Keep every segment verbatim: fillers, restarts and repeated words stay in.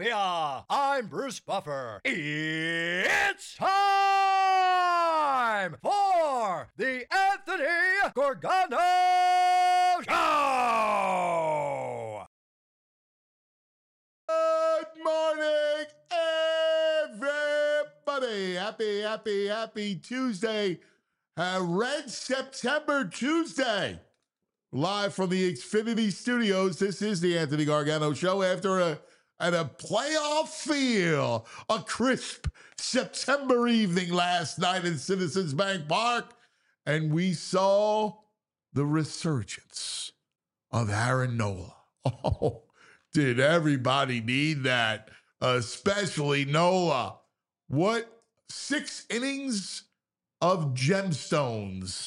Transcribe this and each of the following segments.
Philadelphia. I'm Bruce Buffer. It's time for the Anthony Gorgano Show. Good morning, everybody. Happy, happy, happy Tuesday. Uh, Red September Tuesday. Live from the Xfinity Studios, this is the Anthony Gargano Show after a, at a playoff feel, a crisp September evening last night in Citizens Bank Park, and we saw the resurgence of Aaron Nola. Oh, did everybody need that? Especially Nola. What, six innings of gemstones.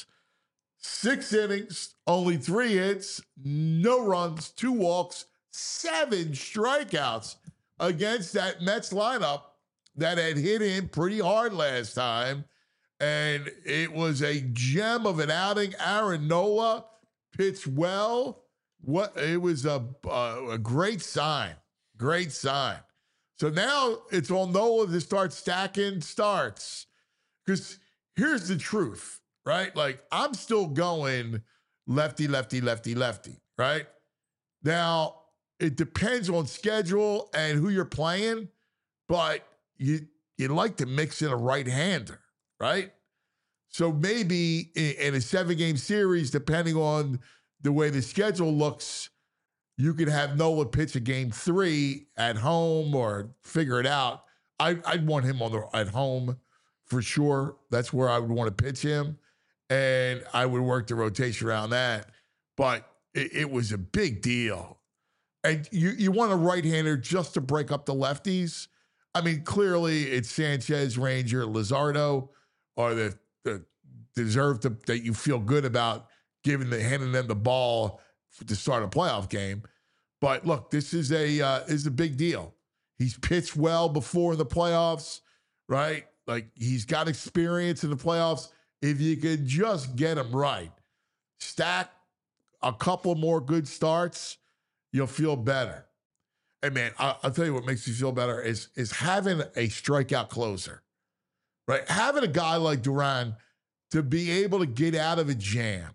Six innings, only three hits, no runs, two walks, seven strikeouts against that Mets lineup that had hit him pretty hard last time. And it was a gem of an outing. Aaron Nola pitched well. What it was a, a, a great sign, great sign. So now it's on Nola to start stacking starts. Because here's the truth. Right? Like, I'm still going lefty, lefty, lefty, lefty, right? Now, it depends on schedule and who you're playing, but you you like to mix in a right-hander, right? So maybe in, in a seven-game series, depending on the way the schedule looks, you could have Nola pitch a game three at home or figure it out. I, I'd want him on the at home for sure. That's where I would want to pitch him. And I would work the rotation around that. But it, it was a big deal. And you, you want a right-hander just to break up the lefties. I mean, clearly it's Sanchez, Ranger, Luzardo are the, the deserve to, that you feel good about giving the handing them the ball to start a playoff game. But look, this is a uh, is a big deal. He's pitched well before in the playoffs, right? Like, he's got experience in the playoffs. If you could just get him right, stack a couple more good starts, you'll feel better. And man, I, I'll tell you what makes you feel better is, is having a strikeout closer, right? Having a guy like Duran to be able to get out of a jam.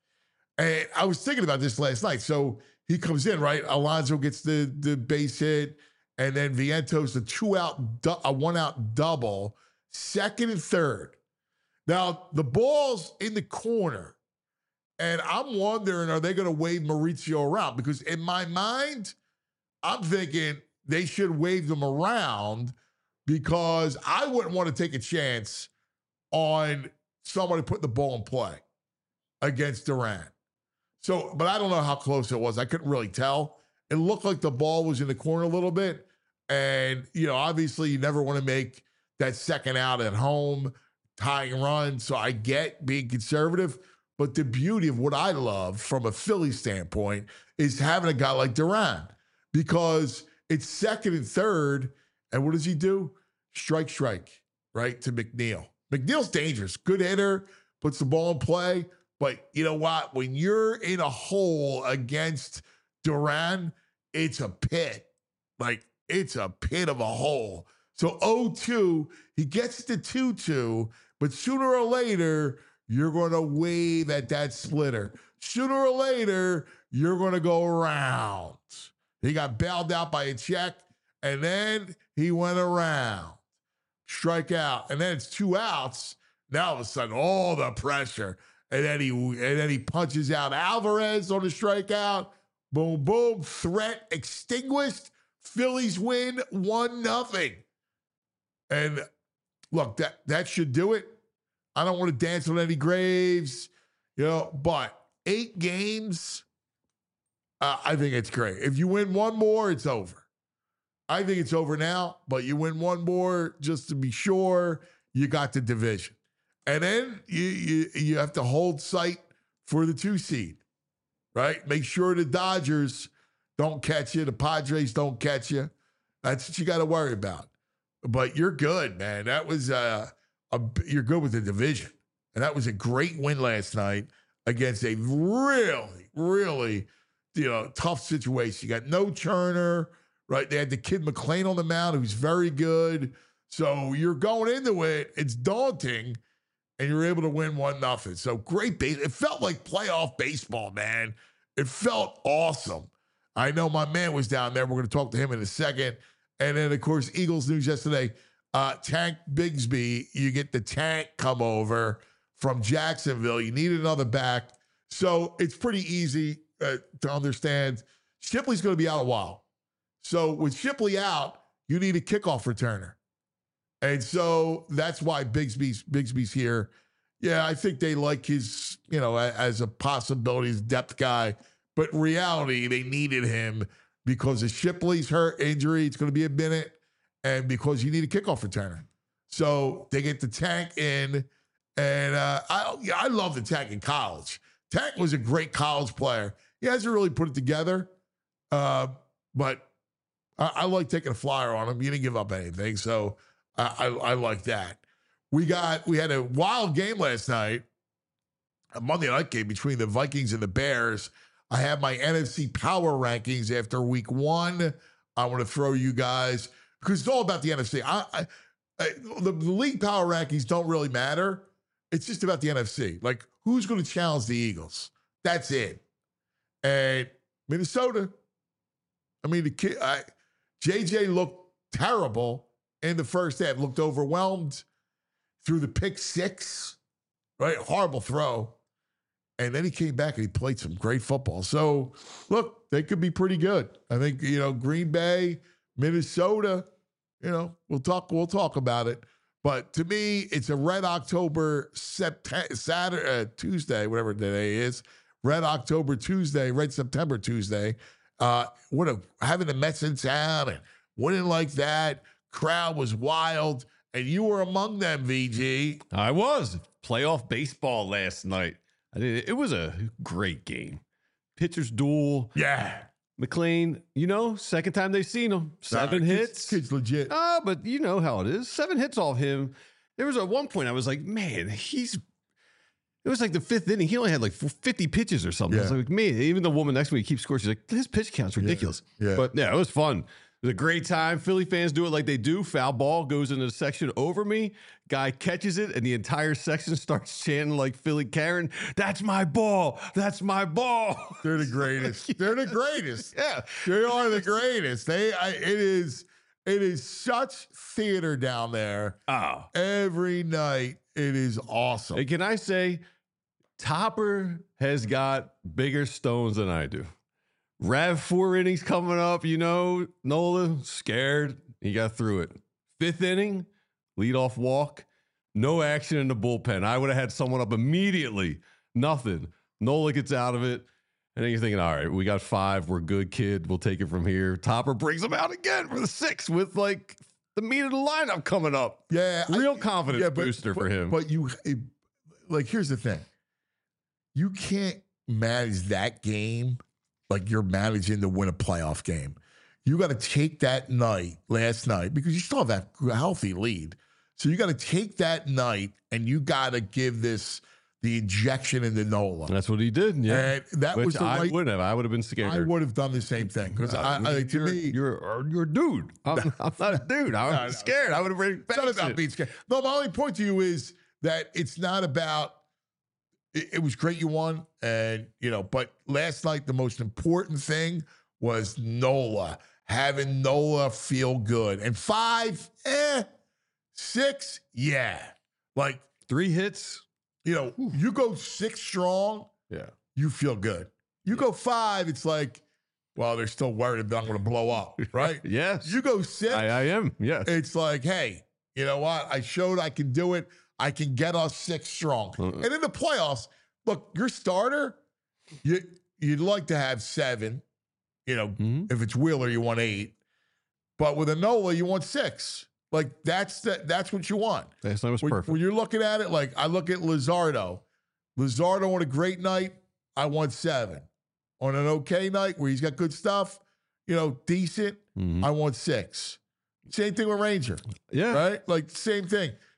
And I was thinking about this last night. So he comes in, right? Alonso gets the, the base hit, and then Vientos, the two-out, a one-out double, second and third. Now, the ball's in the corner, and I'm wondering, are they going to wave Mauricio around? Because in my mind, I'm thinking they should wave them around because I wouldn't want to take a chance on somebody putting the ball in play against Duran. So, but I don't know how close it was. I couldn't really tell. It looked like the ball was in the corner a little bit, and, you know, obviously you never want to make that second out at home, tying run, so I get being conservative, but the beauty of what I love from a Philly standpoint is having a guy like Duran, because it's second and third, and what does he do? Strike, strike, right, to McNeil. McNeil's dangerous, good hitter, puts the ball in play, but you know what? When you're in a hole against Duran, it's a pit. Like, it's a pit of a hole. So oh two, he gets to two two, but sooner or later, you're going to wave at that splitter. Sooner or later, you're going to go around. He got bailed out by a check, and then he went around. Strike out, and then it's two outs. Now all of a sudden, all the pressure, and then he and then he punches out Alvarez on the strikeout. Boom, boom, threat extinguished. Phillies win one nothing. And look, that, that should do it. I don't want to dance on any graves, you know, but eight games, uh, I think it's great. If you win one more, it's over. I think it's over now, but you win one more just to be sure you got the division. And then you you, you have to hold sight for the two seed, right? Make sure the Dodgers don't catch you. The Padres don't catch you. That's what you got to worry about. But you're good, man. That was uh, a, you're good with the division. And that was a great win last night against a really, really, you know, tough situation. You got no Turner, right? They had the kid McLean on the mound, who's very good. So you're going into it, it's daunting, and you're able to win one nothing. So great base. It felt like playoff baseball, man. It felt awesome. I know my man was down there. We're going to talk to him in a second. And then, of course, Eagles news yesterday. Uh, Tank Bigsby, you get the tank come over from Jacksonville. You need another back. So it's pretty easy uh, to understand. Shipley's going to be out a while. So with Shipley out, you need a kickoff returner. And so that's why Bigsby's, Bigsby's here. Yeah, I think they like his, you know, as a possibility, his depth guy. But in reality, they needed him because of Shipley's hurt injury. It's going to be a minute. And because you need a kickoff returner. So they get the Tank in. And uh, I, yeah, I love the Tank in college. Tank was a great college player. He hasn't really put it together. Uh, but I, I like taking a flyer on him. He didn't give up anything. So I, I, I like that. We got we had a wild game last night, a Monday night game between the Vikings and the Bears. I have my N F C power rankings after week one. I want to throw you guys, because it's all about the N F C. I, I, I the, the league power rankings don't really matter. It's just about the N F C. Like, who's going to challenge the Eagles? That's it. And Minnesota, I mean, the kid, I, J J looked terrible in the first half, looked overwhelmed, threw the pick six, right? Horrible throw. And then he came back and he played some great football. So, look, they could be pretty good. I think, you know, Green Bay, Minnesota, you know, we'll talk, we'll talk about it. But to me, it's a Red October September, Saturday, uh, Tuesday, whatever the day is. Red October Tuesday, Red September Tuesday. Uh, what a, having the Mets in town and winning like that. Crowd was wild. And you were among them, V G. I was. Playoff baseball last night. I did, it was a great game. Pitchers duel. Yeah. McLean, you know, second time they've seen him. Seven nah, hits. Kid's, kid's legit. Ah, but you know how it is. Seven hits off him. There was at one point I was like, man, he's. It was like the fifth inning. He only had like fifty pitches or something. Yeah. I was like, man, even the woman next to me keeps scoring. She's like, his pitch count's ridiculous. Yeah. Yeah. But yeah, it was fun. It was a great time. Philly fans do it like they do. Foul ball goes into the section over me. Guy catches it, and the entire section starts chanting like Philly Karen, that's my ball. That's my ball. They're the greatest. They're the greatest. Yeah. They are the greatest. They, I, it is, it is such theater down there. Oh. Every night. It is awesome. And can I say, Topper has got bigger stones than I do. Rav four innings coming up, you know, Nola scared. He got through it. Fifth inning, leadoff walk, no action in the bullpen. I would have had someone up immediately. Nothing. Nola gets out of it. And then you're thinking, all right, we got five. We're good, kid. We'll take it from here. Topper brings him out again for the sixth with like the meat of the lineup coming up. Yeah. Real I, confidence yeah, but, booster but, for him. But you, it, like, here's the thing. You can't manage that game like you're managing to win a playoff game. You got to take that night, last night, because you still have that healthy lead. So you got to take that night and you got to give this the injection into Nola. That's what he did. Yeah. And that Which was the I right. wouldn't have. I would have been scared. I would have done the same thing because Uh, I, I, to you're, me, you're you're a dude. I'm, I'm not a dude. I'm No, no. scared. I would have been. it's not about being scared. No, my only point to you is that it's not about. It, it was great you won, and you know, but last night the most important thing was Nola, having Nola feel good, and five, eh, six, yeah, like Three hits. you know, you go six strong, Yeah. you feel good. You go five, it's like, well, they're still worried that I'm going to blow up, right? Yes. You go six, I, I am. Yes. it's like, hey, you know what? I showed I can do it. I can get us six strong. Uh-uh. And in the playoffs, look, your starter, you, you'd like to have seven. You know, Mhm. if it's Wheeler, you want eight. But with a Nola, you want six. Like, that's the, that's what you want. Last night was When, perfect. when you're looking at it, like, I look at Luzardo. Luzardo on a great night, I want seven. On an okay night where he's got good stuff, you know, decent, Mhm. I want six. Same thing with Ranger. Yeah. Right? Like, same thing.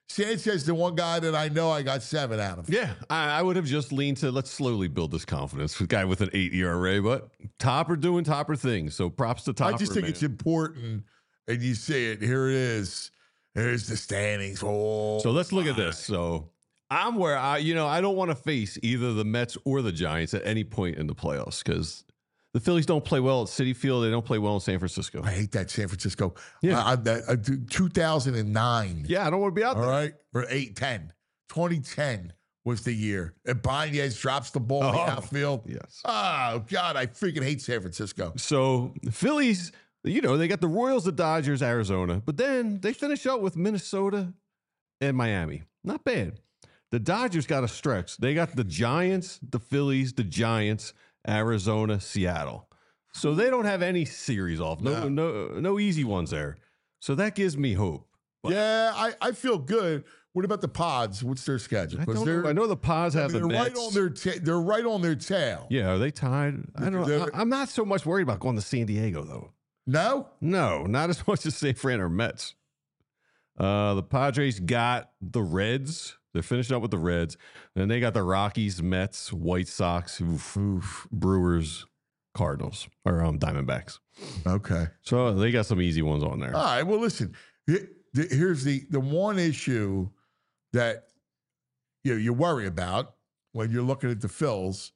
Sanchez, the one guy that I know I got seven out of. Yeah, I, I would have just leaned to let's slowly build this confidence with a guy with an eight E R A, but Topper doing Topper things. So props to Topper. I just think man. it's important, and you see it. Here it is. There's the standings. Oh, So let's look at my. this. So I'm where I, you know, I don't want to face either the Mets or the Giants at any point in the playoffs because the Phillies don't play well at Citi Field. They don't play well in San Francisco. I hate that San Francisco. Yeah. I, I, I, two thousand nine. Yeah, I don't want to be out All there. right. Or eight ten. twenty ten was the year. And Baez drops the ball in the Oh, outfield. yes. Oh, God. I freaking hate San Francisco. So the Phillies, you know, they got the Royals, the Dodgers, Arizona, but then they finish up with Minnesota and Miami. Not bad. The Dodgers got a stretch. They got the Giants, the Phillies, the Giants, Arizona, Seattle. So they don't have any series off. No, no, no easy ones there. So that gives me hope. But Yeah, I, I feel good. What about the Pods? What's their schedule? I, Because don't they're know. I know the Pods I have mean, the they're right Mets. on their ta- they're right on their tail. Yeah, are they tied? I don't. They're- I, I'm not so much worried about going to San Diego though. No? No, not as much as San Fran or Mets. Uh, the Padres got the Reds. They're finishing up with the Reds. Then they got the Rockies, Mets, White Sox, oof, oof, Brewers, Cardinals, or um, Diamondbacks. Okay. So they got some easy ones on there. All right. Well, listen. he- the- Here's the the one issue that you know, you worry about when you're looking at the Phils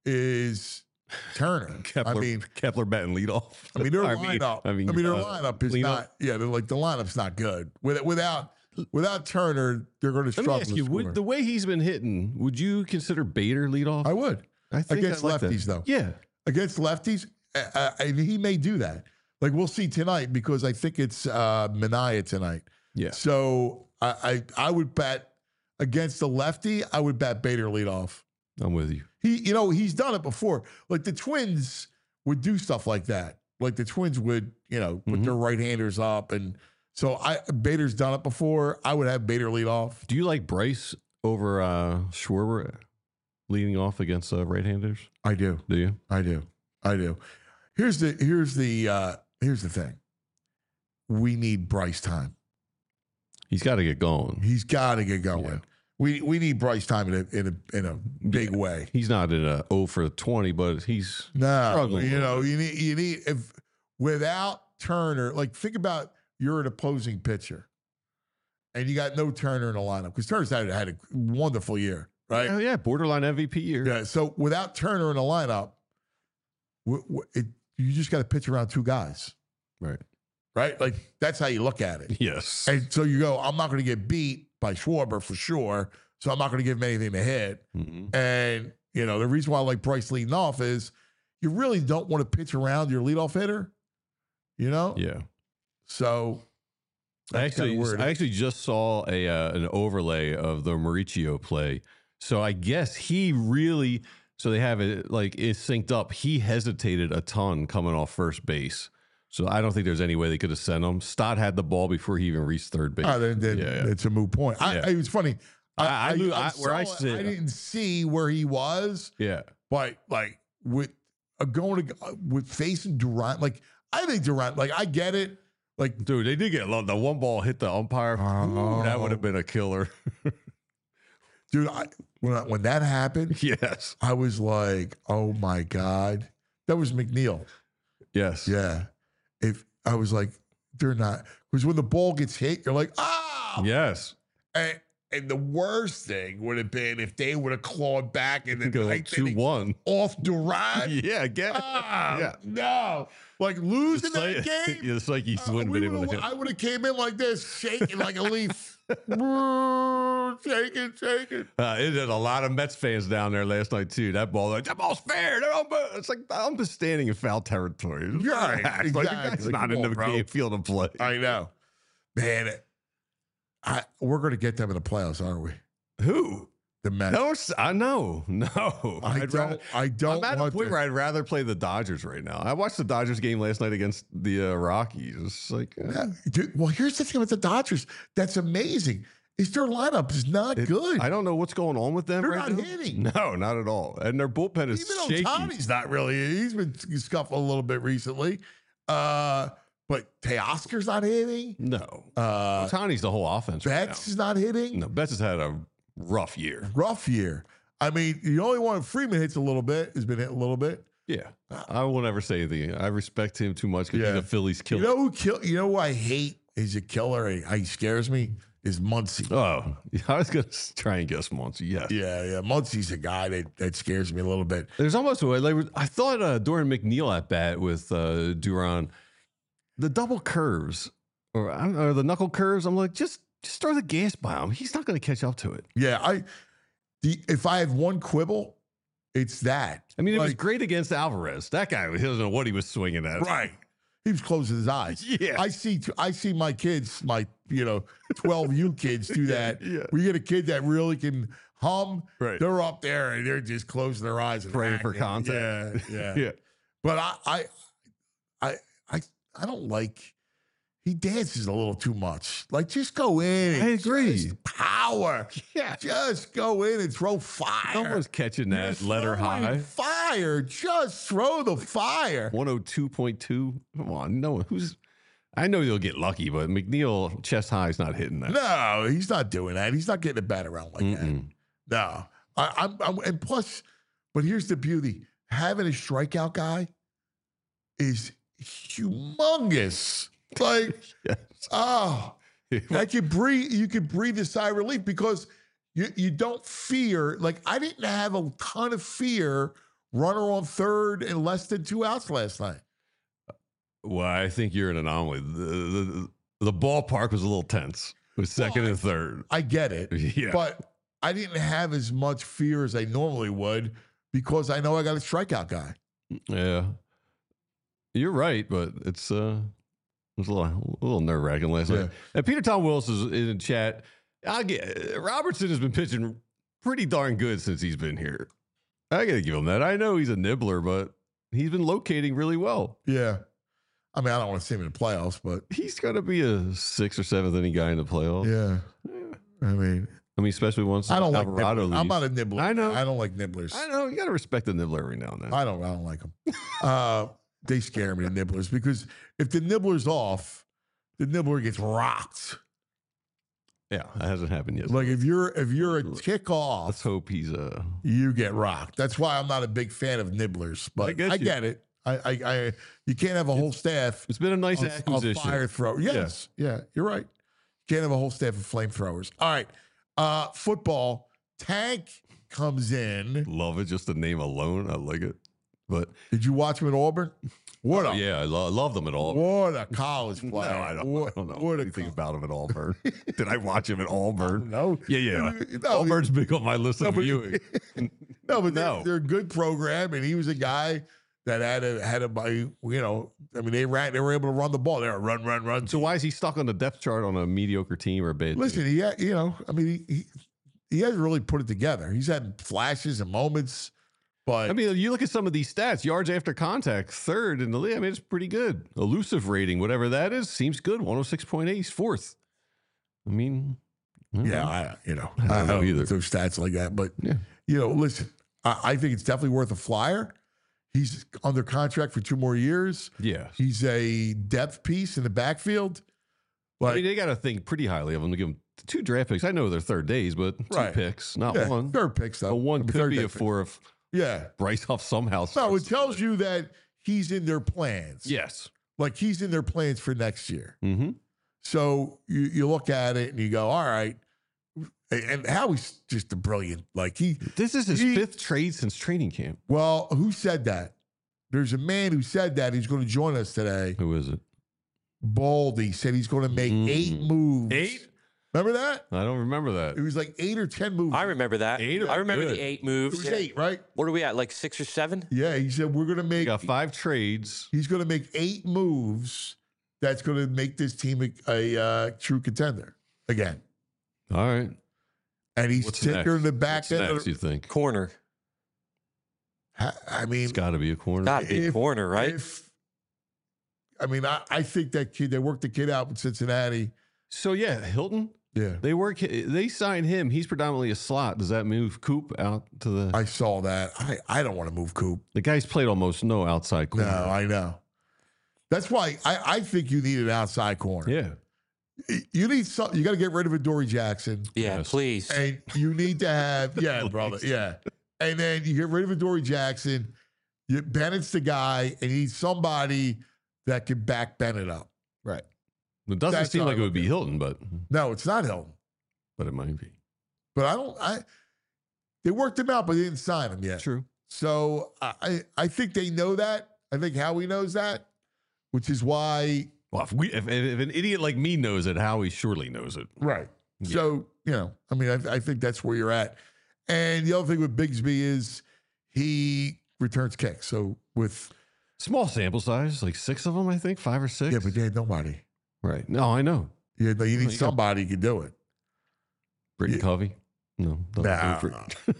is Turner. Kepler, I mean, Kepler batting leadoff. I mean their I mean- lineup. I I mean, mean, their uh, lineup is cleanup. not. Yeah, they're like the lineup's not good. With, without without Turner, they're going to Let me struggle. ask to you, score. would, the way he's been hitting, would you consider Bader leadoff? I would I think against I like that. lefties though. Yeah. Against lefties, uh, uh, and he may do that. Like we'll see tonight because I think it's uh, Mania tonight. Yeah. So I, I I would bet against the lefty. I would bet Bader lead off. I'm with you. He, you know, he's done it before. Like the Twins would do stuff like that. Like the Twins would, you know, put Mhm. their right handers up, and so I Bader's done it before. I would have Bader lead off. Do you like Bryce over uh, Schwarber leading off against uh, right-handers? I do. Do you? I do. I do. Here's the here's the uh, here's the thing. We need Bryce time. He's got to get going. He's got to get going. Yeah. We we need Bryce time in a in a in a big way. He's not in a oh for twenty, but he's No, struggling. you know, you need you need if without Turner, like think about you're an opposing pitcher, and you got no Turner in the lineup because Turner's had had a wonderful year, right? Oh, yeah, borderline M V P year. Yeah. So without Turner in the lineup, w- w- it, you just got to pitch around two guys, Right. right? Like that's how you look at it. Yes. And so you go, I'm not going to get beat by Schwarber for sure, so I'm not going to give him anything to hit. Mhm. And, you know, the reason why I like Bryce leading off is you really don't want to pitch around your leadoff hitter, you know? Yeah. So I that's kinda actually, weird. I actually just saw a uh, an overlay of the Mauricio play. So I guess he really, so they have it like it's synced up. He hesitated a ton coming off first base. So I don't think there's any way they could have sent him. Stott had the ball before he even reached third base. Oh, then, then Yeah, yeah. it's a moot point. I, Yeah. it was funny. I- I knew- I- where I saw it. sit- I didn't see where he was, Yeah. but like with uh, going to, uh, with facing Durant, like I think Durant, like I get it. Like, Dude, they did get lo- the one ball hit the umpire. Ooh, that would have been a killer. dude, I, when, I, when that happened, Yes. I was like, oh my God. That was McNeil. Yes. Yeah. If I was like, they're not, because when the ball gets hit, you're like, ah. Yes. And, and the worst thing would have been if they would have clawed back and then Go like, two one. off Durant. Yeah, again. Ah, Yeah. no. Like losing It's like, that game. it's like he uh, wouldn't we been able to would've- hit. I would have came in like this, shaking like a leaf. shaking, shaking. Uh, it had a lot of Mets fans down there last night too. That ball, like that ball's fair. They're all- It's like I'm just standing in foul territory. It's Right, relax. Like, exactly. that's not Come in on, the bro. game field of play. I know. Man, it- I, we're going to get them in the playoffs, aren't we? Who? The Mets. No, s- I know. No, I I'd don't. rather- I don't I'm at a want point to. where I'd rather play the Dodgers right now. I watched the Dodgers game last night against the uh, Rockies. It's like uh, Yeah, dude, well, here's the thing with the Dodgers. That's amazing. Is their lineup is not it- good. I don't know what's going on with them. They're right not now. hitting. No, not at all. And their bullpen is Even shaky. Ohtani's not really. He's been scuffling a little bit recently. Uh, but Teoscar's not hitting. No. Uh, Otani's the whole offense. right Betts now. is not hitting. No, Betts has had a rough year. Rough year. I mean, the only one Freeman hits a little bit has been hit a little bit. Yeah. I will never say anything. I respect him too much because Yeah. he's a Phillies killer. You know who kill? You know who I hate? Is a killer. He, he scares me. Is Muncy. Oh, I was going to try and guess Muncy. Yes. Yeah, yeah. Muncy's a guy that, that scares me a little bit. There's almost a way. Like, I thought uh, Dorian McNeil at bat with uh, Duran, the double curves or, or the knuckle curves. I'm like, just just throw the gas by him. He's not going to catch up to it. Yeah, I. The if I have one quibble, it's that. I mean, it was Like, great against Alvarez. That guy, he doesn't know what he was swinging at. right. He was closing his eyes. Yeah. I see. I see my kids, my you know, twelve U kids do that. Yeah. We get a kid that really can hum. Right. They're up there and they're just closing their eyes and Praying for hacking. contact. Yeah, yeah. Yeah. But I, I, I, I, I don't like. He dances a little too much. Like, just go in. And I agree. just power. Yeah. Just go in and throw fire. No one's catching You're that letter throwing high. Fire. Just throw the fire. one oh two point two. Come on. No one who's. I know you'll get lucky, but McNeil chest high is not hitting that. No, he's not doing that. He's not getting a bat around like Mm-mm. that. No. I, I'm, I'm, and plus, but here's the beauty: having a strikeout guy is humongous. Like, Yes. oh, I could breathe. You could breathe a sigh of relief because you you don't fear. Like, I didn't have a ton of fear. Runner on third and less than two outs last night. Well, I think you're an anomaly. The, the, the ballpark was a little tense with second Well, and third. I get it, Yeah. but I didn't have as much fear as I normally would because I know I got a strikeout guy. Yeah. You're right, but it's uh it was a little, a little nerve wracking last Yeah. night. And Peter Tom Wilson is in the chat. I get Robertson has been pitching pretty darn good since he's been here. I gotta give him that. I know he's a nibbler, but he's been locating really well. Yeah. I mean, I don't want to see him in the playoffs, but He's gonna be a sixth or seventh inning guy in the playoffs. yeah. I mean, I mean, especially once I don't like Alvarado nibblers. I'm leaves. not a nibbler. I know. I don't like nibblers. I know you gotta respect the nibbler every now and then. I don't. I don't like them. Uh, they scare me, the nibblers, because if the nibbler's off, the nibbler gets rocked. Yeah, that hasn't happened yet. Like if you're if you're a tick off, Let's hope he's uh you get rocked. That's why I'm not a big fan of nibblers. But I get I you. get it. I, I, I you can't have a whole staff it's been a nice of, of acquisition. fire throw. Yes, yeah, you're right. You can't have a whole staff of flamethrowers. All right, uh, football. Tank comes in. Love it, just the name alone. I like it. But Did you watch him at Auburn? What a yeah, I lo- love them at all. what a college No, player. I don't, What, I don't know what a anything co- about him at Auburn. Did I watch him at Auburn? No, Yeah, yeah. No, Auburn's big on my list no, of but- viewing. no, but No. They're, they're a good program, and he was a guy that had a had a you know. I mean, they ran. They were able to run the ball. They were run, run, run. So why is he stuck on the depth chart on a mediocre team or a bad Listen, team? he had, you know, I mean, he, he he hasn't really put it together. He's had flashes and moments, but I mean, you look at some of these stats, yards after contact, third in the league. I mean, it's pretty good. Elusive rating, whatever that is, seems good. one oh six point eight, he's fourth. I mean, I don't yeah, know. I, you know, I don't know either. Those stats like that, but Yeah. you know, listen, I, I think it's definitely worth a flyer. He's under contract for two more years. Yeah. He's a depth piece in the backfield. I Like, mean, they got to think pretty highly of him to give him two draft picks. I know they're third days, but two Right. picks, not yeah, one. third pick stuff. But one could third be day a pick. four if Yeah. Bryce Huff somehow. No, starts it to tells play. you that he's in their plans. Yes. Like he's in their plans for next year. Mm-hmm. So you, you look at it and you go, all right. And Howie's just a brilliant, like he, This is his He- fifth trade since training camp. well, who said that? There's a man who said that. He's going to join us today. Who is it? Baldy said he's going to make Mm. eight moves. Eight? Remember that? I don't remember It that. was like eight or ten moves. I remember that. Eight I remember good. the eight It moves. was eight, right? What are we at? Like six or seven? Yeah, he said we're going to We make. got five trades. He's going to make eight moves. That's going to make this team a, a uh, true contender again. All right. And he's What's sitting next? there in the back What's end. next, Of, you think? Corner. I I mean, It's got to be a corner. Got to be If- corner, right? if I mean, I, I think that kid. They worked the kid out in Cincinnati. So yeah, Hilton. Yeah, They work. They signed him. He's predominantly a slot. Does that move Coop out to the? I saw that. I, I don't want to move Coop. the guy's played almost no outside No, corner. I know. That's why I, I think you need an outside corner. Yeah. You need some. You got to get rid of Adoree Jackson. Yeah, Yes. please. And you need to have, yeah, brother, yeah. And then you get rid of Adoree Jackson. You, Bennett's the guy, and you need somebody that can back Bennett up. Right. It doesn't That's seem how I like it look would be at it. Hilton, but No, it's not Hilton. but it might be. But I don't. I they worked him out, but they didn't sign him yet. True. So I I I think they know that. I think Howie knows that, which is why. Well, if, we, if, if an idiot like me knows it, Howie surely knows it. Right. Yeah. So you know, I mean, I, I think that's where you're at. And the other thing with Bigsby is he returns kicks. So with Small sample size, like six of them, I think, five or six. yeah, but they had nobody. right. No, I know. Yeah, no, you need Well, you got- somebody who can do it. Britton Yeah. Covey. No, don't Nah. go for it.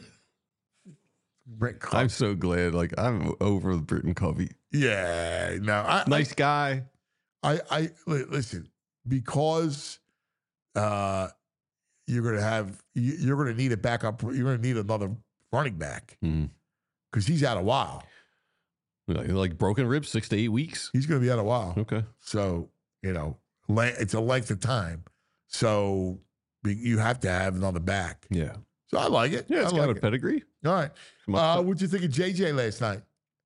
Brett Covey. I'm so glad. Like I'm over with Britton Covey. Yeah, no, I, Nice guy. I, I, li- listen because uh, you're gonna have you- you're gonna need a backup. You're gonna need another running back Mhm. because he's out a while. Like, like broken ribs, six to eight weeks. He's gonna be out a while. Okay. So you know, le- it's a length of time. So be- you have to have another back. Yeah. So I like it. Yeah, it's I got like a it. pedigree. All right. Come Uh, up- what'd you think of J J last night?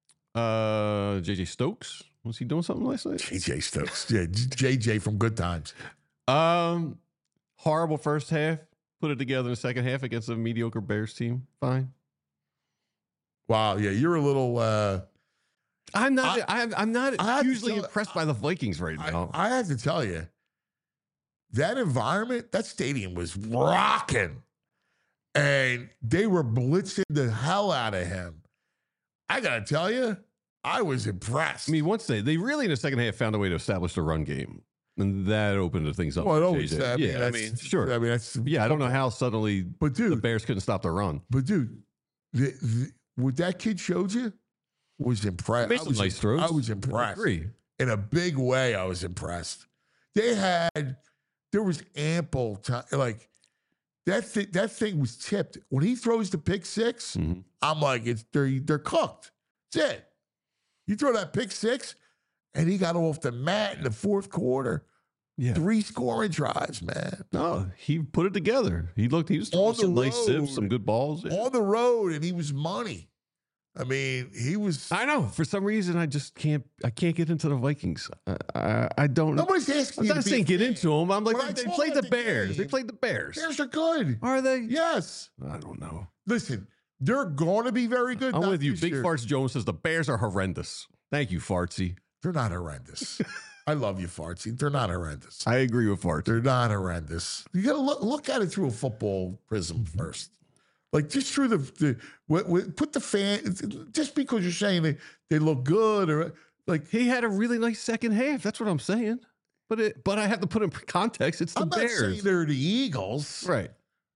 Uh, J J Stokes. Was he doing something last night? J J Stokes. Yeah, J J from Good Times. Um, horrible first half. Put it together in the second half against a mediocre Bears team. Fine. Wow. Yeah, you're a little. Uh, I'm not. I, am I'm not I have to hugely tell- impressed by the Vikings right I, now. I have to tell you, that environment, that stadium was rocking, and they were blitzing the hell out of him. I gotta tell you, I was impressed. I mean, once they they really in the second half found a way to establish the run game, and that opened things up. well, it for always. J J. I mean, yeah, I that's, mean, sure. I mean, that's. yeah, I don't know how suddenly But the dude, Bears couldn't stop the run. but dude, the, the, what that kid showed you was impressed. Made I some was, nice throws. I was I impressed. agree. In a big way, I was impressed. They had, there was ample time. Like that thing, that thing was tipped. When he throws the pick six, Mhm. I'm like, it's they're they're cooked. That's it. You throw that pick six, and he got off the mat in the fourth quarter. Yeah. Three scoring drives, man. No, he put it together. He looked. He was On throwing some the nice road. sips, some good balls. Yeah. On the road, and he was money. I mean, he was. I know. For some reason, I just can't. I can't get into the Vikings. I, I, I don't. Nobody's asking I'm you not to be saying a get fan. into them. I'm like, When I they told played at the the Bears. They game, played the Bears. Bears are good. Are they? Yes. I don't know. Listen, they're going to be very good. I'm not with you. this Big year. Farts Jones says the Bears are horrendous. Thank you, Fartsy. They're not horrendous. I love you, Fartsy. They're not horrendous. I agree with Fartsy. They're not horrendous. You got to look, look at it through a football prism first. Like just through the, the w- w- put the fan, just because you're saying they, they look good or like, He had a really nice second half. That's what I'm saying. But it, but I have to put in context. It's the I'm not saying Bears, they're the Eagles, right?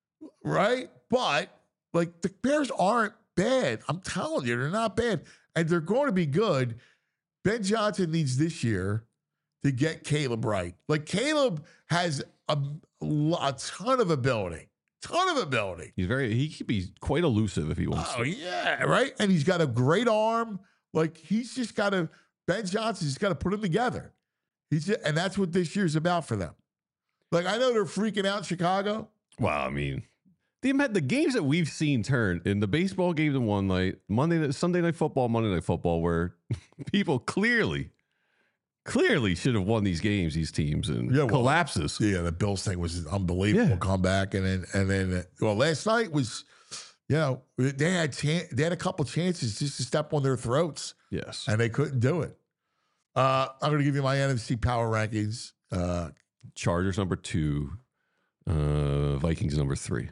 right? But like the Bears aren't bad. I'm telling you, they're not bad. And they're going to be good. Ben Johnson needs this year to get Caleb right. Like Caleb has a, a ton of ability, ton of ability. He's very. He could be quite elusive if he wants. Oh to. yeah, right. And he's got a great arm. Like he's just got to. Ben Johnson's got to put him together. He's just, and that's what this year's about for them. Like I know they're freaking out in Chicago. Well, I mean, the the games that we've seen turn in the baseball games in one night, Monday, night- Sunday night football, Monday night football, where people clearly, clearly should have won these games, these teams, and Yeah, well, collapses. Yeah, the Bills thing was an unbelievable Yeah. comeback, and then and then uh, well, last night was, you know, they had chan- they had a couple chances just to step on their throats, Yes. and they couldn't do it. Uh, I'm going to give you my N F C power rankings. Uh, Chargers number two, uh, Vikings number three.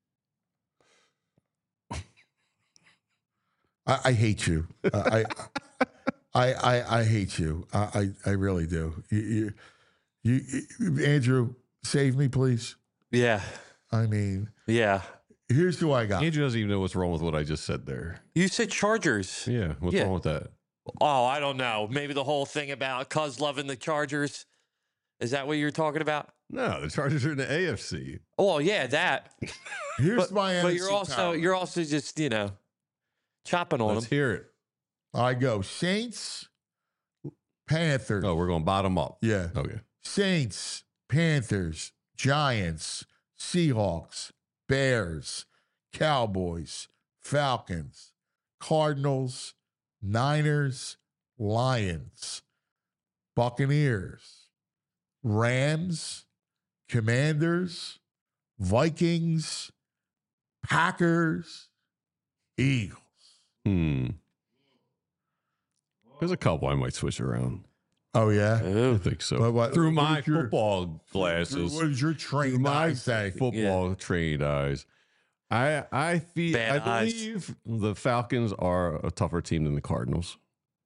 I, I hate you. Uh, I, I, I, I hate you. I, I, I really do. You, you, you, Andrew, save me, please. Yeah. I mean, Yeah. here's who I got. Andrew doesn't even know what's wrong with what I just said there. You said Chargers. Yeah, what's Yeah. wrong with that? Oh, I don't know. Maybe the whole thing about Cuz loving the Chargers. Is that what you're talking about? No, the Chargers are in the A F C. Oh, yeah, that. Here's But, my N F C but you're also power. you're also just, you know, chopping on Let's them. hear it. I go Saints, Panthers. Oh, we're going bottom up. Yeah. Okay. Saints, Panthers, Giants, Seahawks, Bears, Cowboys, Falcons, Cardinals, Niners, Lions, Buccaneers, Rams, Commanders, Vikings, Packers, Eagles. Hmm. There's a couple I might switch around. Oh, yeah? I Ooh. think so. But what- Through what my is your- football glasses. What does your Through trained my eye say? football trained eyes. I I feel I Bad eyes. believe the Falcons are a tougher team than the Cardinals.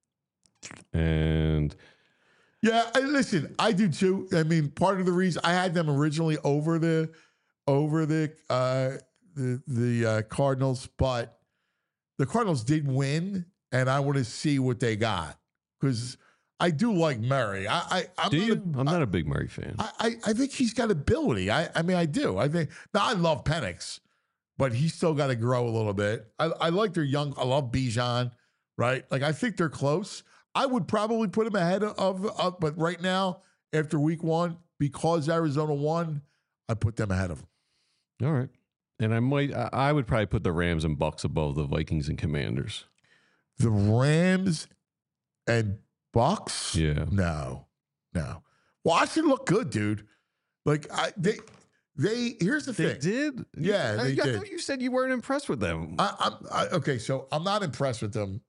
And Yeah, I, listen, I do too. I mean, part of the reason I had them originally over the over the uh, the the uh, Cardinals, but the Cardinals did win, and I want to see what they got because I do like Murray. I, I I'm do not you? A, I'm not a big Murray fan. I, I I think he's got ability. I I mean, I do. I think now I love Penix, but he's still got to grow a little bit. I I like their young. I love Bijan, right? Like I think they're close. I would probably put him ahead of, of, but right now, after week one, because Arizona won, I put them ahead of them. All right. And I might I I would probably put the Rams and Bucks above the Vikings and Commanders. The Rams and Bucks? Yeah. No, no. Washington looked good, dude. Like, I, they, they, here's the They thing. did? Yeah, I, they I did. thought you said you weren't impressed with them. I, I'm, I, okay, so I'm not impressed with them.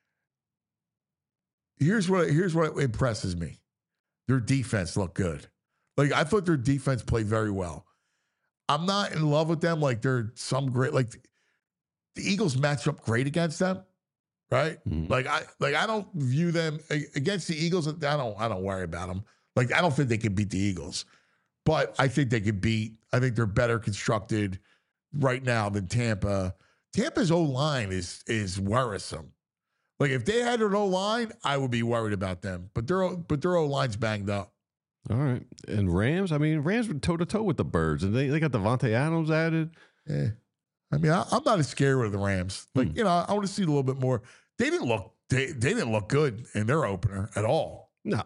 Here's what here's what impresses me. Their defense looked good. Like I thought their defense played very well. I'm not in love with them. Like they're some great. Like the Eagles match up great against them, right? Mhm. Like I like I don't view them against the Eagles. I don't I don't worry about them. Like I don't think they can beat the Eagles, but I think they could beat. I think they're better constructed right now than Tampa. Tampa's O line is is worrisome. Like if they had an O line, I would be worried about them. But their but their O line's banged up. All right. And Rams, I mean, Rams were toe to toe with the Birds, and they, they got Devontae Adams added. Yeah, I mean, I, I'm not as scared with the Rams. Like Hmm. you know, I want to see a little bit more. They didn't look they they didn't look good in their opener at all. No.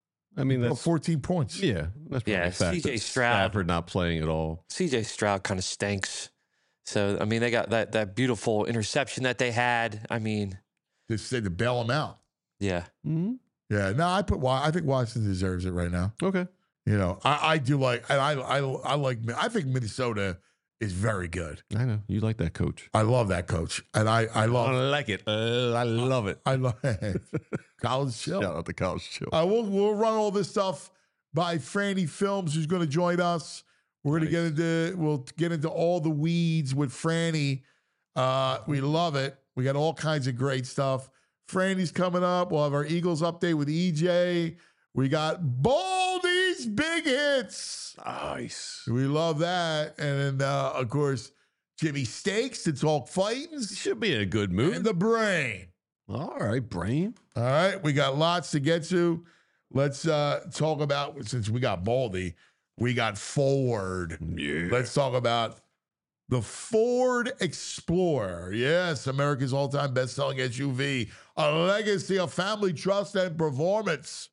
I mean, Well, that's fourteen points. yeah. That's probably Yeah, the fact C J that Stroud. Stafford not playing at all. C J Stroud kind of stinks. So I mean, they got that that beautiful interception that they had. I mean, They said to bail them out. yeah, Mm-hmm. Yeah, no, I put. Wa- I think Washington deserves it right now. Okay. You know, I, I do like. And I I I like. I think Minnesota is very good. I know. You like that coach. I love that coach, and I I love. I like it. Uh, I love it. I love college chill. Shout out to College Chill. Uh, we'll, we'll run all this stuff by Franny Films, who's going to join us. We're going to get into we'll get into all the weeds with Franny. Uh, we love it. We got all kinds of great stuff. Franny's coming up. We'll have our Eagles update with E J. We got Baldy's big hits. Nice. We love that. And then, uh, of course, Jimmy Steaks to talk fightings Should be in a good mood. and the brain. All right, Brain. All right, we got lots to get to. Let's uh, talk about, since we got Baldy, we got Ford. Yeah. Let's talk about the Ford Explorer. Yes, America's all-time best-selling S U V, a legacy of family trust and performance.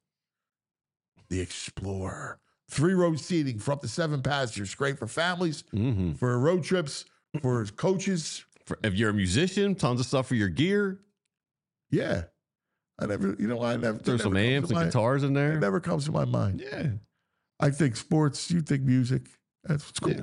The Explorer. Three-row seating for up to seven passengers. Great for families, Mm-hmm. for road trips, for coaches. For, if you're a musician, tons of stuff for your gear. Yeah. I never, you know, I never. Throw that some never comes amps to and my- guitars in It there. never comes to my mind. Yeah. I think sports, you think music. That's what's cool. Yeah.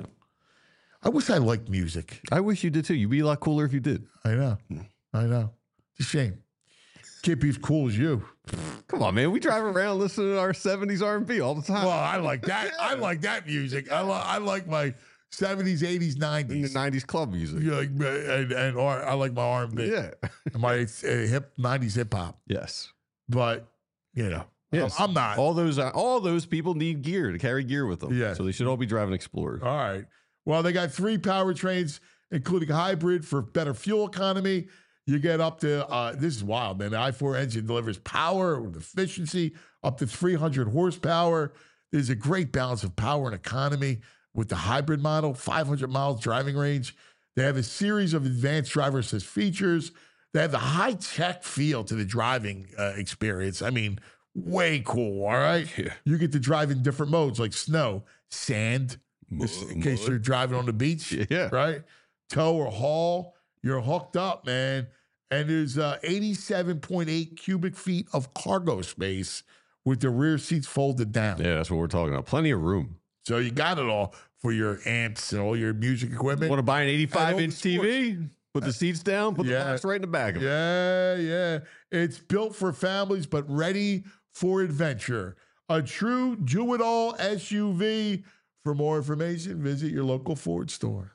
I wish I liked music. I wish you did too. You'd be a lot cooler if you did. I know. I know. It's a shame. Can't be as cool as you. Come on, man. We drive around listening to our seventies R and B all the time. Well, I like that. I like that music. I, li- I like my seventies, eighties, in the nineties. nineties club music. You like, and, and or I like my R and B. Yeah. And my uh, hip nineties hip hop. Yes. But, you know, Yes. I'm, I'm not. All those uh, all those people need gear to carry gear with them. Yeah. So they should all be driving Explorers. All right. Well, they got three powertrains, including hybrid for better fuel economy. You get up to, uh, this is wild, man. The i four engine delivers power with efficiency up to three hundred horsepower. There's a great balance of power and economy with the hybrid model, five hundred miles driving range. They have a series of advanced driver assist features. They have the high-tech feel to the driving uh, experience. I mean, way cool, all right? Yeah. You get to drive in different modes like snow, sand, just in case mud. you're driving on the beach, Yeah. right? Tow or haul, you're hooked up, man. And there's uh, eighty-seven point eight cubic feet of cargo space with the rear seats folded down. Yeah, that's what we're talking about. Plenty of room. So you got it all for your amps and all your music equipment. Want to buy an eighty-five all the inch T V? Put the seats down, put Yeah. the box right in the back of it. Yeah, yeah. It's built for families, but ready for adventure. A true do-it-all S U V. For more information, visit your local Ford store.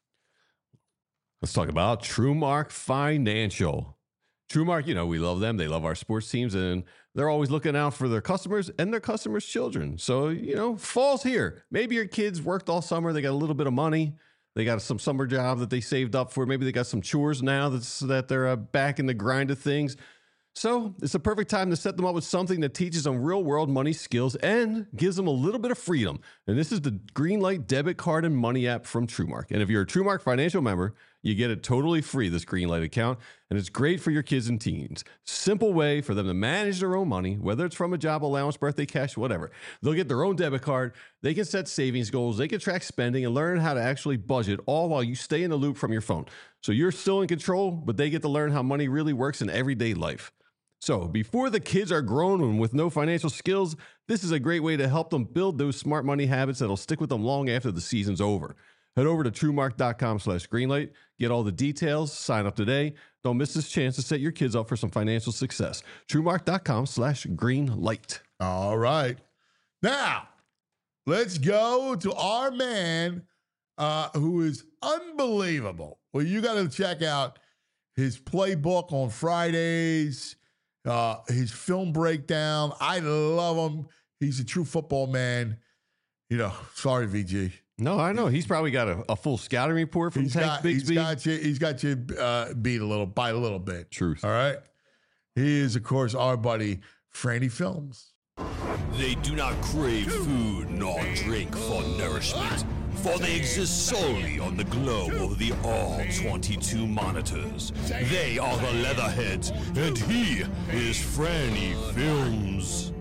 Let's talk about TrueMark Financial. TrueMark, you know, we love them. They love our sports teams, and they're always looking out for their customers and their customers' children. So, you know, fall's here. Maybe your kids worked all summer. They got a little bit of money. They got some summer job that they saved up for. Maybe they got some chores now that's, that they're uh, back in the grind of things. So it's a perfect time to set them up with something that teaches them real world money skills and gives them a little bit of freedom. And this is the Greenlight debit card and money app from TrueMark. And if you're a TrueMark Financial member, you get it totally free, this Greenlight account. And it's great for your kids and teens. Simple way for them to manage their own money, whether it's from a job allowance, birthday cash, whatever. They'll get their own debit card. They can set savings goals. They can track spending and learn how to actually budget, all while you stay in the loop from your phone. So you're still in control, but they get to learn how money really works in everyday life. So before the kids are grown and with no financial skills, this is a great way to help them build those smart money habits that'll stick with them long after the season's over. Head over to TrueMark.com slash Greenlight. Get all the details. Sign up today. Don't miss this chance to set your kids up for some financial success. TrueMark.com slash Greenlight. All right. Now, let's go to our man uh, who is unbelievable. Well, you got to check out his playbook on Fridays. Uh, his film breakdown. I love him. He's a true football man. You know, sorry, V G. No, I know. He's probably got a, a full scouting report from He's Tank got, he's Bigsby. got you. He's got you uh, beat a little by a little bit. Truth. All right. He is, of course, our buddy Franny Films. They do not crave food nor drink for nourishment, for they exist solely on the glow of the all twenty-two monitors. They are the Leatherheads, and he is Franny Films.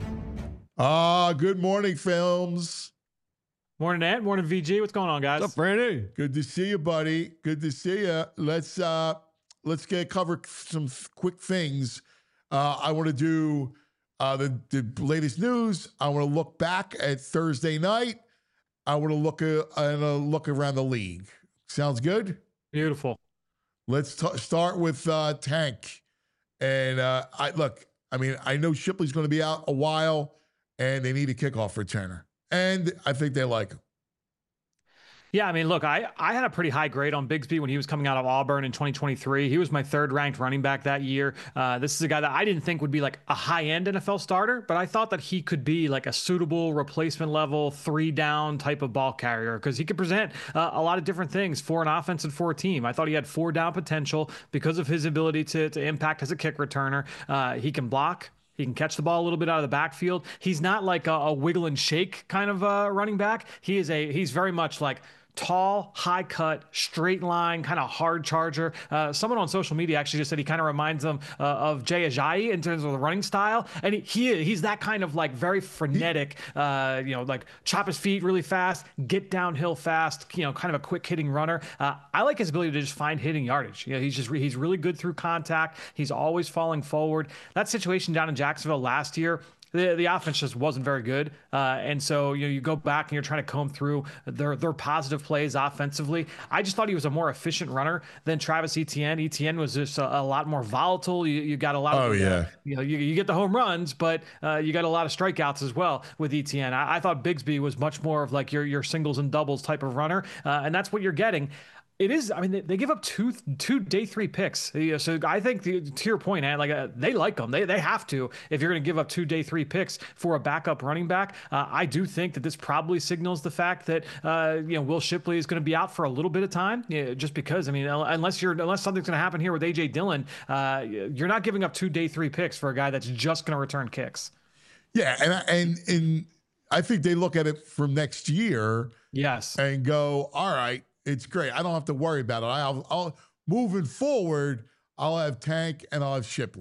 Ah, good morning, Films. Morning, Ed. Morning, V G. What's going on, guys? What's up, Brandy? Good to see you, buddy. Good to see you. Let's uh, let's get cover some th- quick things. Uh, I want to do uh, the the latest news. I want to look back at Thursday night. I want to look uh, and uh, look around the league. Sounds good. Beautiful. Let's t- start with uh, Tank. And uh, I look. I mean, I know Shipley's going to be out a while, and they need a kickoff returner, and I think they like him. Yeah, I mean, look, I, I had a pretty high grade on Bigsby when he was coming out of Auburn in twenty twenty-three. He was my third ranked running back that year. Uh, this is a guy that I didn't think would be like a high end N F L starter, but I thought that he could be like a suitable replacement level, three down type of ball carrier because he could present uh, a lot of different things for an offense and for a team. I thought he had four down potential because of his ability to, to impact as a kick returner. Uh, he can block. He can catch the ball a little bit out of the backfield. He's not like a, a wiggle and shake kind of uh, running back. He is a, he's very much like tall, high cut, straight line, kind of hard charger. Uh, someone on social media actually just said he kind of reminds them uh, of Jay Ajayi in terms of the running style. And he, he he's that kind of like very frenetic, uh, you know, like chop his feet really fast, get downhill fast, you know, kind of a quick hitting runner. Uh, I like his ability to just find hitting yardage. You know, he's just, re- he's really good through contact. He's always falling forward. That situation down in Jacksonville last year, The, the offense just wasn't very good. Uh, and so, you know, you go back and you're trying to comb through their, their positive plays offensively. I just thought he was a more efficient runner than Travis Etienne. Etienne was just a, a lot more volatile. You, you got a lot of, Oh, yeah. uh, you know, you, you get the home runs, but uh, you got a lot of strikeouts as well with Etienne. I, I thought Bigsby was much more of like your, your singles and doubles type of runner. Uh, and that's what you're getting. It is. I mean, they, they give up two two day three picks. So I think the, to your point, Ed, like uh, they like them. They they have to if you're going to give up two day three picks for a backup running back. Uh, I do think that this probably signals the fact that uh, you know Will Shipley is going to be out for a little bit of time. Yeah, just because I mean, unless you're unless something's going to happen here with A J Dillon, uh, you're not giving up two day three picks for a guy that's just going to return kicks. Yeah, and and and I think they look at it from next year. Yes, and go, all right. It's great. I don't have to worry about it. I'll, I'll moving forward. I'll have Tank and I'll have Shipley,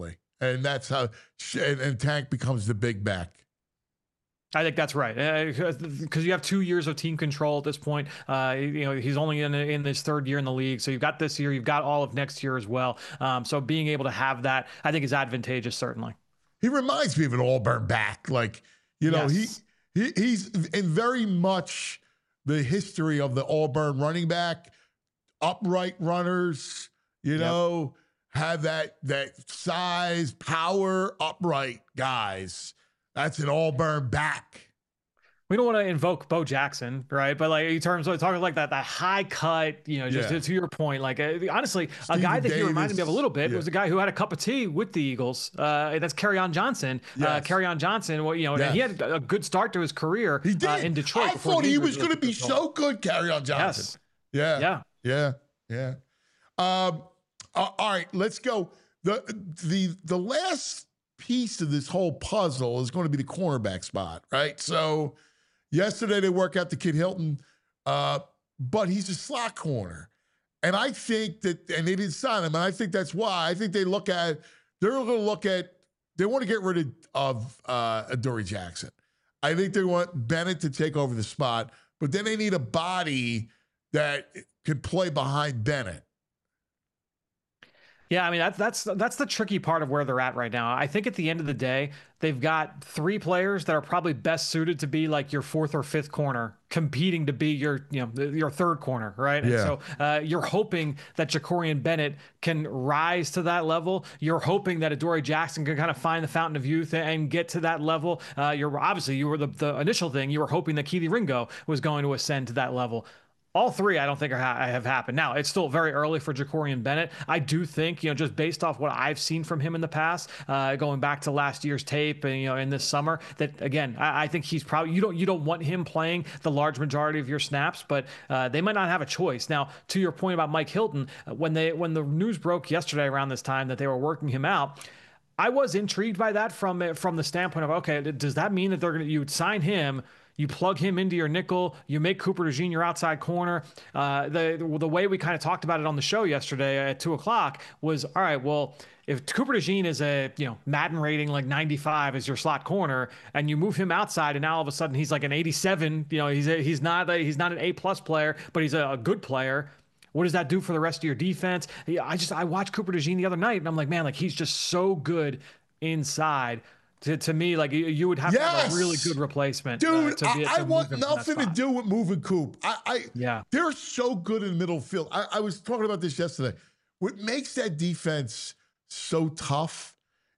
And that's how, and, and Tank becomes the big back. I think that's right, because you have two years of team control at this point. Uh, you know, he's only in in his third year in the league, so you've got this year, you've got all of next year as well. Um, so being able to have that, I think, is advantageous. Certainly, he reminds me of an Auburn back. Like, you know, yes. he, he he's in very much the history of the Auburn running back, upright runners. You know, yep. have that that size, power, upright guys. That's an Auburn back. We don't want to invoke Bo Jackson, right? But like in terms of talking like that, that high cut, you know, just yeah. to, to your point, like uh, honestly, Stephen a guy that Davis, he reminded me of a little bit yeah. was a guy who had a cup of tea with the Eagles. Uh, that's Kerryon Johnson. Yes. Uh, Kerryon Johnson, well, you know, yes. he had a good start to his career he did. Uh, in Detroit. I thought he was going to be so good, Kerryon Johnson. Yes. Yeah. Yeah. Yeah. Yeah. Um, uh, all right, let's go. The the the last piece of this whole puzzle is going to be the cornerback spot, right? So yesterday they work out the Kid Hilton, uh, but he's a slot corner. And I think that, and they didn't sign him, and I think that's why. I think they look at, they're going to look at, they want to get rid of, of uh, Adoree Jackson. I think they want Bennett to take over the spot, but then they need a body that could play behind Bennett. Yeah, I mean, that's that's that's the tricky part of where they're at right now. I think at the end of the day, they've got three players that are probably best suited to be like your fourth or fifth corner, competing to be your, you know, your third corner, right? Yeah. And so uh, you're hoping that Jacorian Bennett can rise to that level. You're hoping that Adoree Jackson can kind of find the fountain of youth and get to that level. Uh, you're obviously, you were the, the initial thing, you were hoping that Kelee Ringo was going to ascend to that level. All three, I don't think are ha- have happened. Now, it's still very early for Jacorian Bennett. I do think, you know, just based off what I've seen from him in the past, uh, going back to last year's tape and, you know, in this summer, that again, I, I think he's probably, you don't, you don't want him playing the large majority of your snaps, but uh, they might not have a choice. Now, to your point about Mike Hilton, when they, when the news broke yesterday around this time that they were working him out, I was intrigued by that from, from the standpoint of, okay, does that mean that they're going to, you would sign him, you plug him into your nickel, you make Cooper DeJean your outside corner. Uh, the the way we kind of talked about it on the show yesterday at two o'clock was, all right, well, if Cooper DeJean is a, you know, Madden rating like ninety-five as your slot corner, and you move him outside, and now all of a sudden he's like an eighty-seven, you know, he's a, he's not a, he's not an A plus player, but he's a, a good player. What does that do for the rest of your defense? I just I watched Cooper DeJean the other night, and I'm like, man, like he's just so good inside. To, to me, like you, you would have yes! to have a really good replacement. Dude, uh, to be, I, to I want nothing to do with moving Coop. I, I yeah. They're so good in the middle field. I, I was talking about this yesterday. What makes that defense so tough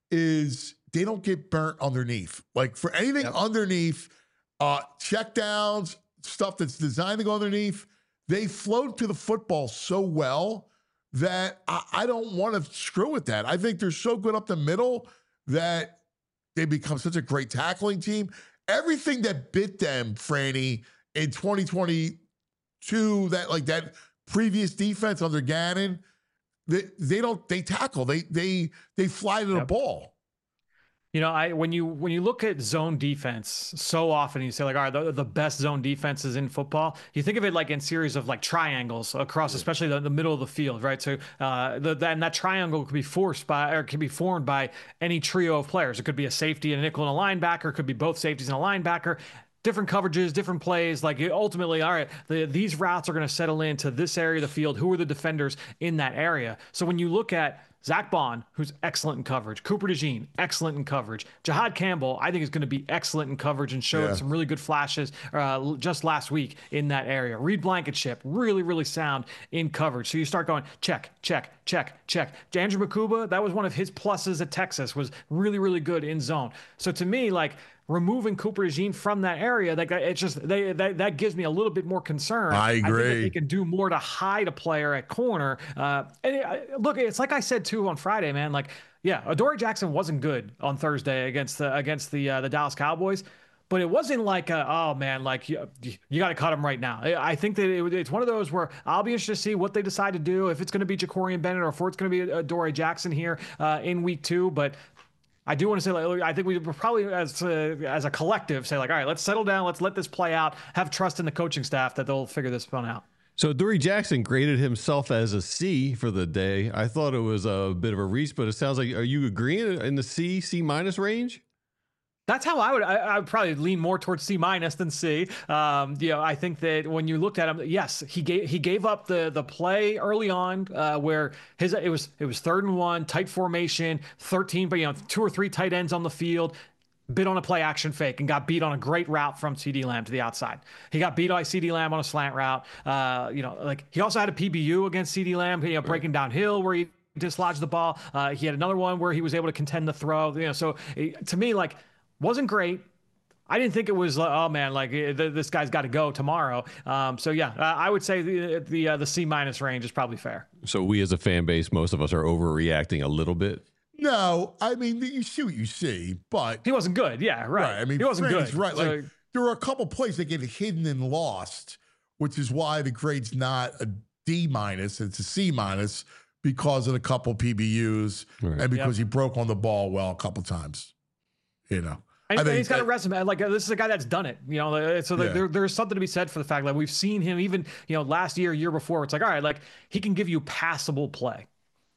is they don't get burnt underneath. Like for anything yep. underneath, uh, check downs, stuff that's designed to go underneath, they float to the football so well that I, I don't want to screw with that. I think they're so good up the middle that they become such a great tackling team. Everything that bit them, Franny, in twenty twenty-two, that like that previous defense under Gannon, they they don't they tackle. They they they fly to the yep. ball. You know, I when you when you look at zone defense, so often you say like, all right, the, the best zone defenses in football. You think of it like in series of like triangles across, yeah. especially the, the middle of the field, right? So, uh, the, the, and that triangle could be forced by or can be formed by any trio of players. It could be a safety, a nickel, and a linebacker. It could be both safeties and a linebacker. Different coverages, different plays. Like ultimately, all right, the, these routes are going to settle into this area of the field. Who are the defenders in that area? So when you look at Zach Bond, who's excellent in coverage. Cooper DeJean, excellent in coverage. Jihad Campbell, I think is going to be excellent in coverage and showed yeah. some really good flashes uh, just last week in that area. Reed Blankenship, really, really sound in coverage. So you start going, check, check, check, check. Andrew Makuba, that was one of his pluses at Texas, was really, really good in zone. So to me, like, removing Cooper DeJean from that area, that it's just they that, that gives me a little bit more concern. I agree. I think that they can do more to hide a player at corner. Uh, and it, look, it's like I said too on Friday, man. Like, yeah, Adoree Jackson wasn't good on Thursday against the against the uh, the Dallas Cowboys, but it wasn't like a, oh man, like you, you got to cut him right now. I think that it, it's one of those where I'll be interested to see what they decide to do, if it's going to be Jacorian Bennett or if it's going to be Adoree Jackson here uh, in week two, but. I do want to say, like, I think we would probably, as a, as a collective, say, like, all right, let's settle down. Let's let this play out. Have trust in the coaching staff that they'll figure this one out. So Dory Jackson graded himself as a C for the day. I thought it was a bit of a reach, but it sounds like, are you agreeing in the C, C minus range? That's how I would. I, I would probably lean more towards C minus than C. Um, you know, I think that when you looked at him, yes, he gave he gave up the the play early on uh, where his it was it was third and one, tight formation, thirteen, but you know, two or three tight ends on the field. Bit on a play action fake and got beat on a great route from CeeDee Lamb to the outside. He got beat by CeeDee Lamb on a slant route. Uh, you know, like he also had a P B U against CeeDee Lamb, you know, breaking downhill where he dislodged the ball. Uh, he had another one where he was able to contend the throw. You know, so it, to me, like, wasn't great. I didn't think it was, uh, oh man, like uh, this guy's got to go tomorrow. Um, so yeah, uh, I would say the the, uh, the C minus range is probably fair. So we as a fan base, most of us are overreacting a little bit. No, I mean, you see what you see, but he wasn't good. Yeah, right. right. I mean, he wasn't Frank's good. Right. So, like there are a couple plays that get hidden and lost, which is why the grade's not a D minus; it's a C minus because of a couple P B Us right. and because yep. he broke on the ball well a couple times. You know, and, I think and he's got that, a resume. Like uh, this is a guy that's done it. You know, so Yeah. there, there's something to be said for the fact that we've seen him even you know last year, year before. It's like all right, like he can give you passable play.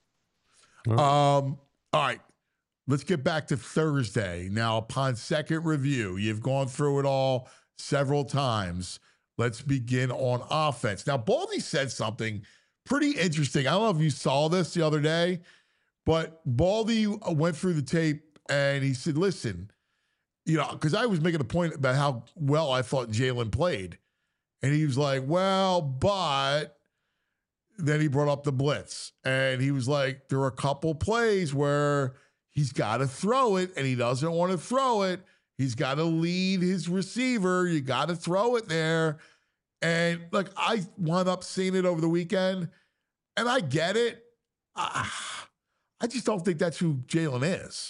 Um. All right. Let's get back to Thursday. Now, upon second review, you've gone through it all several times. Let's begin on offense. Now, Baldy said something pretty interesting. I don't know if you saw this the other day, but Baldy went through the tape and he said, listen, you know, because I was making a point about how well I thought Jalen played. And he was like, well, but then he brought up the blitz. And he was like, there were a couple plays where he's got to throw it, and he doesn't want to throw it. He's got to lead his receiver. You got to throw it there. And, like, I wound up seeing it over the weekend, and I get it. I, I just don't think that's who Jalen is.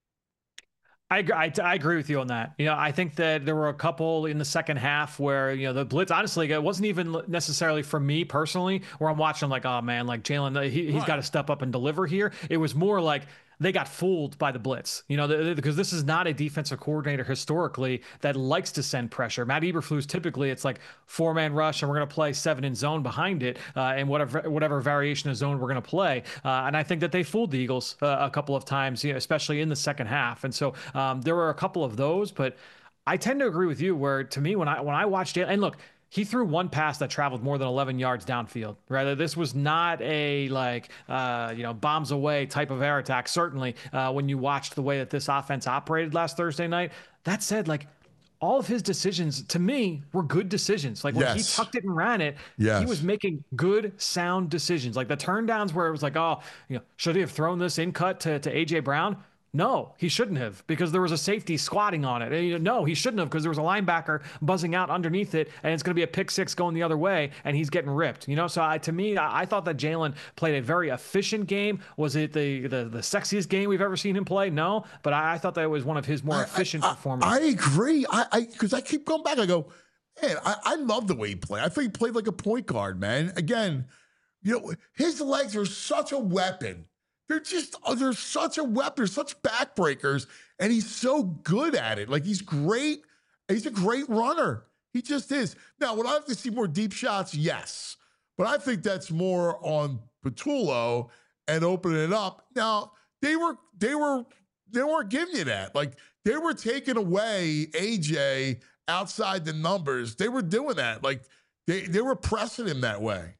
I, I, I agree with you on that. You know, I think that there were a couple in the second half where, you know, the blitz, honestly, it wasn't even necessarily for me personally, where I'm watching like, oh man, like Jalen, he, he's Right. got to step up and deliver here. It was more like, they got fooled by the blitz, you know, the, the, because this is not a defensive coordinator historically that likes to send pressure. Matt Eberflus, typically it's like four man rush and we're going to play seven in zone behind it, uh, and whatever whatever variation of zone we're going to play. Uh, and I think that they fooled the Eagles uh, a couple of times, you know, especially in the second half. And so um, there were a couple of those, but I tend to agree with you. Where to me, when I when I watched it, and look. He threw one pass that traveled more than eleven yards downfield. Right, this was not a like uh, you know bombs away type of air attack. Certainly, uh, when you watched the way that this offense operated last Thursday night. That said, like all of his decisions to me were good decisions. Like when Yes. he tucked it and ran it, Yes. he was making good, sound decisions. Like the turn downs where it was like, oh, you know, should he have thrown this in cut to to A J Brown? No, he shouldn't have, because there was a safety squatting on it. And, you know, no, he shouldn't have, because there was a linebacker buzzing out underneath it, and it's going to be a pick six going the other way, and he's getting ripped. You know, so I, to me, I, I thought that Jalen played a very efficient game. Was it the, the the sexiest game we've ever seen him play? No, but I, I thought that it was one of his more efficient I, I, performances. I agree. I because I, I keep going back. I go, man, I, I love the way he played. I think he played like a point guard, man. Again, you know, his legs are such a weapon. They're just, oh, they're such a weapon. They're such backbreakers, and he's so good at it. Like, he's great. He's a great runner. He just is. Now, would I have to see more deep shots? Yes. But I think that's more on Patullo and opening it up. Now, they were, they were, they weren't giving you that. Like, they were taking away A J outside the numbers. They were doing that. Like, they, they were pressing him that way.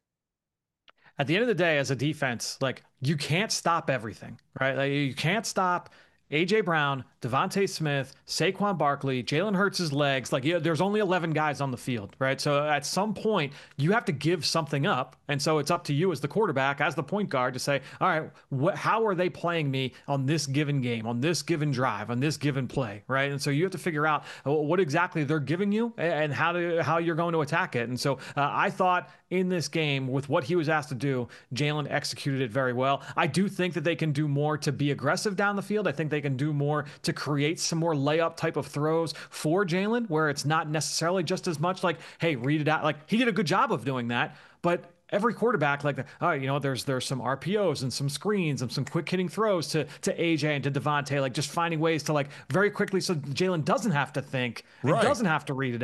At the end of the day, as a defense, like you can't stop everything, right? Like, you can't stop A J Brown, Devontae Smith, Saquon Barkley, Jalen Hurts' legs. Like, yeah, there's only eleven guys on the field, right? So at some point, you have to give something up. And so it's up to you as the quarterback, as the point guard, to say, all right, wh- how are they playing me on this given game, on this given drive, on this given play, right? And so you have to figure out what exactly they're giving you and how to how you're going to attack it. And so uh, I thought in this game, with what he was asked to do, Jalen executed it very well. I do think that they can do more to be aggressive down the field. I think they can do more to create some more layup type of throws for Jalen, where it's not necessarily just as much like, hey, read it out. Like, he did a good job of doing that, but every quarterback, like, oh, you know, there's there's some R P Os and some screens and some quick hitting throws to to A J and to Devontae, like just finding ways to like very quickly so Jalen doesn't have to think and Right. doesn't have to read it out.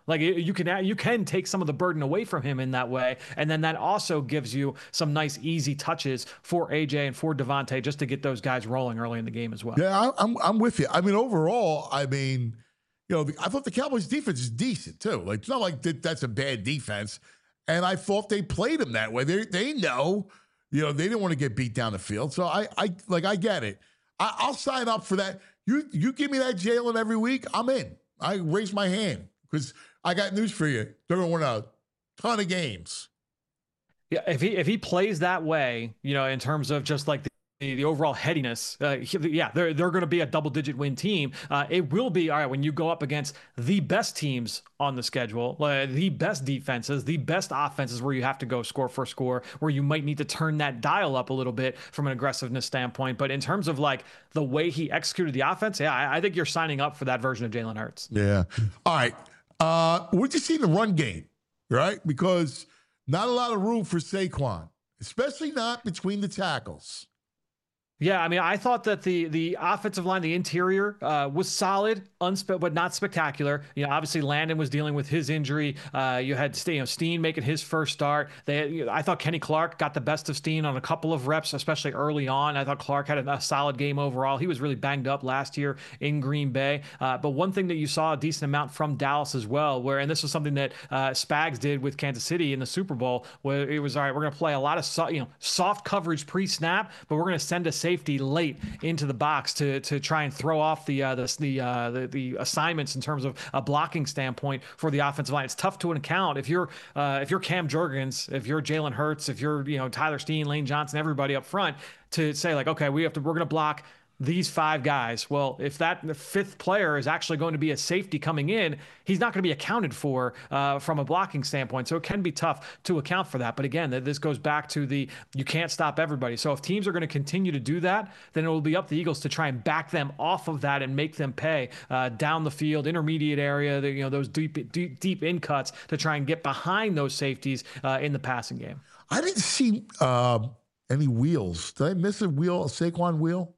Like you can you can take some of the burden away from him in that way, and then that also gives you some nice easy touches for A J and for Devontae just to get those guys rolling early in the game as well. Yeah, I, I'm I'm with you. I mean, overall, I mean, you know, the, I thought the Cowboys' defense is decent too. Like it's not like that, that's a bad defense, and I thought they played them that way. They they know, you know, they didn't want to get beat down the field. So I I like I get it. I, I'll sign up for that. You you give me that Jalen every week, I'm in. I raise my hand because I got news for you. They're going to win a ton of games. Yeah, if he if he plays that way, you know, in terms of just like the, the overall headiness, uh, yeah, they're they're going to be a double digit win team. Uh, it will be all right when you go up against the best teams on the schedule, uh, the best defenses, the best offenses, where you have to go score for score, where you might need to turn that dial up a little bit from an aggressiveness standpoint. But in terms of like the way he executed the offense, yeah, I, I think you're signing up for that version of Jalen Hurts. Yeah. All right. Uh, what did you see in the run game, right? Because not a lot of room for Saquon, especially not between the tackles. Yeah, I mean, I thought that the the offensive line, the interior, uh, was solid, unspe- but not spectacular. You know, obviously Landon was dealing with his injury. Uh, you had you know Steen making his first start. They, you know, I thought Kenny Clark got the best of Steen on a couple of reps, especially early on. I thought Clark had a, a solid game overall. He was really banged up last year in Green Bay. Uh, but one thing that you saw a decent amount from Dallas as well, where and this was something that uh, Spags did with Kansas City in the Super Bowl, where it was all right. We're going to play a lot of so, you know soft coverage pre-snap, but we're going to send a safety late into the box to to try and throw off the uh, the the, uh, the the assignments in terms of a blocking standpoint for the offensive line. It's tough to account if you're uh, if you're Cam Jurgens, if you're Jalen Hurts, if you're you know Tyler Steen, Lane Johnson, everybody up front to say like, okay, we have to we're going to block these five guys. Well, if that fifth player is actually going to be a safety coming in, he's not going to be accounted for uh, from a blocking standpoint. So it can be tough to account for that. But again, this goes back to the you can't stop everybody. So if teams are going to continue to do that, then it will be up to the Eagles to try and back them off of that and make them pay uh, down the field, intermediate area, the, you know, those deep, deep, deep in cuts to try and get behind those safeties uh, in the passing game. I didn't see uh, any wheels. Did I miss a wheel, a Saquon wheel?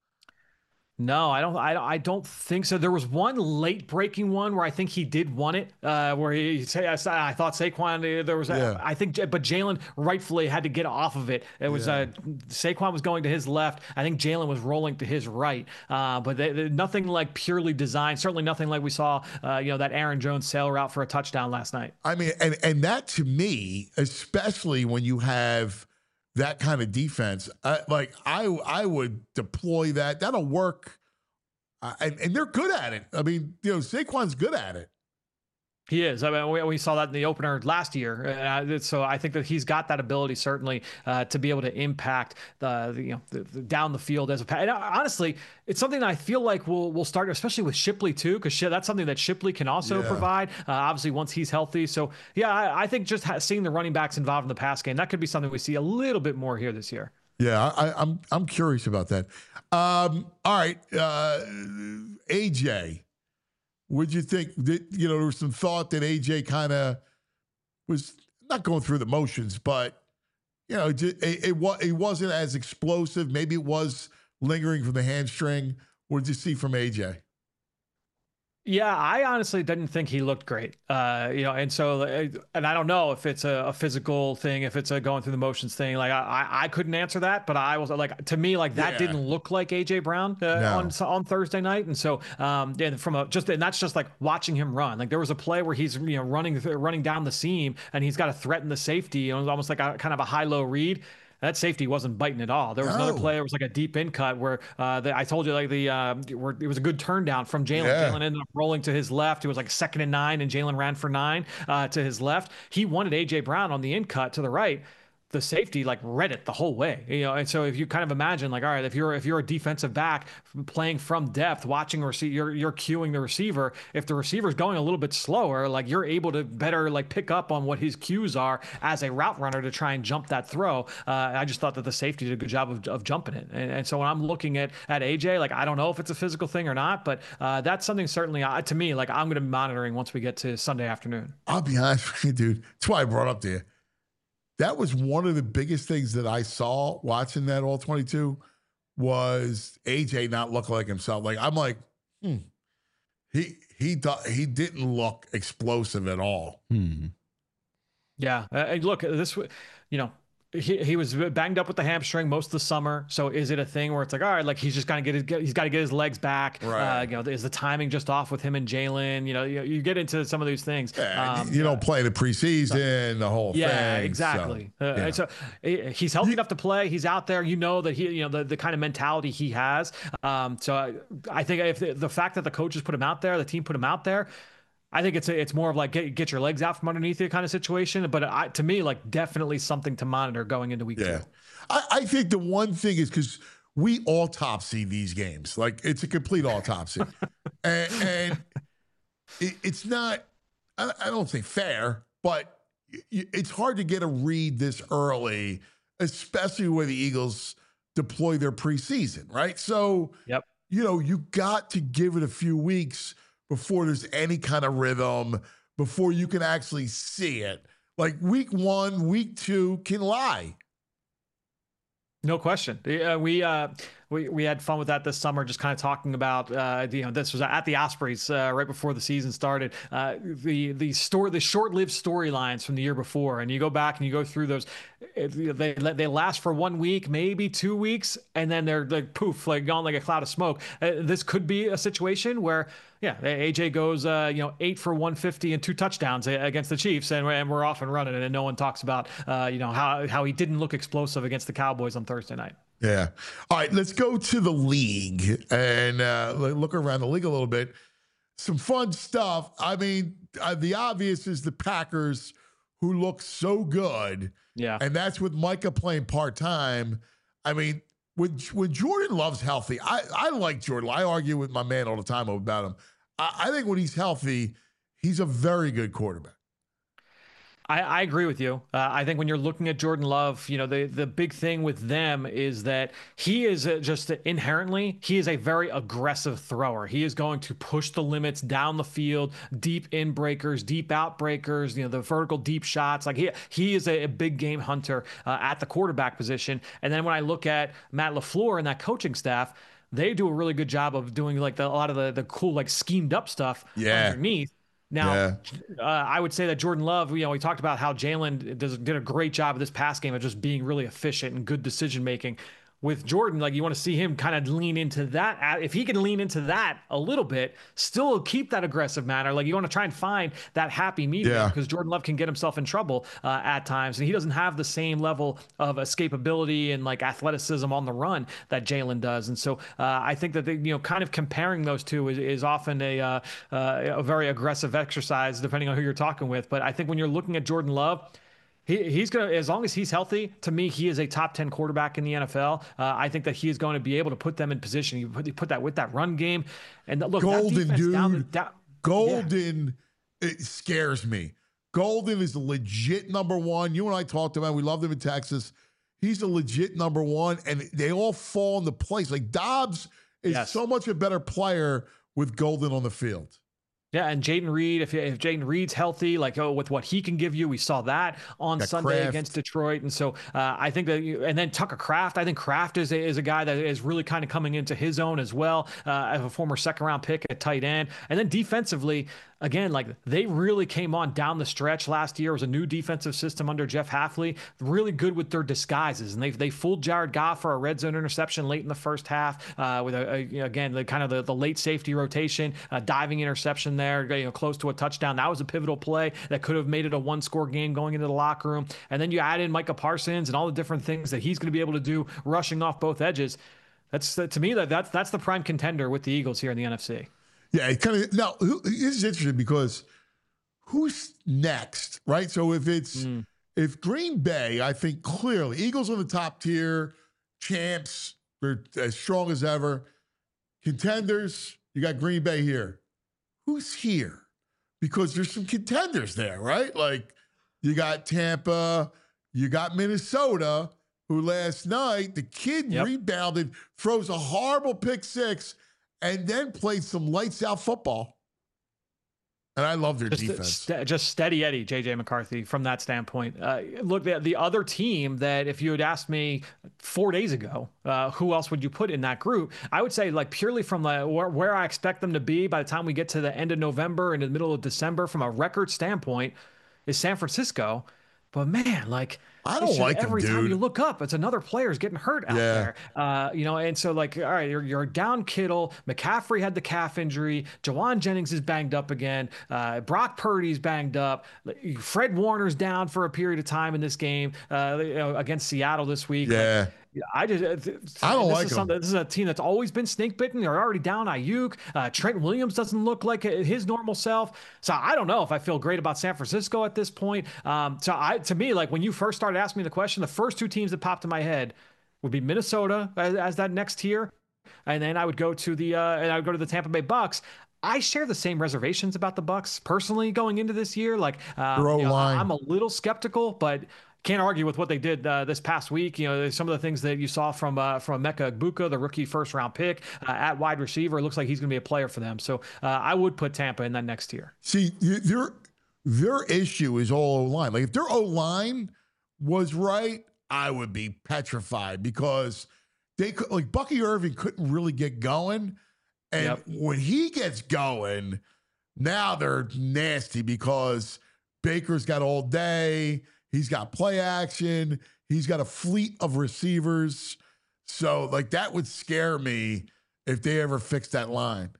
No, I don't. I, I don't think so. There was one late breaking one where I think he did want it. Uh, where he say I, I thought Saquon there was. Yeah. I think, but Jalen rightfully had to get off of it. It was yeah. uh, Saquon was going to his left. I think Jalen was rolling to his right. Uh, but they, they, nothing like purely designed. Certainly nothing like we saw. Uh, you know that Aaron Jones sail route for a touchdown last night. I mean, and and that to me, especially when you have that kind of defense, uh, like I I would deploy that. That'll work, uh, and and they're good at it. I mean, you know, Saquon's good at it. He is. I mean, we, we saw that in the opener last year. Uh, so I think that he's got that ability certainly uh, to be able to impact the, the you know the, the down the field as a. And honestly, it's something that I feel like we'll we'll start, especially with Shipley too, because that's something that Shipley can also yeah. provide. Uh, obviously, once he's healthy. So yeah, I, I think just ha- seeing the running backs involved in the pass game, that could be something we see a little bit more here this year. Yeah, I, I'm I'm curious about that. Um, all right, uh, A J. What'd you think? Did, you know, there was some thought that A J kind of was not going through the motions, but, you know, it, it, it, it wasn't as explosive. Maybe it was lingering from the hamstring. What did you see from A J? Yeah, I honestly didn't think he looked great. Uh, you know, and so, and I don't know if it's a, a physical thing, if it's a going through the motions thing. Like I, I couldn't answer that, but I was like, to me, like that yeah. didn't look like A J Brown uh, no. on on Thursday night. And so, um, and from a just, and that's just like watching him run. Like there was a play where he's you know running running down the seam, and he's got to threaten the safety. And it was almost like a kind of a high low read. That safety wasn't biting at all. There was no. another play. It was like a deep in cut where uh, the, I told you like the uh, where it was a good turn down from Jalen. Yeah. Jalen ended up rolling to his left. It was like second and nine, and Jalen ran for nine uh, to his left. He wanted A J Brown on the in cut to the right. The safety like read it the whole way, you know. And so if you kind of imagine like, all right, if you're if you're a defensive back playing from depth, watching receive, you're you're cueing the receiver. If the receiver's going a little bit slower, like you're able to better like pick up on what his cues are as a route runner to try and jump that throw. Uh, I just thought that the safety did a good job of, of jumping it. And, and so when I'm looking at at A J, like I don't know if it's a physical thing or not, but uh, that's something certainly uh, to me like I'm going to be monitoring once we get to Sunday afternoon. I'll be honest with you, dude. That's why I brought up there. That was one of the biggest things that I saw watching that all twenty-two was A J not looking like himself. Like, I'm like, hmm, he he do, he didn't look explosive at all. Hmm. Yeah. Uh, look, this, you know, he he was banged up with the hamstring most of the summer. So is it a thing where it's like, all right, like he's just gonna get his, he's got to get his legs back. Right. Uh, you know, is the timing just off with him and Jalen? You know, you, you get into some of these things. Yeah, Um, you don't play the preseason, the whole yeah, thing. exactly. So, Uh, yeah. and so eh, he's healthy enough to play. He's out there. You know that he, you know, the, the kind of mentality he has. Um, so I, I think if the, the fact that the coaches put him out there, the team put him out there, I think it's a, it's more of like get get your legs out from underneath you kind of situation. But I, to me, like definitely something to monitor going into week Yeah. two. I, I think the one thing is because we autopsy these games. Like it's a complete autopsy. and and it, it's not, I, I don't say fair, but y- it's hard to get a read this early, especially where the Eagles deploy their preseason, right? So, Yep. you know, you got to give it a few weeks before there's any kind of rhythm, before you can actually see it. Like week one, week two can lie. No question. Uh, we uh, we we had fun with that this summer, just kind of talking about uh, you know this was at the Ospreys uh, right before the season started. Uh, the the story, the short-lived storylines from the year before, and you go back and you go through those. It, they they last for one week, maybe two weeks, and then they're like poof, like gone like a cloud of smoke. Uh, this could be a situation where. Yeah, A J goes, uh, you know, eight for one fifty and two touchdowns against the Chiefs, and, and we're off and running, and no one talks about, uh, you know, how how he didn't look explosive against the Cowboys on Thursday night. Yeah. All right, let's go to the league and uh, look around the league a little bit. Some fun stuff. I mean, uh, the obvious is the Packers, who look so good. Yeah. And that's with Micah playing part-time. I mean, when, when Jordan Love's healthy, I, I like Jordan. I argue with my man all the time about him. I, I think when he's healthy, he's a very good quarterback. I, I agree with you. Uh, I think when you're looking at Jordan Love, you know, the, the big thing with them is that he is a, just inherently, he is a very aggressive thrower. He is going to push the limits down the field, deep in breakers, deep out breakers, you know, the vertical deep shots. Like he, he is a, a big game hunter uh, at the quarterback position. And then when I look at Matt LaFleur and that coaching staff, they do a really good job of doing like the, a lot of the, the cool, like schemed up stuff Yeah. underneath. Now, Yeah. uh, I would say that Jordan Love, you know, we talked about how Jalen does did a great job of this pass game of just being really efficient and good decision making. With Jordan, like you want to see him kind of lean into that. If he can lean into that a little bit, still keep that aggressive manner. Like you want to try and find that happy medium Yeah. because Jordan Love can get himself in trouble uh, at times, and he doesn't have the same level of escapability and like athleticism on the run that Jalen does. And so uh, I think that they, you know, kind of comparing those two is, is often a uh, uh, a very aggressive exercise depending on who you're talking with. But I think when you're looking at Jordan Love. He, he's going to, as long as he's healthy, to me, he is a top ten quarterback in the N F L. Uh, I think that he is going to be able to put them in position. You put, you put that with that run game. And look, Golden, that defense dude. down the, down, Golden, it scares me. Golden is a legit number one. You and I talked about, we loved him in Texas. He's a legit number one, and they all fall into place. Like Dobbs is Yes. so much a better player with Golden on the field. Yeah, and Jaden Reed, if if Jaden Reed's healthy, like oh, with what he can give you, we saw that on Got Sunday Kraft. against Detroit, and so uh, I think that, you, and then Tucker Kraft, I think Kraft is a, is a guy that is really kind of coming into his own as well, uh, as a former second round pick at tight end, and then defensively. Again, like they really came on down the stretch last year. It was a new defensive system under Jeff Hafley, really good with their disguises. And they they fooled Jared Goff for a red zone interception late in the first half uh, with, a, a, you know, again, the kind of the, the late safety rotation, uh, diving interception there, you know, close to a touchdown. That was a pivotal play that could have made it a one-score game going into the locker room. And then you add in Micah Parsons and all the different things that he's going to be able to do rushing off both edges. That's to me, that that's, that's the prime contender with the Eagles here in the N F C. Yeah, it kind of now who, this is interesting because who's next, right? So if it's Mm. if Green Bay, I think clearly Eagles on the top tier, champs, they're as strong as ever. Contenders, you got Green Bay here. Who's here? Because there's some contenders there, right? Like you got Tampa, you got Minnesota, who last night the kid Yep. rebounded, throws a horrible pick six. And then played some lights out football. And I love their Just, defense. st- just steady Eddie, J J McCarthy from that standpoint. Uh, look, the, the other team that if you had asked me four days ago, uh, who else would you put in that group? I would say like purely from the, where, where I expect them to be by the time we get to the end of November and the middle of December from a record standpoint is San Francisco. But man, like I don't like him, every dude. time you look up, it's another player's getting hurt out Yeah. there. Uh, you know, and so like, all right, you're, you're down Kittle. McCaffrey had the calf injury. Jawan Jennings is banged up again. Uh, Brock Purdy's banged up. Fred Warner's down for a period of time in this game uh, you know, against Seattle this week. Yeah. Like, I just, uh, I don't this like is him. something- This is a team that's always been snake bitten. They're already down Ayuk. Uh, Trent Williams doesn't look like his normal self. So I don't know if I feel great about San Francisco at this point. Um, so I, to me, like when you first started asking me the question, the first two teams that popped in my head would be Minnesota as, as that next tier, and then I would go to the uh, and I would go to the Tampa Bay Bucks. I share the same reservations about the Bucks personally going into this year. Like, um, Their you know, O-line. I'm a little skeptical, but can't argue with what they did uh, this past week. You know, some of the things that you saw from uh, from Emeka Egbuka, the rookie first round pick uh, at wide receiver. It looks like he's going to be a player for them. So uh, I would put Tampa in that next tier. See, you- their their issue is all O line. Like if their O line was right, I would be petrified because they could like Bucky Irving couldn't really get going, and Yep. when he gets going, now they're nasty because Baker's got all day. He's got play action. He's got a fleet of receivers. So like that would scare me if they ever fix that line.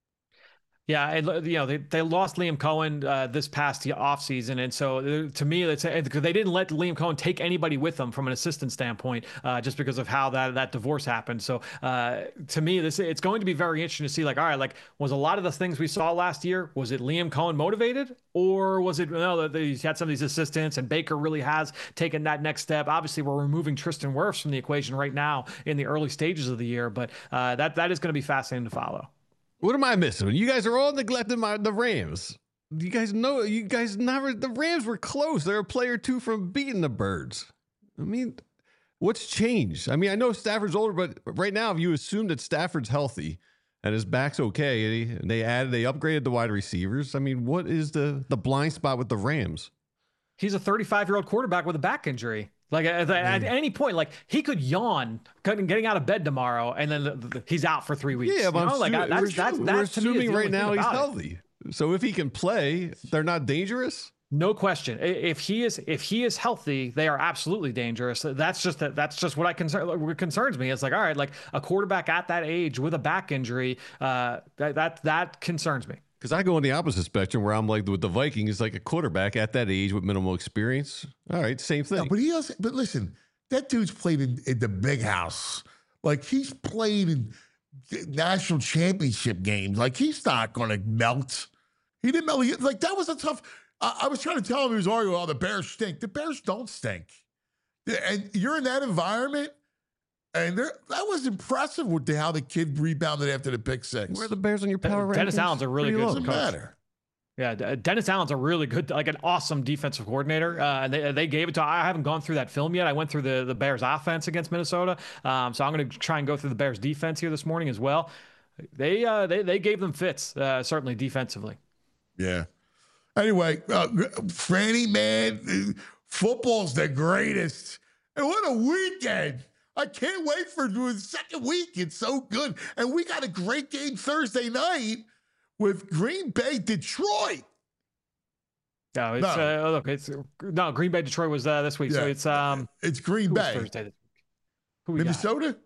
Yeah, and you know they, they lost Liam Cohen uh, this past offseason, and so uh, to me, it's because they didn't let Liam Cohen take anybody with them from an assistant standpoint, uh, just because of how that that divorce happened. So uh, to me, this it's going to be very interesting to see. Like, all right, like was a lot of the things we saw last year, was it Liam Cohen motivated, or was it you know that he's had some of these assistants and Baker really has taken that next step? Obviously, we're removing Tristan Wirfs from the equation right now in the early stages of the year, but uh, that that is going to be fascinating to follow. What am I missing? You guys are all neglecting my the Rams. You guys know, you guys never, the Rams were close. They're a player or two from beating the Birds. I mean, what's changed? I mean, I know Stafford's older, but right now, if you assume that Stafford's healthy and his back's okay, and he, they added, they upgraded the wide receivers. I mean, what is the the blind spot with the Rams? He's a thirty-five-year-old quarterback with a back injury. Like at, at any point, like he could yawn getting out of bed tomorrow, and then the, the, he's out for three weeks. Yeah, but you know? I'm like assu- I, that's we're, that's we're that's to me is assuming the right only now thing he's about it. healthy. So if he can play, they're not dangerous. No question. I- If he is if he is healthy, they are absolutely dangerous. That's just that. That's just what I concern. What concerns me. It's like all right, like a quarterback at that age with a back injury. Uh, that that that concerns me. Because I go on the opposite spectrum where I'm like with the Vikings, like a quarterback at that age with minimal experience. All right, same thing. No, but he also, but listen, that dude's played in, in the big house. Like he's played in national championship games. Like he's not going to melt. He didn't melt. He, like that was a tough. I, I was trying to tell him he was arguing, oh, the Bears stink. The Bears don't stink. And you're in that environment. And there, that was impressive with the, how the kid rebounded after the pick six. Where are the Bears on your power rankings? Dennis Allen's a really Pretty good low. Doesn't coach. matter. Yeah, D- Dennis Allen's a really good, like an awesome defensive coordinator. Uh, and they, they gave it to. I haven't gone through that film yet. I went through the the Bears offense against Minnesota. Um, so I'm going to try and go through the Bears defense here this morning as well. They uh, they they gave them fits, uh, certainly defensively. Yeah. Anyway, uh, Franny, man, football's the greatest. And what a weekend. I can't wait for the second week. It's so good. And we got a great game Thursday night with Green Bay, Detroit. No, it's No. Uh, look, it's no Green Bay Detroit was uh, this week, so Yeah. it's um It's Green who was Bay. Thursday this week? Who we got? Minnesota?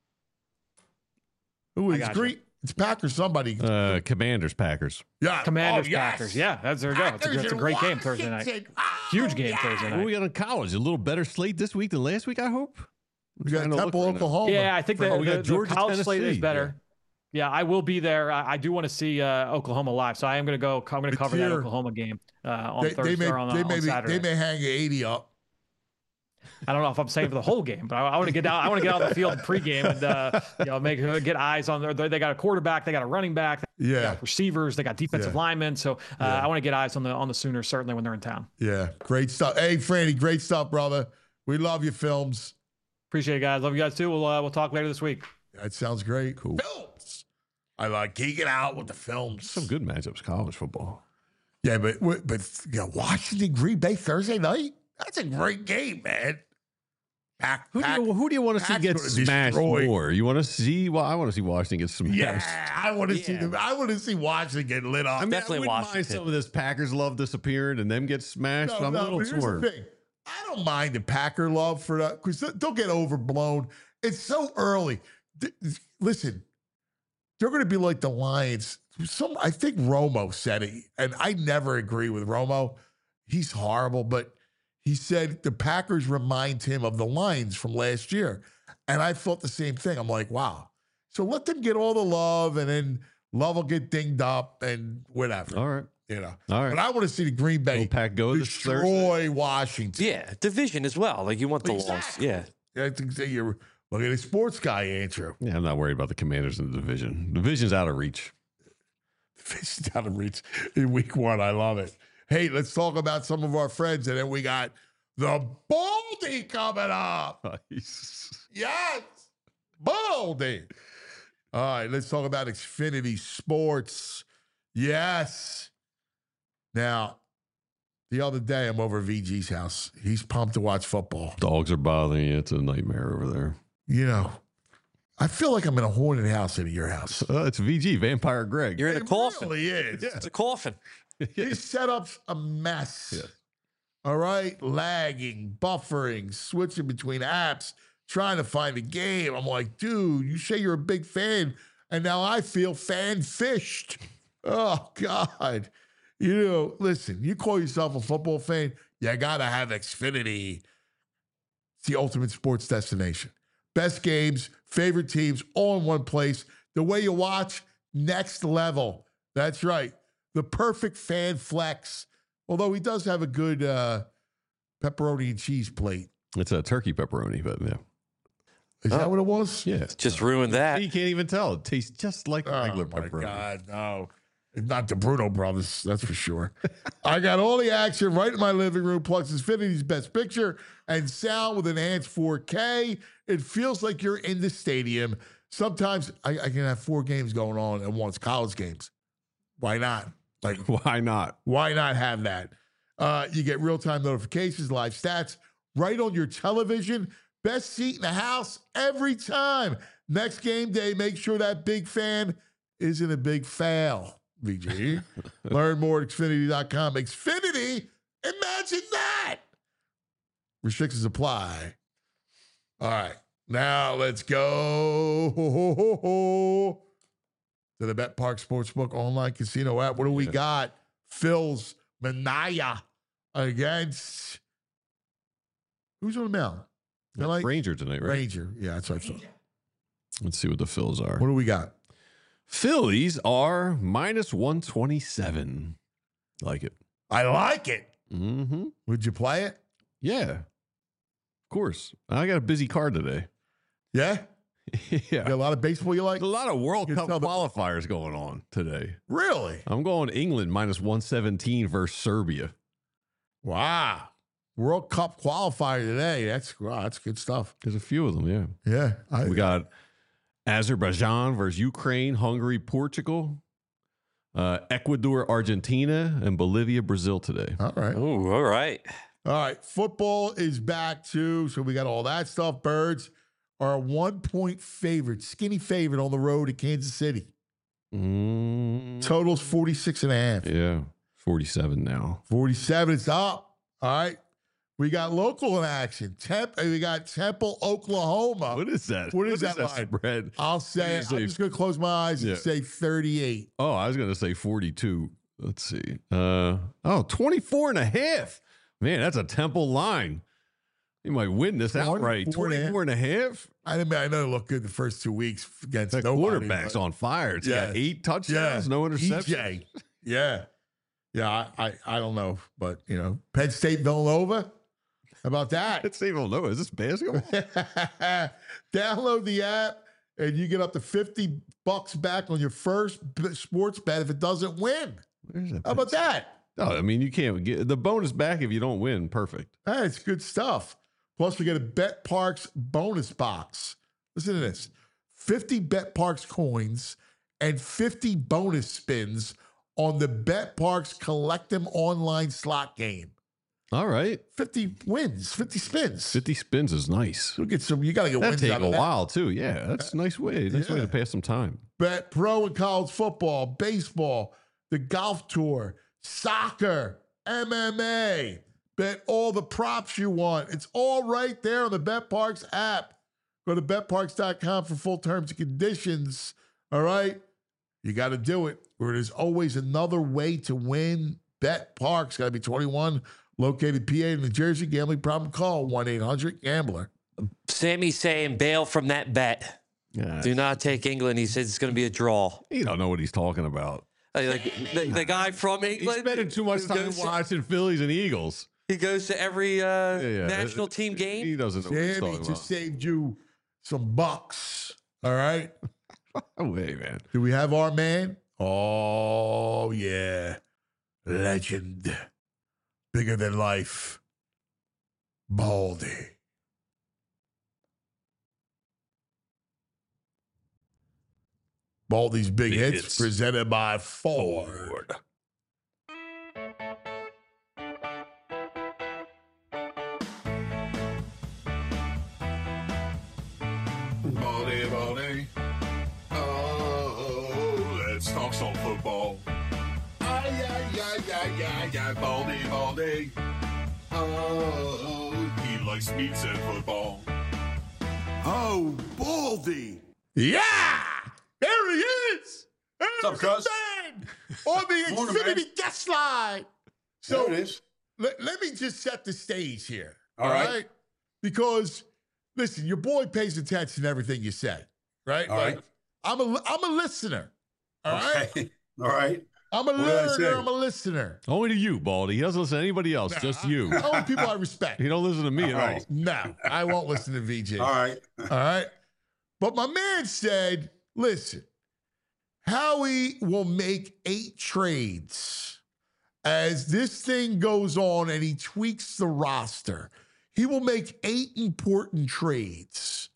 Who I is got Green? It's Packers, somebody. Uh, Commanders, Packers. yeah. Commanders Oh, yes. Packers. Yeah, that's there we go. It's a, Packers it's a in great game Thursday night. Washington. Oh, Huge game yeah. Thursday What night. we got in college? A little better slate this week than last week, I hope. We got Trying to look Temple, right now. Oklahoma. Yeah, I think the, Oh, we got the, the Georgia, college slate is Tennessee. better. Yeah. I will be there. I, I do want to see uh, Oklahoma live, so I am going to go. I'm going to It's cover that here. Oklahoma game uh, on They, Thursday they may, or on, they, on may be, Saturday. they may hang eighty up. I don't know if I'm saying for the whole game, but I, I want to get out. I want to get out on the field pregame and uh, you know make get eyes on their. They got a quarterback, they got a running back, they Yeah. got receivers, they got defensive Yeah. linemen. So uh, Yeah. I want to get eyes on the on the Sooners certainly when they're in town. Yeah. Great stuff. Hey, Franny, great stuff, brother. We love your films. Appreciate it, guys. Love you guys too. We'll uh, we'll talk later this week. That sounds great. Cool. Films. I like geeking out with the films. Some good matchups, college football. Yeah, but but you know, Washington Green Bay Thursday night. That's a great game, man. Pack, Who do, pack, you, who do you want to see Pac's get gonna smashed destroy. more? You want to see? Well, I want to see Washington get smashed. Yeah, I want to see Yeah. them. I want to see Washington get lit up. I mean, Definitely I wouldn't mind Washington. some of this Packers love disappearing and them get smashed. No, I'm no, a little but here's torn. the thing. I don't mind the Packer love for that because they'll get overblown. It's so early. Th- Listen, they're going to be like the Lions. Some, I think Romo said it, and I never agree with Romo. He's horrible, but he said the Packers remind him of the Lions from last year. And I thought the same thing. I'm like, wow. So let them get all the love, and then love will get dinged up and whatever. All right. You know. All right. But I want to see the Green Bay Will Pack go this Thursday? destroy Washington. Yeah, division as well. Like you want the loss. Exactly. Yeah. I think that you're look at a sports guy, Andrew. Yeah, I'm not worried about the Commanders in the division. Division's out of reach. Fish down to reach in week one. I love it. Hey, let's talk about some of our friends, and then we got the Baldy coming up. Yes, Baldy. All right, let's talk about Xfinity Sports. Yes. Now, the other day I'm over at V G's house. He's pumped to watch football. Dogs are bothering you. It's a nightmare over there. You know, I feel like I'm in a haunted house in your house. Uh, it's V G, Vampire Greg. You're in a It coffin. really is. It's a coffin. His setup's a mess. Yeah. All right, lagging, buffering, switching between apps, trying to find a game. I'm like, dude, you say you're a big fan, and now I feel fan fished. Oh God. You know, listen, you call yourself a football fan, you gotta have Xfinity. It's the ultimate sports destination. Best games, favorite teams, all in one place. The way you watch, next level. That's right. The perfect fan flex. Although he does have a good uh, pepperoni and cheese plate. It's a turkey pepperoni, but yeah. Is that what it was? Yeah. Just ruined that. You can't even tell. It tastes just like Oh, regular my pepperoni. God, no. It's not the Bruno brothers, that's for sure. I got all the action right in my living room, plus Xfinity's best picture and sound with enhanced four K. It feels like you're in the stadium. Sometimes I, I can have four games going on at once, college games. Why not? Like, Why not? why not have that? Uh, you get real-time notifications, live stats right on your television. Best seat in the house every time. Next game day, make sure that big fan isn't a big fail. V G. Learn more at Xfinity dot com. Xfinity, imagine that. Restrictions apply. All right. Now let's go to the Bet Park Sportsbook online casino app. What do we Yeah. got? Phil's Manaya against who's on the mound? They're like Ranger tonight, right? Ranger. Yeah, that's what I thought. Let's see what the Phils are. What do we got? Phillies are minus one twenty-seven. Like it. I like it. Mm-hmm. Would you play it? Yeah. Of course. I got a busy card today. Yeah? yeah. You got a lot of baseball you like? There's a lot of World You Cup tell the- qualifiers going on today. Really? I'm going England minus one seventeen versus Serbia. Wow. World Cup qualifier today. That's wow, that's good stuff. There's a few of them, yeah. Yeah. I, We got Azerbaijan versus Ukraine, Hungary, Portugal, uh, Ecuador, Argentina, and Bolivia, Brazil today. all right. Ooh, all right. All right. Football is back too. So we got all that stuff. Birds are a one point favorite, skinny favorite on the road at Kansas City. Mm, Totals forty-six and a half. yeah, forty-seven now. forty-seven is up. All right. We got local in action. Temp, we got Temple, Oklahoma. What is that? What is that line? spread? I'll say, What do you I'm say? just going to close my eyes Yeah. and say thirty-eight. Oh, I was going to say forty-two. Let's see. Uh, oh, twenty-four and a half. Man, that's a Temple line. You might win this outright. twenty-four and a half. twenty-four and a half. I mean, I know it looked good the first two weeks against That nobody, quarterback's but- on fire. It's got Yes. eight touchdowns, Yeah. no interceptions. E J. Yeah. Yeah, I, I, I don't know. But, you know, Penn State, Villanova. How about that? It's even low. Is this basketball? Download the app and you get up to fifty bucks back on your first b- sports bet if it doesn't win. Where's that? How about that? Oh, I mean, you can't get the bonus back if you don't win. Perfect. Hey, it's good stuff. Plus, we get a Bet Parks bonus box. Listen to this. fifty Bet Parks coins and fifty bonus spins, on the BetParx Collect 'em online slot game. All right. fifty wins, fifty spins. fifty spins is nice. You'll get some. You got to get That'd wins take out a of that. while, too. Yeah, that's a nice way. Nice way Yeah. to pass some time. Bet pro and college football, baseball, the golf tour, soccer, M M A. Bet all the props you want. It's all right there on the BetParx app. Go to bet parx dot com for full terms and conditions. All right? You got to do it. Where there's always another way to win. BetParx. Got to be twenty-one. Located P A, New Jersey. Gambling problem? Call one eight hundred gambler. Sammy's saying bail from that bet. Yeah. Do not take England. He says it's going to be a draw. You don't know what he's talking about. Like the, the guy from He's England. spending too much who time goes to- watching Phillies and Eagles. He goes to every uh, Yeah, yeah. national team He game. doesn't know what he's Sammy talking just about. saved you some bucks. All right? Oh, wait, man. Do we have our man? Oh, yeah. Legend. Bigger than life. Baldy. Baldy's Big, Big Hits, Hits. presented by Ford. Baldy, Baldy. Oh, let's talk some football. Ay, ay, ay, ay, ay, ay, Baldy, Baldy. Oh, he likes meats and football. Oh, Baldy. Yeah! There he is! What's up, cuz? Man, on the Morning, Xfinity man. guest line. So There it is. let, let me just set the stage here. All All right. right? Because, listen, your boy pays attention to everything you say, right? All right. I'm a, I'm a listener, all right? Okay. All right. I'm a What did I say? learner, I'm a listener. Only to you, Baldy. He doesn't listen to anybody else, just you. Only people I respect. He don't listen to me All at right. all. No, I won't listen to V J. All right. All right. But my man said, listen, Howie will make eight trades as this thing goes on and he tweaks the roster. He will make eight important trades.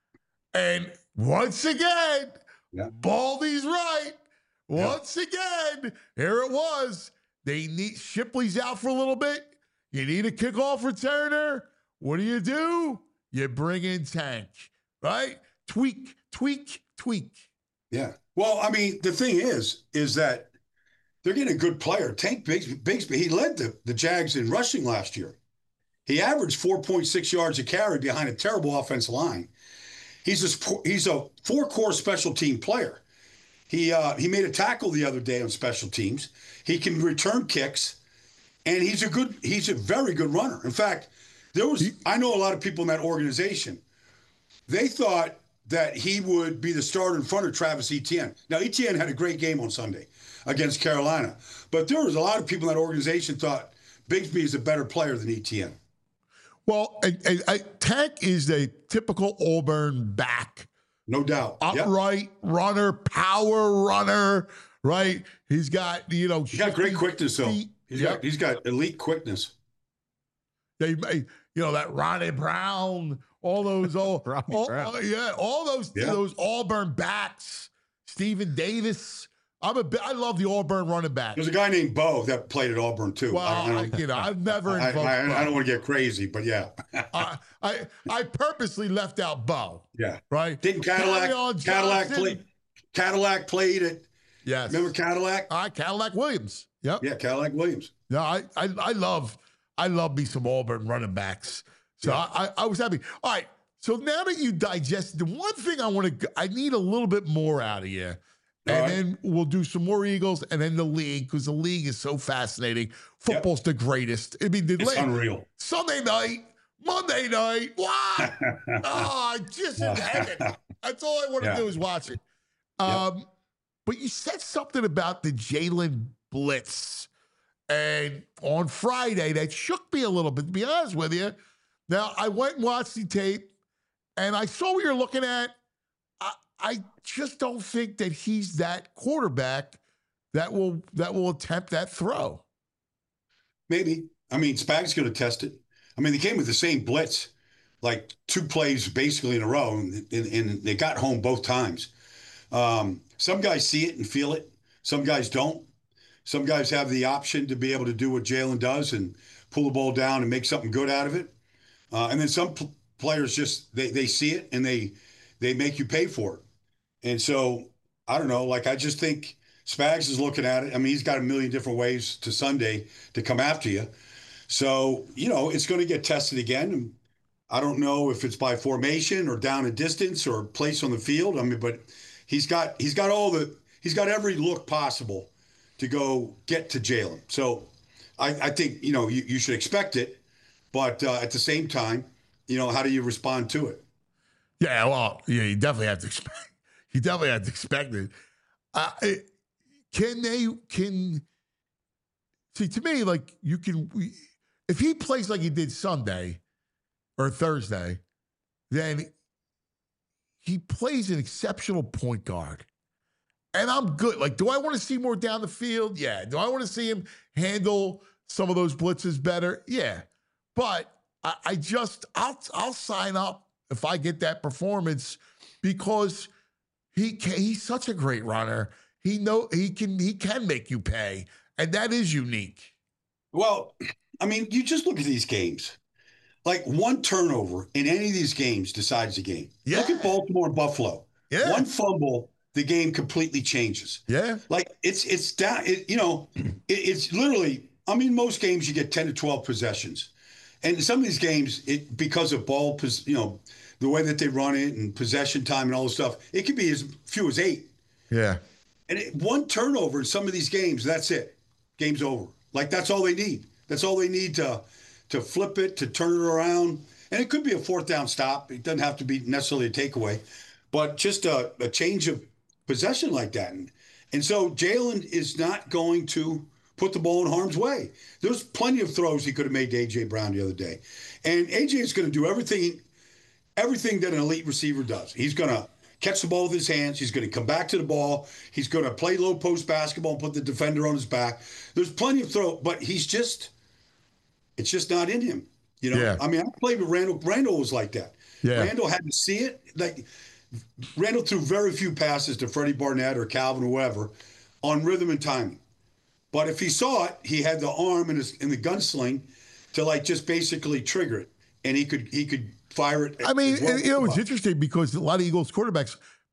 And once again, Yeah. Baldy's right. Yeah. Once again, here it was. They need Shipley's out for a little bit. You need a kickoff returner. What do you do? You bring in Tank, right? Tweak, tweak, tweak. Yeah. Well, I mean, the thing is, is that they're getting a good player. Tank Bigsby, Bigsby he led the, the Jags in rushing last year. He averaged four point six yards a carry behind a terrible offensive line. He's a, he's a four-core special team player. He uh, he made a tackle the other day on special teams. He can return kicks, and he's a good he's a very good runner. In fact, there was I know a lot of people in that organization. They thought that he would be the starter in front of Travis Etienne. Now, Etienne had a great game on Sunday against Carolina, but there was a lot of people in that organization thought Bigsby is a better player than Etienne. Well, I, I, I, Tank is a typical Auburn back. No doubt. Yep. Upright runner, power runner, right? He's got, you know, He's got great shifty quickness, though. feet. He's Yep. got he's got elite quickness. They, may- you know, that Ronnie Brown, all those, all, Ronnie all- Brown. uh, yeah, all those, Yeah. those Auburn backs. Stephen Davis. I'm a, bi- I love the Auburn running back. There's a guy named Bo that played at Auburn too. Well, I, I I, don't, you know, I've never I, invoked I, I Bo. don't want to get crazy, but yeah, I, I, I purposely left out Bo, yeah. right? Didn't Cadillac Carry-on Cadillac Johnson. play? Cadillac played at. Yes. Remember Cadillac? All right, Cadillac Williams. Yep. Yeah, Cadillac Williams. No, I, I, I love, I love me some Auburn running backs. So Yeah. I, I, I was happy. All right. So now that you digest the one thing I want to, I need a little bit more out of you. And All right. then we'll do some more Eagles and then the league because the league is so fascinating. Football's the greatest. I mean, the It's la- unreal. Sunday night, Monday night. What? oh, just in heaven. That's all I want to Yeah. do is watch it. Um, But you said something about the Jalen Blitz. And on Friday, that shook me a little bit, to be honest with you. Now, I went and watched the tape, and I saw what you're looking at. I, I just don't think that he's that quarterback that will that will attempt that throw. Maybe. I mean, Spag's going to test it. I mean, they came with the same blitz, like two plays basically in a row, and, and, and they got home both times. Um, some guys see it and feel it. Some guys don't. Some guys have the option to be able to do what Jalen does and pull the ball down and make something good out of it. Uh, and then some pl- players just they they see it and they they make you pay for it. And so I don't know. Like I just think Spags is looking at it. I mean, he's got a million different ways to Sunday to come after you. So you know it's going to get tested again. And I don't know if it's by formation or down a distance or place on the field. I mean, but he's got he's got all the he's got every look possible to go get to Jalen. So I, I think, you know, you, you should expect it. But uh, at the same time, you know, how do you respond to it? Yeah, well, yeah, you definitely have to expect. You definitely have to expect it. Uh, can they? Can see to me like you can. If he plays like he did Sunday or Thursday, then he plays an exceptional point guard. And I'm good. Like, do I want to see more down the field? Yeah. Do I want to see him handle some of those blitzes better? Yeah. But I, I just, I'll, I'll sign up if I get that performance because he can, he's such a great runner. He know he can he can make you pay, and that is unique. Well, I mean, you just look at these games. Like one turnover in any of these games decides the game. Yeah. Look at Baltimore and Buffalo. Yeah. One fumble, the game completely changes. Yeah. Like it's it's down. It, you know, it, it's literally. I mean, most games you get ten to twelve possessions, and some of these games, it because of ball, pos, you know, the way that they run it and possession time and all this stuff, it could be as few as eight. Yeah. And it, one turnover in some of these games, that's it. Game's over. Like that's all they need. That's all they need to to flip it, to turn it around. And it could be a fourth down stop. It doesn't have to be necessarily a takeaway, but just a, a change of possession like that. And, and so Jalen is not going to put the ball in harm's way. There's plenty of throws he could have made to A J Brown the other day. And A J is going to do everything, everything that an elite receiver does. He's going to catch the ball with his hands. He's going to come back to the ball. He's going to play low post basketball and put the defender on his back. There's plenty of throw, but he's just, it's just not in him. You know, Yeah. I mean, I played with Randall. Randall was like that. Yeah. Randall had to see it. Like Randall threw very few passes to Freddie Barnett or Calvin or whoever on rhythm and timing. But if he saw it, he had the arm in his in the gunsling to like just basically trigger it, and he could he could fire it. I mean, as well. you know, it's interesting because a lot of Eagles quarterbacks,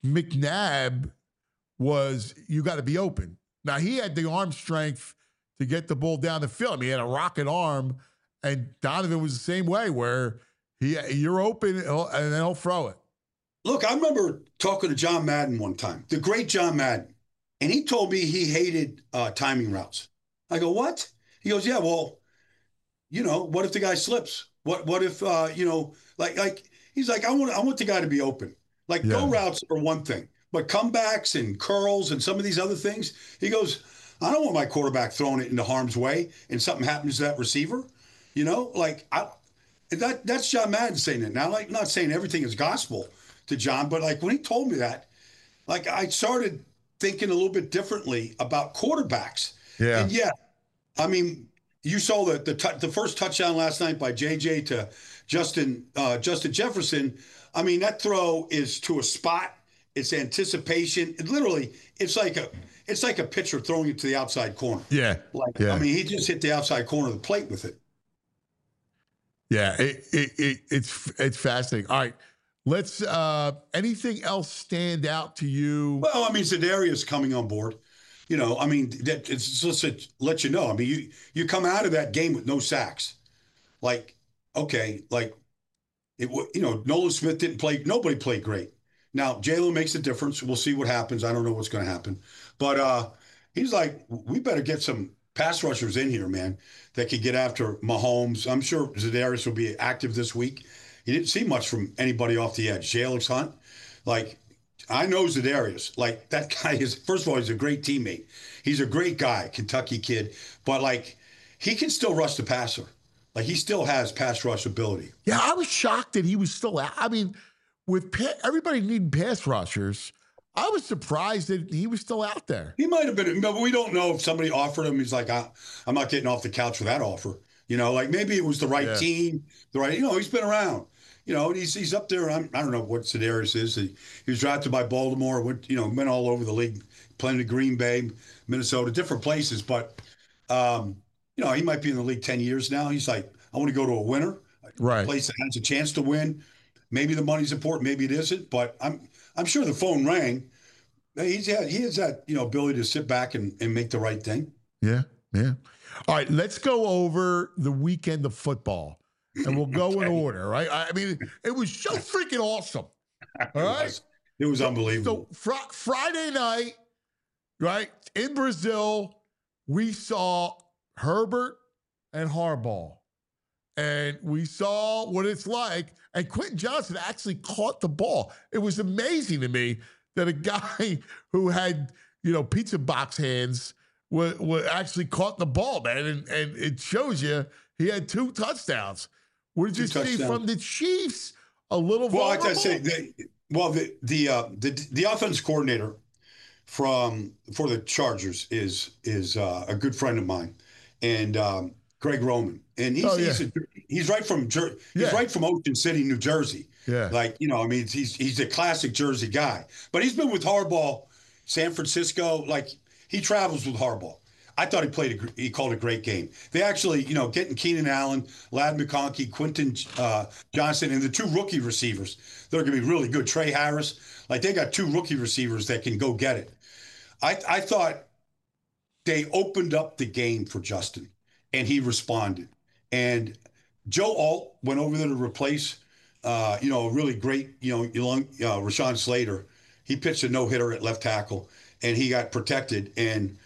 McNabb was, you got to be open. Now, he had the arm strength to get the ball down the field. I mean, he had a rocket arm, and Donovan was the same way where he you're open and then he'll throw it. Look, I remember talking to John Madden one time, the great John Madden, and he told me he hated uh, timing routes. I go, what? He goes, yeah, well, you know, what if the guy slips? What what if, uh, you know, like, like he's like, I want I want the guy to be open. Like Yeah. go routes are one thing, but comebacks and curls and some of these other things, he goes, I don't want my quarterback throwing it into harm's way and something happens to that receiver. You know, like I, that that's John Madden saying it. Now, like, not saying everything is gospel to John, but like when he told me that, like I started thinking a little bit differently about quarterbacks. Yeah. And yeah, I mean, you saw the the, t- the first touchdown last night by J J to Justin uh, Justin Jefferson. I mean, that throw is to a spot. It's anticipation. It literally, it's like a it's like a pitcher throwing it to the outside corner. Yeah. Like Yeah. I mean, he just hit the outside corner of the plate with it. Yeah, it, it, it, it's it's fascinating. All right, let's. Uh, anything else stand out to you? Well, I mean, Za'Darius coming on board. You know, I mean, that it's just to let you know. I mean, you you come out of that game with no sacks. Like, okay, like it. You know, Nolan Smith didn't play. Nobody played great. Now Jalen makes a difference. We'll see what happens. I don't know what's going to happen, but uh, he's like, we better get some pass rushers in here, man, that could get after Mahomes. I'm sure Za'Darius will be active this week. You didn't see much from anybody off the edge. Alex Hunt, like, I know Za'Darius. Like, that guy is, first of all, he's a great teammate. He's a great guy, Kentucky kid. But, like, he can still rush the passer. Like, he still has pass rush ability. Yeah, I was shocked that he was still out. I mean, with pa- everybody needing pass rushers, I was surprised that he was still out there. He might have been, but we don't know if somebody offered him. He's like, I, I'm not getting off the couch for that offer. You know, like maybe it was the right Yeah. team, the right, you know, he's been around. You know, he's he's up there. I'm, I don't know what Za'Darius is. He, he was drafted by Baltimore, went, you know, went all over the league, playing in Green Bay, Minnesota, different places. But, um, you know, he might be in the league ten years now. He's like, I want to go to a winner, Right. a place that has a chance to win. Maybe the money's important, maybe it isn't. But I'm I'm sure the phone rang. He's had, he has that, you know, ability to sit back and, and make the right thing. Yeah, yeah. All right, let's go over the weekend of football, and we'll go Okay. in order, right? I mean, it was so freaking awesome. All It right? was, it was unbelievable. So fr- Friday night, right, in Brazil, we saw Herbert and Harbaugh. And we saw what it's like. And Quentin Johnson actually caught the ball. It was amazing to me that a guy who had, you know, pizza box hands would, would actually caught the ball, man. And, and it shows you he had two touchdowns. What did you Two see touchdowns. from the Chiefs? A little Well, I vulnerable? gotta say, the, well, the the uh, the the offense coordinator from for the Chargers is is uh, a good friend of mine, and um, Greg Roman, and he's Oh, yeah. he's, a, he's right from Jer- he's Yeah. right from Ocean City, New Jersey. Yeah. Like, you know, I mean, he's he's a classic Jersey guy, but he's been with Harbaugh, San Francisco. Like, he travels with Harbaugh. I thought he played a gr- he called a great game. They actually, you know, getting Keenan Allen, Lad McConkey, Quentin uh, Johnson, and the two rookie receivers. They're going to be really good. Trey Harris, like, they got two rookie receivers that can go get it. I I thought they opened up the game for Justin, and he responded. And Joe Alt went over there to replace, uh, you know, a really great, you know, young, uh, Rashawn Slater. He pitched a no hitter at left tackle, and he got protected. And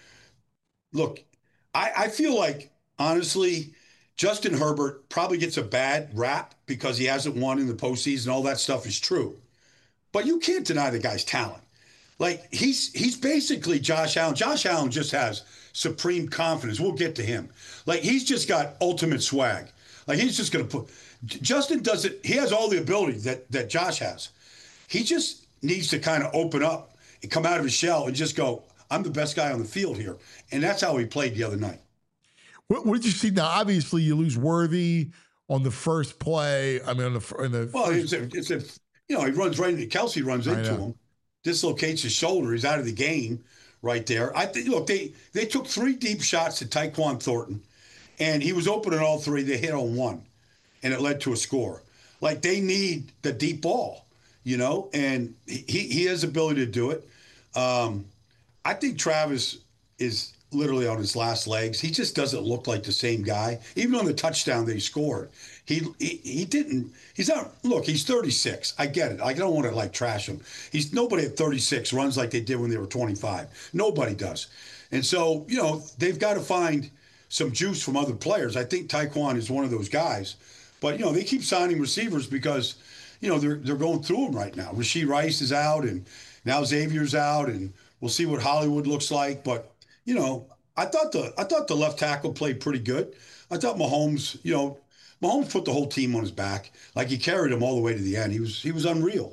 look, I, I feel like, honestly, Justin Herbert probably gets a bad rap because he hasn't won in the postseason. All that stuff is true. But you can't deny the guy's talent. Like, he's he's basically Josh Allen. Josh Allen just has supreme confidence. We'll get to him. Like, he's just got ultimate swag. Like, he's just going to put – Justin doesn't – he has all the ability that, that Josh has. He just needs to kind of open up and come out of his shell and just go, I'm the best guy on the field here. And that's how he played the other night. What, what did you see? Now, obviously, you lose Worthy on the first play. I mean, on the, in the Well, first, it's a, it's a – you know, he runs right into – Kelsey runs I into know. him, dislocates his shoulder. He's out of the game right there. I think, look, they, they took three deep shots at Tyquan Thornton, and he was open in all three. They hit on one, and it led to a score. Like, they need the deep ball, you know, and he, he has the ability to do it. Um, I think Travis is literally on his last legs. He just doesn't look like the same guy. Even on the touchdown that he scored, he he, he didn't. He's not. Look, he's thirty-six. I get it. I don't want to like trash him. He's nobody at thirty-six runs like they did when they were twenty-five. Nobody does. And so, you know, they've got to find some juice from other players. I think Tyquan is one of those guys. But, you know, they keep signing receivers because, you know, they're they're going through them right now. Rashee Rice is out, and now Xavier's out, and we'll see what Hollywood looks like. But, you know, I thought the I thought the left tackle played pretty good. I thought Mahomes, you know, Mahomes put the whole team on his back. Like, he carried them all the way to the end. He was he was unreal.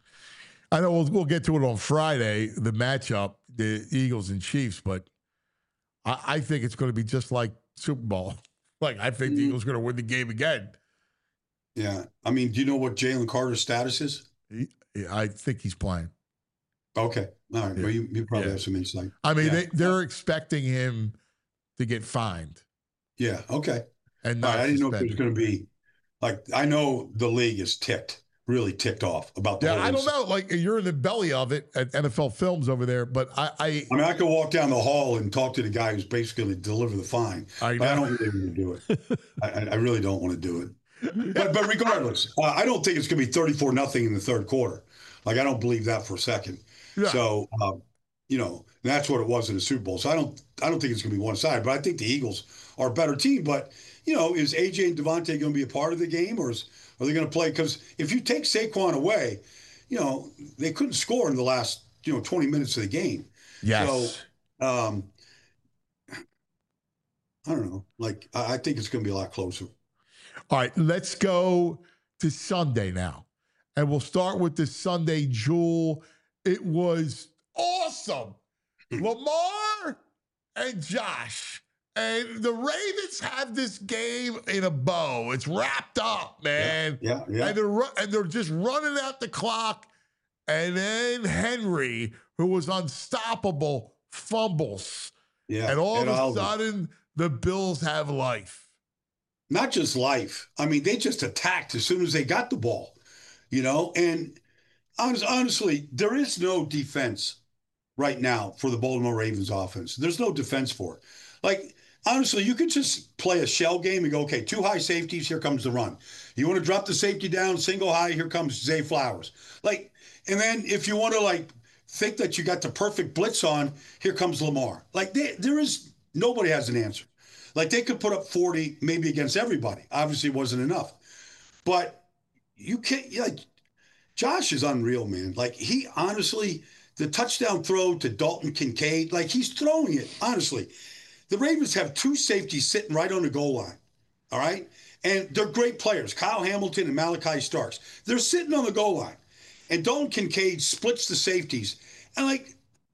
I know we'll, we'll get to it on Friday, the matchup, the Eagles and Chiefs, but I, I think it's going to be just like Super Bowl. Like, I think the Mm. Eagles are going to win the game again. Yeah. I mean, do you know what Jalen Carter's status is? He, I think he's playing. Okay. All right. Yeah. Well, you, you probably Yeah. have some insight. I mean, Yeah. they, they're expecting him to get fined Yeah. Okay. and All not right, I didn't know if it was suspended. going to be like, I know the league is ticked, really ticked off about the Yeah, whole I don't incident. know. Like, you're in the belly of it at N F L Films over there, but I, I, I mean, I could walk down the hall and talk to the guy who's basically going to deliver the fine. I But I know. don't really want to do it. I, I really don't want to do it. But but regardless, uh, I don't think it's going to be thirty-four nothing in the third quarter. Like, I don't believe that for a second. Yeah. So, um, you know, that's what it was in the Super Bowl. So I don't I don't think it's going to be one side. But I think the Eagles are a better team. But, you know, is A J and Devontae going to be a part of the game, or is, are they going to play? Because if you take Saquon away, you know, they couldn't score in the last, you know, twenty minutes of the game. yes. So, um, I don't know. Like, I, I think it's going to be a lot closer. All right, let's go to Sunday now. And we'll start with the Sunday jewel. It was awesome. Lamar and Josh. And the Ravens have this game in a bow. It's wrapped up, man. Yeah, yeah. And they're ru- and they're just running out the clock. and then Henry, who was unstoppable, fumbles. Yeah. And all Ed of a Oliver. sudden, the Bills have life. Not just life. I mean, they just attacked as soon as they got the ball, you know? And honest, honestly, there is no defense right now for the Baltimore Ravens offense. There's no defense for it. Like, honestly, you could just play a shell game and go, okay, two high safeties, here comes the run. You want to drop the safety down, single high, here comes Zay Flowers. Like, and then if you want to, like, think that you got the perfect blitz on, here comes Lamar. Like, they, there is, nobody has an answer. Like, they could put up forty maybe against everybody. Obviously, it wasn't enough. But you can't, like, Josh is unreal, man. Like, he honestly, the touchdown throw to Dalton Kincaid, like, he's throwing it, honestly. The Ravens have two safeties sitting right on the goal line, all right? And they're great players, Kyle Hamilton and Malachi Starks. They're sitting on the goal line. And Dalton Kincaid splits the safeties. And, like,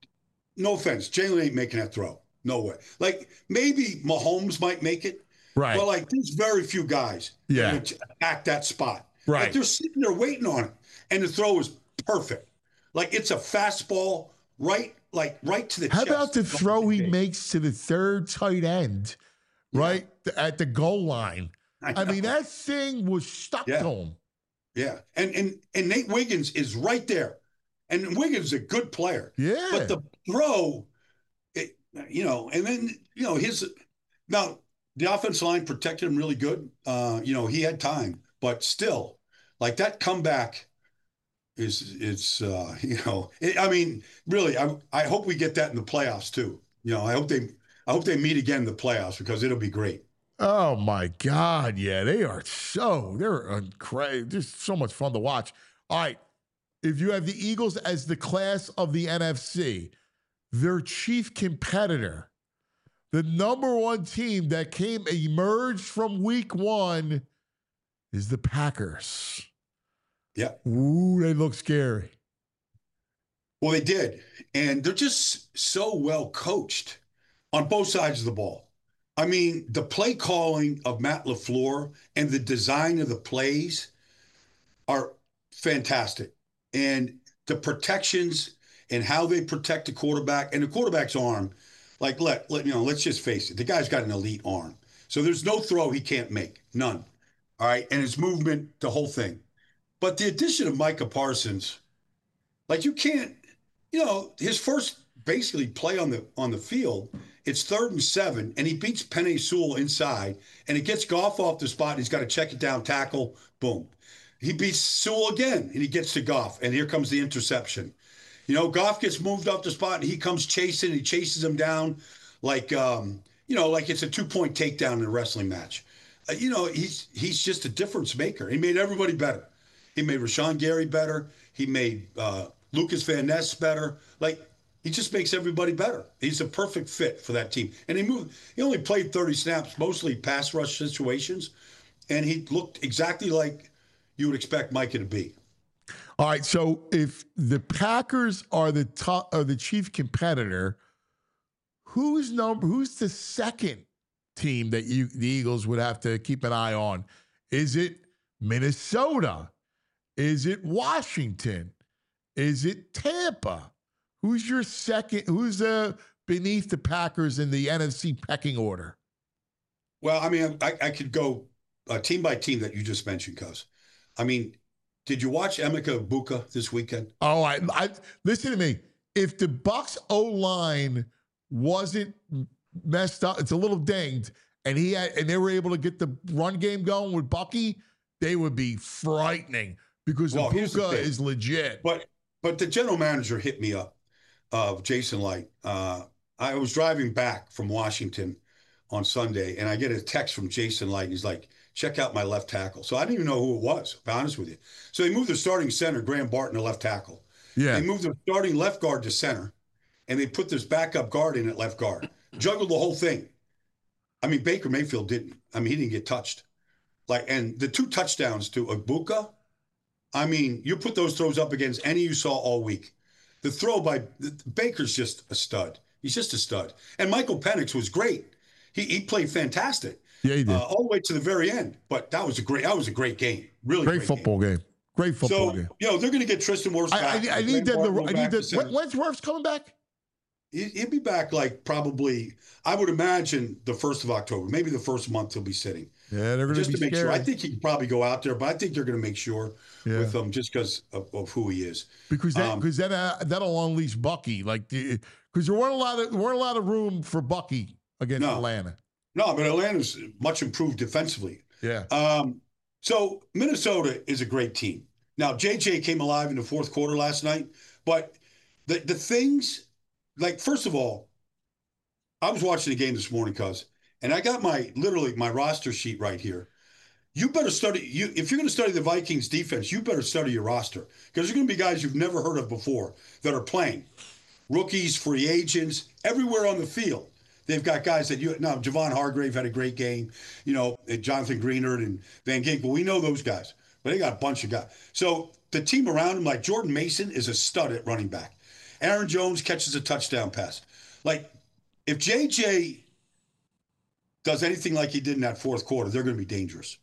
no offense, Jalen ain't making that throw. No way. Like, maybe Mahomes might make it. Right. But, like, there's very few guys Yeah. that would attack that spot. Right. Like, they're sitting there waiting on it. And the throw is perfect. Like, it's a fastball right, like, right to the How chest. about the throw he Kincaid. makes to the third tight end, right, th- at the goal line? I I mean, know. that thing was stuck Yeah. to him. Yeah. And, and, and Nate Wiggins is right there. And Wiggins is a good player. Yeah. But the throw, it, you know, and then, you know, his now the offensive line protected him really good. Uh, you know, he had time, but still, like that comeback is it's uh, you know, it, I mean, really, I I hope we get that in the playoffs too. You know, I hope they I hope they meet again in the playoffs because it'll be great. Oh my God, yeah, they are so they're crazy. Just so much fun to watch. All right, if you have the Eagles as the class of the N F C, their chief competitor, the number one team that came emerged from Week One, is the Packers. Yeah. Ooh, they look scary. Well, they did, and they're just so well coached on both sides of the ball. I mean, the play calling of Matt LaFleur and the design of the plays are fantastic. And the protections and how they protect the quarterback and the quarterback's arm, like, let, let you know, let's just face it. The guy's got an elite arm. So there's no throw he can't make. None. All right. And his movement, the whole thing. But the addition of Micah Parsons, like you can't, you know, his first basically play on the on the field, it's third and seven, and he beats Penei Sewell inside, and it gets Goff off the spot, and he's got to check it down, tackle, boom. He beats Sewell again, and he gets to Goff, and here comes the interception. You know, Goff gets moved off the spot, and he comes chasing, and he chases him down like, um, you know, like it's a two-point takedown in a wrestling match. Uh, you know, he's he's just a difference maker. He made everybody better. He made Rashawn Gary better. He made uh, Lucas Van Ness better. Like, he just makes everybody better. He's a perfect fit for that team. And he moved. He only played thirty snaps, mostly pass rush situations, and he looked exactly like you would expect Micah to be. All right, so if the Packers are the top, are the chief competitor, who's number? Who's the second team that you the Eagles would have to keep an eye on? Is it Minnesota? Is it Washington? Is it Tampa? Who's your second? Who's uh, beneath the Packers in the N F C pecking order? Well, I mean, I, I could go uh, team by team that you just mentioned, Cuz. I mean, did you watch Emeka Egbuka this weekend? Oh, I, I listen to me. If the Bucs O-line wasn't messed up, it's a little dinged, and he had, and they were able to get the run game going with Bucky, they would be frightening because Well, here's the Egbuka thing. is legit. But but the general manager hit me up, uh, Jason Light. Uh, I was driving back from Washington on Sunday, and I get a text from Jason Light. He's like, check out my left tackle. So I didn't even know who it was, to be honest with you. So they moved the starting center, Graham Barton, to left tackle. Yeah. They moved the starting left guard to center, and they put this backup guard in at left guard. Juggled the whole thing. I mean, Baker Mayfield didn't. I mean, he didn't get touched. Like, and the two touchdowns to Egbuka, I mean, you put those throws up against any you saw all week. The throw by Baker's just a stud. He's just a stud. And Michael Penix was great. He he played fantastic. Yeah, he did. Uh, all the way to the very end. But that was a great that was a great game. Really great, great football game. Great football So, game. you know, they're going to get Tristan Wirfs I, back. I, I need them. Graham To, Barton I back need to them. center. When, when's Wirfs coming back? He- He'll be back like probably, I would imagine, the first of October. Maybe the first month he'll be sitting. Yeah, they're going Just to to be make scary. sure. I think he can probably go out there, but I think they're going to make sure Yeah. with him just because of, of who he is. Because that, Um, because then uh, that'll unleash Bucky. Like, because there weren't a lot of there weren't a lot of room for Bucky against No. Atlanta. No, but Atlanta's much improved defensively. Yeah. Um, so Minnesota is a great team. Now, J J came alive in the fourth quarter last night, but the the things, like, first of all, I was watching the game this morning, cuz, and I got my, literally, my roster sheet right here. You better study, you if you're going to study the Vikings defense, you better study your roster, because there's going to be guys you've never heard of before that are playing. Rookies, free agents, everywhere on the field. They've got guys that you, now, Javon Hargrave had a great game, you know, Jonathan Greenard and Van Ginkel. We know those guys, but they got a bunch of guys. So the team around him, like Jordan Mason is a stud at running back. Aaron Jones catches a touchdown pass. Like, if J J does anything like he did in that fourth quarter, they're going to be dangerous.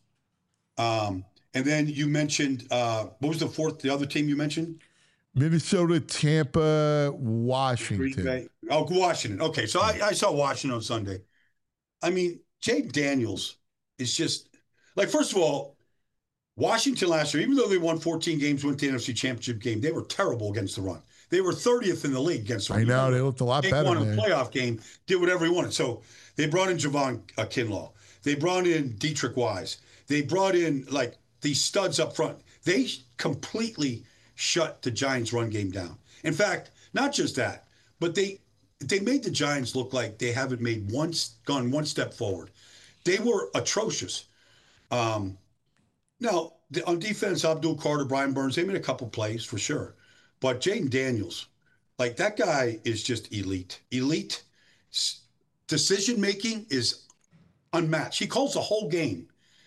Um, and then you mentioned, uh, what was the fourth, the other team you mentioned? Minnesota, Tampa, Green Washington. Bay. Oh, Washington. Okay, so I, I saw Washington on Sunday. I mean, Jake Daniels is just, like, first of all, Washington last year, even though they won fourteen games, went to the N F C Championship game, they were terrible against the run. They were thirtieth in the league against the run. I know, they looked a lot Jake better, won a man. playoff game, did whatever he wanted. So they brought in Javon uh, Kinlaw. They brought in Dietrich Wise. They brought in, like, these studs up front. They completely shut the Giants' run game down. In fact, not just that, but they they made the Giants look like they haven't made one gone one step forward. They were atrocious. Um, now, the, on defense, Abdul Carter, Brian Burns, they made a couple plays for sure. But Jaden Daniels, like, that guy is just elite. Elite. S- Decision-making is unmatched. He calls the whole game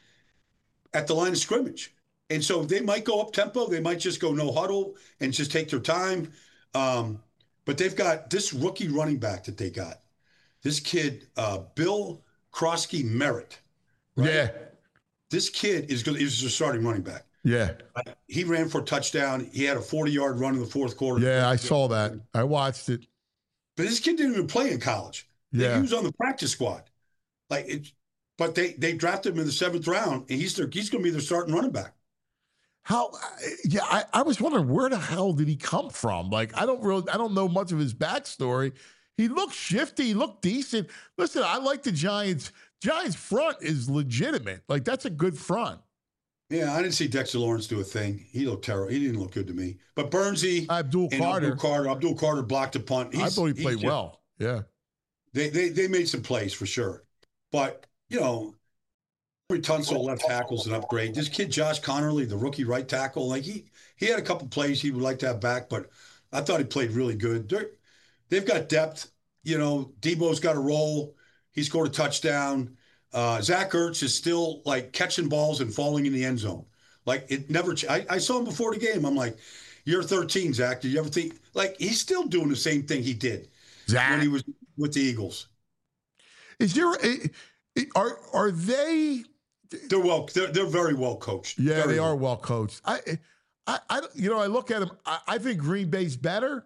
at the line of scrimmage. And so they might go up tempo. They might just go no huddle and just take their time. Um, but they've got this rookie running back that they got. This kid, uh, Bill Krosky Merritt. Right? Yeah. This kid is good. He's a starting running back. Yeah. He ran for a touchdown. He had a forty-yard run in the fourth quarter. Yeah, I saw that. I watched it. But this kid didn't even play in college. Yeah. He was on the practice squad. Like it, but they they drafted him in the seventh round, and he's their, he's going to be their starting running back. How? Yeah, I, I was wondering where the hell did he come from? Like, I don't really, I don't know much of his backstory. He looked shifty. He looked decent. Listen, I like the Giants. Giants front is legitimate. Like, that's a good front. Yeah, I didn't see Dexter Lawrence do a thing. He looked terrible. He didn't look good to me. But Burnsy Abdul and Carter. Abdul Carter, Abdul Carter blocked a punt. I He's- thought he he's played just- well. Yeah. They, they they made some plays for sure. But, you know, Tunsil left tackle's an upgrade. This kid, Josh Connerly, the rookie right tackle, like he he had a couple plays he would like to have back, but I thought he played really good. They're, they've got depth. You know, Debo's got a role. He scored a touchdown. Uh, Zach Ertz is still, like, catching balls and falling in the end zone. Like, it never ch- I, I saw him before the game. I'm like, you're thirteen, Zach. Did you ever think? Like, he's still doing the same thing he did Zach. when he was with the Eagles. Is there, a- are, are they, They're well. They're, they're very well coached. yeah, Very they are well. well coached. I, I, I, you know, I look at them, I, I think Green Bay's better,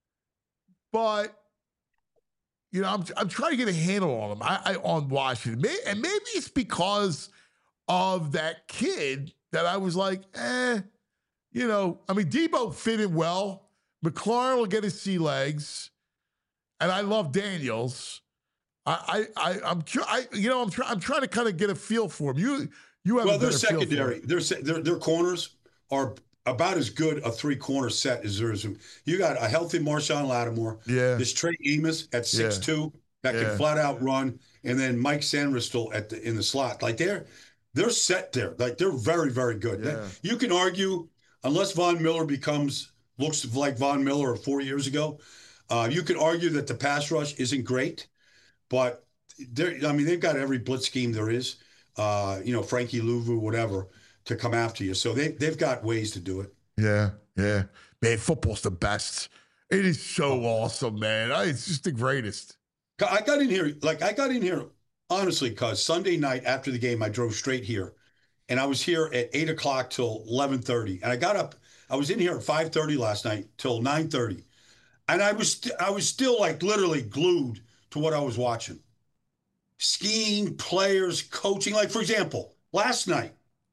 but, you know, I'm, I'm trying to get a handle on them, I, I on Washington. May, and maybe it's because of that kid that I was like, eh, you know, I mean, Debo fit in well. McLaurin will get his sea legs. And I love Daniels. I, I, I I'm, tr- I, you know, I'm trying, I'm trying to kind of get a feel for him. You, you have Well, a their better feel for secondary, him. their, se- their their corners are about as good a three corner set as there is. You got a healthy Marshawn Lattimore. Yeah. This Trey Amos at six two that Yeah. can flat out run, and then Mike Sandristle at the in the slot. Like they're they're set there. Like they're very very good. Yeah. You can argue unless Von Miller becomes looks like Von Miller of four years ago. Uh, you could argue that the pass rush isn't great, but they're, I mean, they've got every blitz scheme there is, uh, you know, Frankie Louvu, whatever, to come after you. So they, they've got ways to do it. Yeah, yeah. Man, football's the best. It is so awesome, man. I- It's just the greatest. I got in here, like, I got in here, honestly, because Sunday night after the game, I drove straight here. and I was here at eight o'clock till eleven thirty. And I got up, I was in here at five thirty last night till nine thirty. And I was, st- I was still like literally glued to what I was watching. Skiing, players, coaching. Like, for example, last night,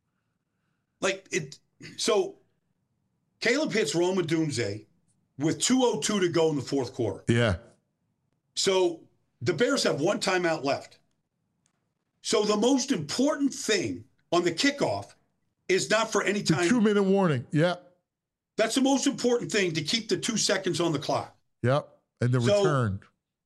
like it, so Caleb hits Rome Odunze with two oh two to go in the fourth quarter. Yeah. So the Bears have one timeout left. So the most important thing on the kickoff is not for any time. Two minute warning. Yeah. That's the most important thing, to keep the two seconds on the clock. Yep. And the So- return.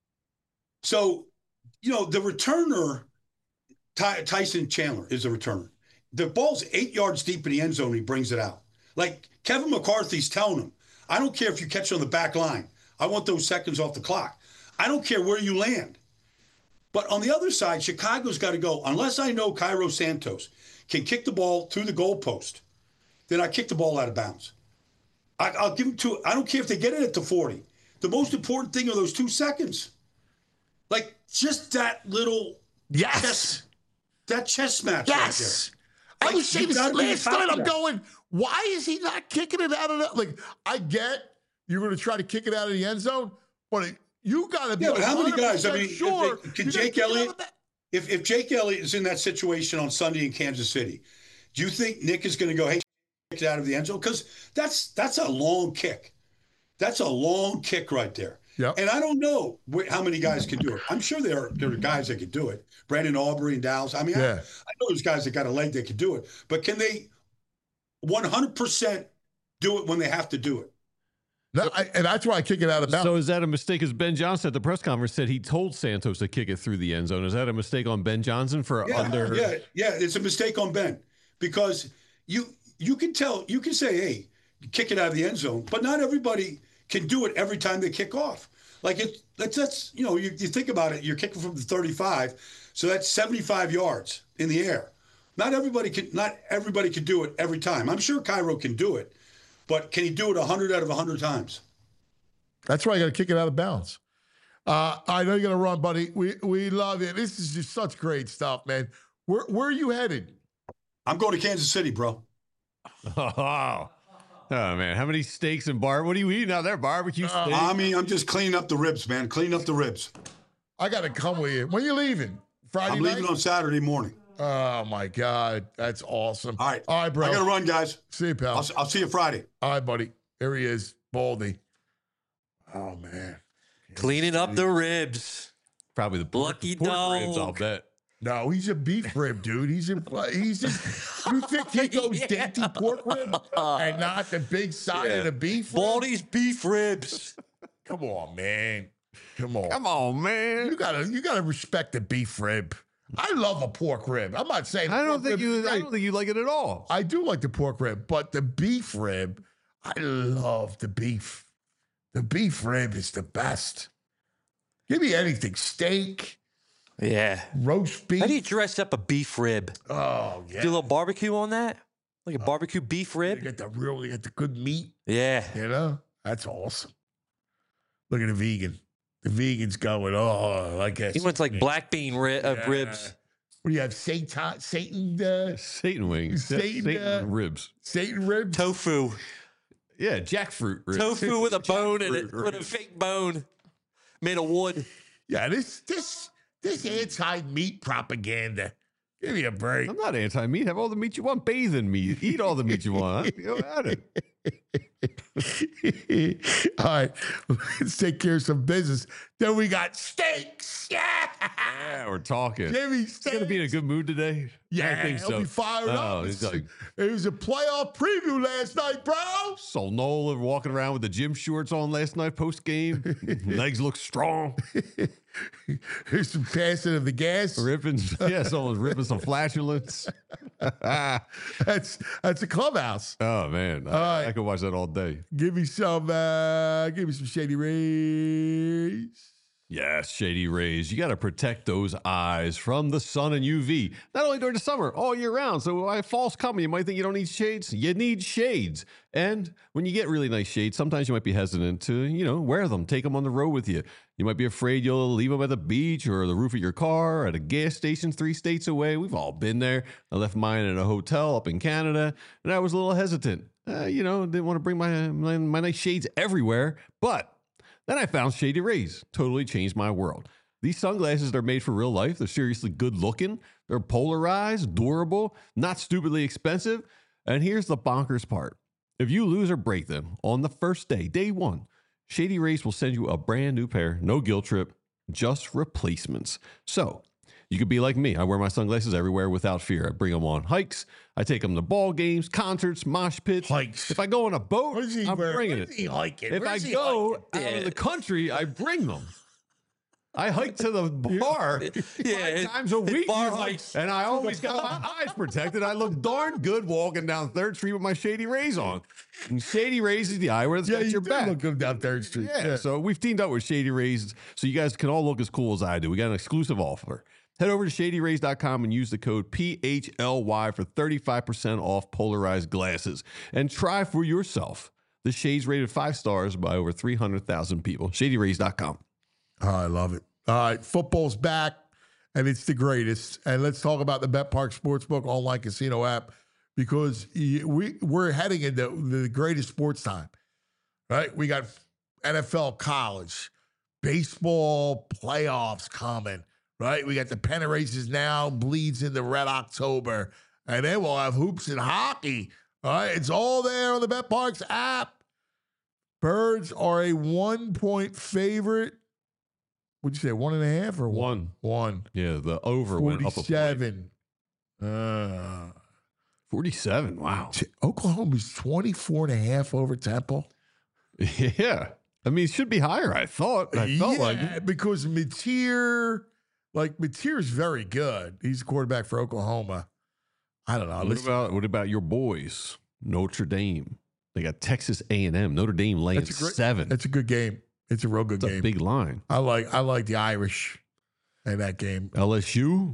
So, you know, the returner, Ty- Tyson Chandler is the returner. The ball's eight yards deep in the end zone. He brings it out. Like Kevin McCarthy's telling him, I don't care if you catch on the back line. I want those seconds off the clock. I don't care where you land. But on the other side, Chicago's got to go. Unless I know Cairo Santos can kick the ball through the goalpost, then I kick the ball out of bounds. I, I'll give them two. I don't care if they get it at the forty. The most important thing are those two seconds. Like just that little Yes. chess, that chess match Yes. I Like, was saying you this gotta be last on top night. of I'm that. going, why is he not kicking it out of the, like, I get you're going to try to kick it out of the end zone, but it, you got to be Yeah, but how many guys? I one hundred percent mean, if sure. they- can you're gonna Jake kick it out Elliott- of that- If if Jake Elliott is in that situation on Sunday in Kansas City, do you think Nick is going to go, hey, kick it out of the end zone? Because that's that's a long kick. That's a long kick right there. Yep. And I don't know wh- how many guys can do it. I'm sure there are, there are guys that could do it. Brandon Aubrey and Dallas. I mean, I, Yeah. I know there's guys that got a leg that could do it. But can they one hundred percent do it when they have to do it? No, I, and that's why I kick it out of bounds. So is that a mistake? As Ben Johnson at the press conference said he told Santos to kick it through the end zone. Is that a mistake on Ben Johnson for Yeah, under? yeah, yeah. It's a mistake on Ben because you you can tell, you can say, hey, kick it out of the end zone, but not everybody can do it every time they kick off. Like it, that's that's you know, you, you think about it, you're kicking from the thirty-five, so that's seventy-five yards in the air. Not everybody can not everybody can do it every time. I'm sure Cairo can do it, but can he do it one hundred out of one hundred times? That's why I got to kick it out of bounds. Uh, I know you're going to run, buddy. We we love you. This is just such great stuff, man. Where where are you headed? I'm going to Kansas City, bro. Oh, oh man, how many steaks and bar? What are you eating out there? Barbecue steak? I mean, I'm just cleaning up the ribs, man. Clean up the ribs. I got to come with you. When you leaving? Friday I'm night? leaving on Saturday morning. Oh, my God. That's awesome. All right. All right, bro. I got to run, guys. See you, pal. I'll, I'll see you Friday. All right, buddy. There he is, Baldy. Oh, man. Cleaning up the ribs. Probably the pork, Lucky pork ribs, dog. I'll bet. No, he's a beef rib, dude. He's a, he's just, you think he goes dainty pork rib and not the big side of the beef rib? Baldy's beef ribs. Come on, man. Come on. Come on, man. You gotta, you gotta respect the beef rib. I love a pork rib. I'm not saying I don't pork think rib is you. I great. don't think you like it at all. I do like the pork rib, but the beef rib, I love the beef. The beef rib is the best. Give me anything. Steak, Yeah. roast beef. How do you dress up a beef rib? Oh, yeah. Do a little barbecue on that? Like a barbecue beef You rib? get the real, you get the good meat. Yeah. You know? That's awesome. Look at the vegan. The vegan's going, oh, I guess. He went to like black bean ri- uh, Yeah. ribs. What do you have? Satan, Satan, uh, Satan wings, Satan, Satan uh, ribs. Satan ribs? Tofu. Yeah, jackfruit ribs. Tofu with a bone in it. Jackfruit With a ribs. fake bone. Made of wood. Yeah, this, this, this anti-meat propaganda. Give me a break. I'm not anti-meat. Have all the meat you want. Bathe in meat. Eat all the meat you want. Go at it. All right, let's take care of some business. Then we got steaks. Yeah, Yeah, we're talking. Jimmy He's steaks. gonna be in a good mood today. Yeah, I think he'll so. be fired oh, up. He's It's- like It was a playoff preview last night, bro. so Nola walking around with the gym shorts on last night post game. Legs look strong. Here's some passing of the gas. Ripping, yeah, someone's ripping some flatulence. That's that's a clubhouse. Oh man, I, right. I could watch that all day. Give me some. Uh, give me some Shady Rays. Yes, Shady Rays. You got to protect those eyes from the sun and U V, not only during the summer, all year round. So why fall's coming, you might think you don't need shades. You need shades. And when you get really nice shades, sometimes you might be hesitant to, you know, wear them, take them on the road with you. You might be afraid you'll leave them at the beach or the roof of your car, or at a gas station three states away. We've all been there. I left mine in a hotel up in Canada, and I was a little hesitant. Uh, you know, didn't want to bring my, my, my nice shades everywhere, but then I found Shady Rays. Totally changed my world. These sunglasses are made for real life. They're seriously good looking. They're polarized, durable, not stupidly expensive. And here's the bonkers part. If you lose or break them on the first day, day one, Shady Rays will send you a brand new pair. No guilt trip, just replacements. So you could be like me. I wear my sunglasses everywhere without fear. I bring them on hikes. I take them to ball games, concerts, mosh pits. Hikes. If I go on a boat, Where's he I'm wearing? bringing Where's it. he hiking? If Where's I he go hiking? out of the country, I bring them. I hike to the bar Yeah, five times a week, bar you know, hikes. and I always got my eyes protected. I look darn good walking down Third Street with my Shady Rays on. And Shady Rays is the eyewear that's Yeah, got you your do back. look good down Third Street. Yeah, so we've teamed up with Shady Rays so you guys can all look as cool as I do. We got an exclusive offer. Head over to shady rays dot com and use the code P H L Y for thirty-five percent off polarized glasses. And try for yourself. The shades rated five stars by over three hundred thousand people. shady rays dot com. Oh, I love it. All right, football's back, and it's the greatest. And let's talk about the BetPark Sportsbook online casino app, because y- we, we're heading into the greatest sports time, right? We got N F L, college, baseball playoffs coming, right? We got the pennant races now, bleeds into Red October, and then we'll have hoops and hockey. All right, it's all there on the BetParks app. Birds are a one-point favorite. What'd you say, one and a half or one? One. One. Yeah, the over went up a point. forty-seven. Uh, forty-seven. Wow. t- Oklahoma's twenty-four and a half over Temple. Yeah. I mean, it should be higher, I thought. I felt yeah, like it. because Mateer, like Mateer's very good. He's the quarterback for Oklahoma. I don't know. What Listen, about, what about your boys, Notre Dame? They got Texas A and M. Notre Dame laying that's a great, seven. That's a good game. It's a real good That's game. a big line. I like I like the Irish in that game. L S U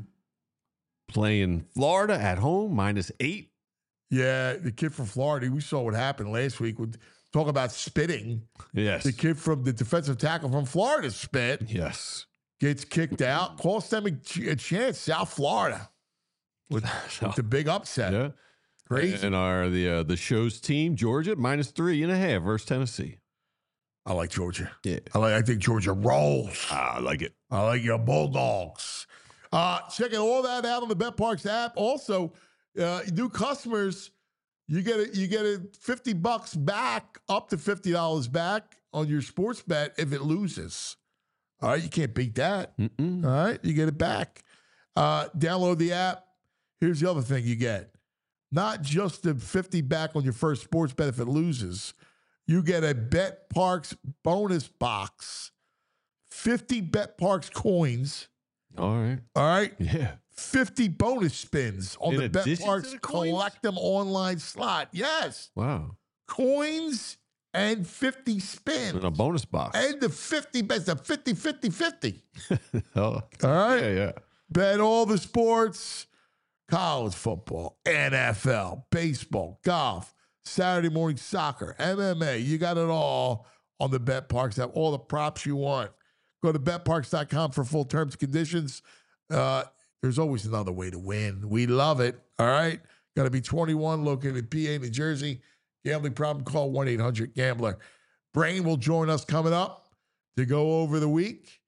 playing Florida at home, minus eight. Yeah, the kid from Florida, we saw what happened last week. With talk about spitting. Yes. The kid from the defensive tackle from Florida spit, Yes. gets kicked out, cost them a, ch- a chance. South Florida with, So, with the big upset. yeah. Crazy. And our the uh, the show's team, Georgia, minus three and a half versus Tennessee. I like Georgia. Yeah. I like. I think Georgia rolls. I like it. I like your Bulldogs. Uh, checking all that out on the BetParks app. Also, uh, new customers, you get a, you get a fifty bucks back, up to fifty dollars back on your sports bet if it loses. All right, you can't beat that. Mm-mm. All right, you get it back. Uh, download the app. Here's the other thing you get. Not just the fifty back on your first sports bet if it loses. You get a BetParks bonus box. fifty BetParks coins. All right. All right. Yeah. fifty bonus spins on In the addition to BetParks the coins? Collect Them online slot. Yes. Wow. Coins and fifty spins. And a bonus box. And the fifty bets, the fifty, fifty, fifty. oh. All right. Yeah, yeah. Bet all the sports, college football, N F L, baseball, golf, Saturday morning soccer, M M A. You got it all on the BetParks app, all the props you want. Go to bet parks dot com for full terms and conditions. Uh, there's always another way to win. We love it. All right. Got to be twenty-one, located in P A, New Jersey. Gambling problem, call one eight hundred gambler. Brain will join us coming up to go over the week.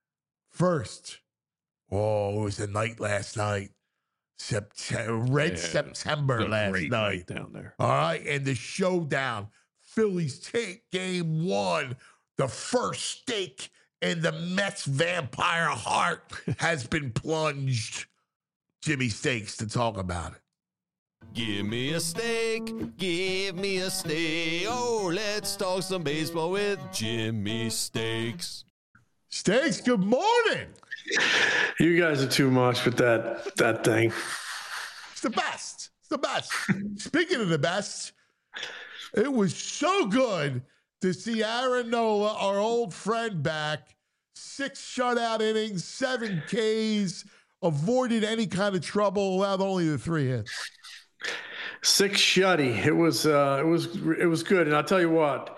First, oh, it was a night last night. September, Red Yeah, September It's a last great night. down there. All right. And the showdown. Phillies take game one. The first stake in the Mets vampire heart has been plunged. Jimmy Stakes to talk about it. Give me a steak, give me a steak. Oh, let's talk some baseball with Jimmy Stakes. Stakes, good morning. You guys are too much with that that thing. It's the best. It's the best. Speaking of the best, it was so good to see Aaron Nola, our old friend, back six shutout innings, seven Ks, avoided any kind of trouble, allowed only the three hits. Six shutty. It was uh, it was it was good, and I'll tell you what,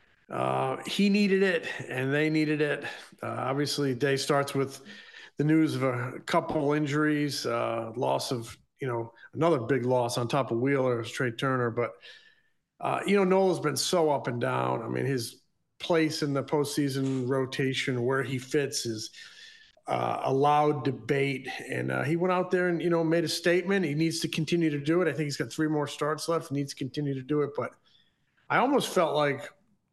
uh, he needed it, and they needed it. Uh, obviously, day starts with the news of a couple injuries, uh, loss of you know another big loss on top of Wheeler, Trey Turner. But uh, you know Nola's been so up and down. I mean, his place in the postseason rotation, where he fits, is uh, a loud debate. And uh, he went out there and, you know, made a statement. He needs to continue to do it. I think he's got three more starts left. He needs to continue to do it. But I almost felt like,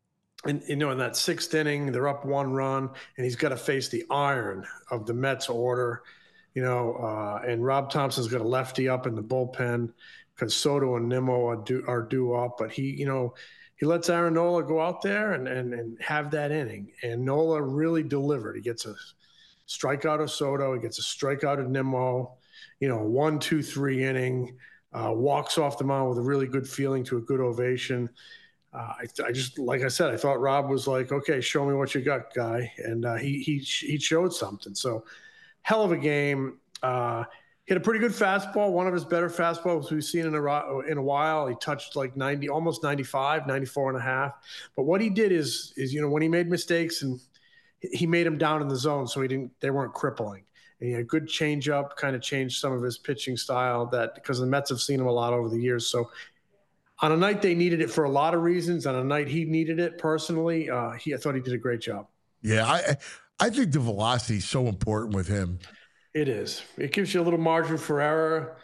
in, you know, in that sixth inning, they're up one run, and he's got to face the iron of the Mets order, you know, uh, and Rob Thompson's got a lefty up in the bullpen because Soto and Nimmo are due, are due up. But he, you know, he lets Aaron Nola go out there and, and, and have that inning. And Nola really delivered. He gets a strikeout of Soto. He gets a strikeout of Nimmo, you know, one, two, three inning, uh, walks off the mound with a really good feeling to a good ovation. Uh, I, I just, like I said, I thought Rob was like, okay, show me what you got, guy. And uh, he, he, he showed something. So hell of a game. Uh, Hit a pretty good fastball, one of his better fastballs we've seen in a, in a while. He touched like ninety, almost ninety-five, ninety-four and a half. But what he did is, is, you know, when he made mistakes, and he made them down in the zone, so he didn't, they weren't crippling. And he had a good changeup, kind of changed some of his pitching style, that because the Mets have seen him a lot over the years. So on a night they needed it for a lot of reasons. On a night he needed it personally, uh, he, I thought he did a great job. Yeah, I, I think the velocity is so important with him. It is. It gives you a little margin for error.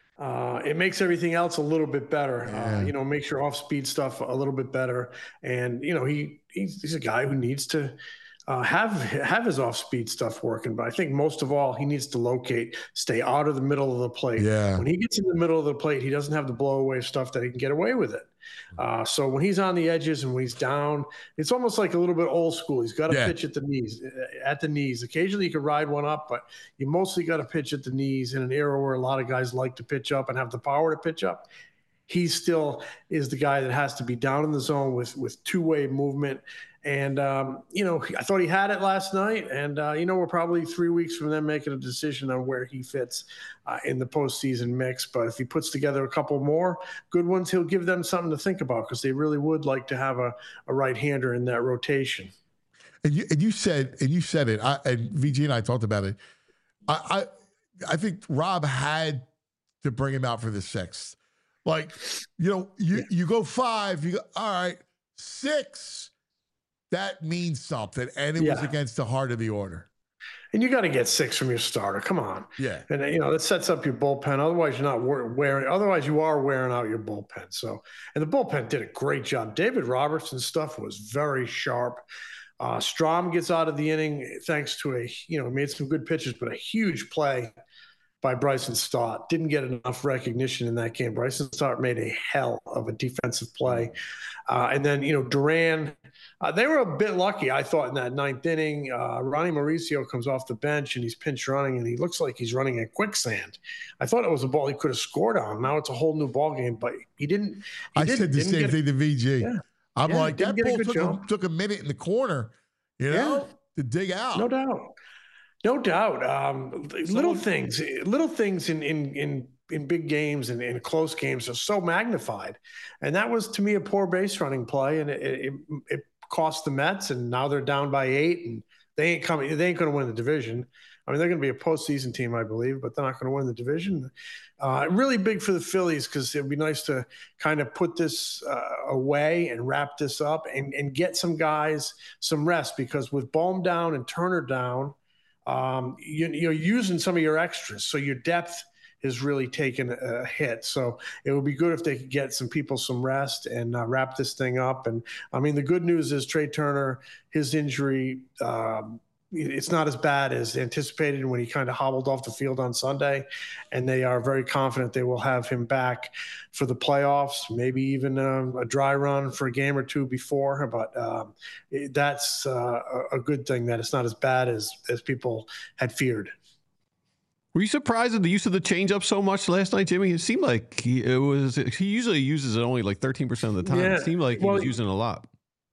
Uh, it makes everything else a little bit better. Yeah. Uh, you know, makes your off-speed stuff a little bit better. And you know, he he's, he's a guy who needs to uh, have have his off-speed stuff working. But I think most of all, he needs to locate, stay out of the middle of the plate. Yeah. When he gets in the middle of the plate, he doesn't have the blow-away stuff that he can get away with it. Uh, so when he's on the edges and when he's down, it's almost like a little bit old school. He's got to Yeah. pitch at the knees, at the knees. Occasionally you can ride one up, but you mostly got to pitch at the knees in an era where a lot of guys like to pitch up and have the power to pitch up. He still is the guy that has to be down in the zone with, with two-way movement. And, um, you know, I thought he had it last night. And, uh, you know, we're probably three weeks from them making a decision on where he fits uh, in the postseason mix. But if he puts together a couple more good ones, he'll give them something to think about, because they really would like to have a, a right-hander in that rotation. And you, and you said, and you said it, I, and V G and I talked about it. I, I, I think Rob had to bring him out for the sixth. Like, you know, you, Yeah. you go five, you go, all right, six. That means something, and it was Yeah. against the heart of the order. And you got to get six from your starter. Come on. Yeah. And, you know, that sets up your bullpen. Otherwise, you're not wearing, otherwise, you are wearing out your bullpen. So, and the bullpen did a great job. David Robertson's stuff was very sharp. Uh, Strom gets out of the inning thanks to a, you know, made some good pitches, but a huge play by Bryson Stott. Didn't get enough recognition in that game. Bryson Stott made a hell of a defensive play. Uh, and then, you know, Duran, uh, they were a bit lucky, I thought, in that ninth inning. Uh, Ronnie Mauricio comes off the bench, and he's pinch running, and he looks like he's running in quicksand. I thought it was a ball he could have scored on. Now it's a whole new ball game, but he didn't. He I didn't, said the didn't same get, thing to V G. Yeah. I'm Yeah, like, didn't that get a ball good took a, job. took a minute in the corner, you know, Yeah. to dig out. No doubt. No doubt. Um, little things, little things in, in, in, in big games and in close games are so magnified. And that was, to me, a poor base running play. And it, it, it cost the Mets, and now they're down by eight, and they ain't coming. They ain't going to win the division. I mean, they're going to be a postseason team, I believe, but they're not going to win the division. Uh, really big for the Phillies, because it would be nice to kind of put this uh, away and wrap this up and, and get some guys some rest, because with Bohm down and Turner down, um, you, you're using some of your extras. So your depth is really taken a hit. So it would be good if they could get some people some rest and uh, wrap this thing up. And I mean, the good news is Trey Turner, his injury, um, it's not as bad as anticipated when he kind of hobbled off the field on Sunday, and they are very confident they will have him back for the playoffs, maybe even a, a dry run for a game or two before. But um, it, that's uh, a good thing that it's not as bad as, as people had feared. Were you surprised at the use of the changeup so much last night, Jimmy? It seemed like he, it was. He usually uses it only like thirteen percent of the time. Yeah, It seemed like he well, was using it a lot.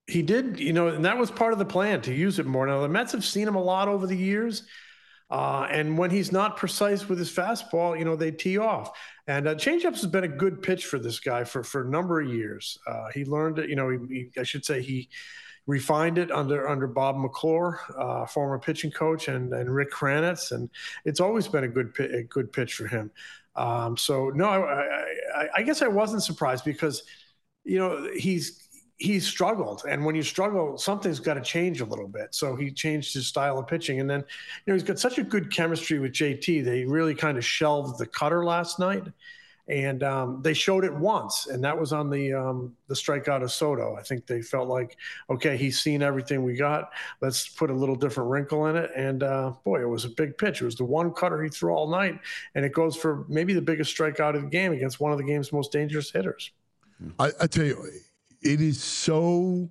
He did, you know, and that was part of the plan to use it more. Now, the Mets have seen him a lot over the years. Uh, and when he's not precise with his fastball, you know, they tee off. And uh, changeups has been a good pitch for this guy for, for a number of years. Uh, he learned it, you know, he, he, I should say he refined it under under Bob McClure, uh, former pitching coach, and, and Rick Kranitz. And it's always been a good, a good pitch for him. Um, so, no, I, I, I guess I wasn't surprised because, you know, he's, he's struggled. And when you struggle, something's got to change a little bit. So he changed his style of pitching. And then, you know, he's got such a good chemistry with J T. They really kind of shelved the cutter last night. And um, they showed it once, and that was on the um, the strikeout of Soto. I think they felt like, okay, he's seen everything we got. Let's put a little different wrinkle in it. And, uh, boy, it was a big pitch. It was the one cutter he threw all night, and it goes for maybe the biggest strikeout of the game against one of the game's most dangerous hitters. I, I tell you, it is so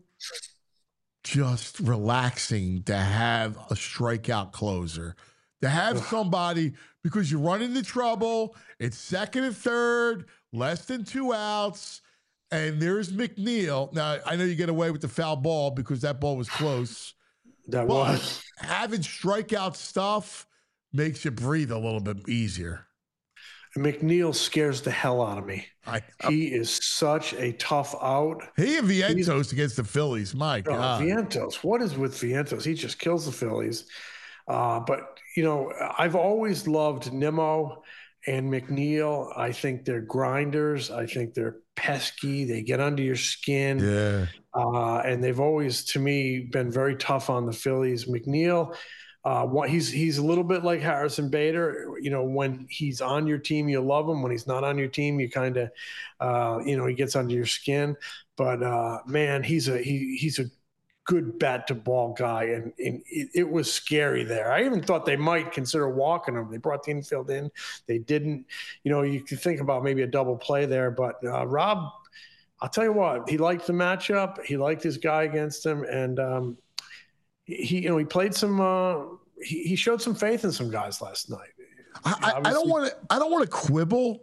just relaxing to have a strikeout closer, to have somebody, because you run into trouble. It's second and third, less than two outs, and there's McNeil. Now, I know you get away with the foul ball because that ball was close. That but was. having strikeout stuff makes you breathe a little bit easier. McNeil scares the hell out of me. I, he is such a tough out. He and Vientos He's, against the Phillies. My oh, God. Vientos. What is with Vientos? He just kills the Phillies. Uh, but, you know, I've always loved Nimmo and McNeil. I think they're grinders. I think they're pesky. They get under your skin. Yeah. Uh, and they've always, to me, been very tough on the Phillies. McNeil, Uh, what he's he's a little bit like Harrison Bader. You know, when he's on your team, you love him. When he's not on your team, you kind of, uh, you know, he gets under your skin. But uh, man, he's a he he's a good bat to ball guy, and, and it, it was scary there. I even thought they might consider walking him. They brought the infield in, they didn't. You know, you could think about maybe a double play there, but uh, Rob, I'll tell you what, he liked the matchup. He liked his guy against him, and. Um, He, you know, he played some. Uh, he, he showed some faith in some guys last night. I, I don't want to. I don't want to quibble,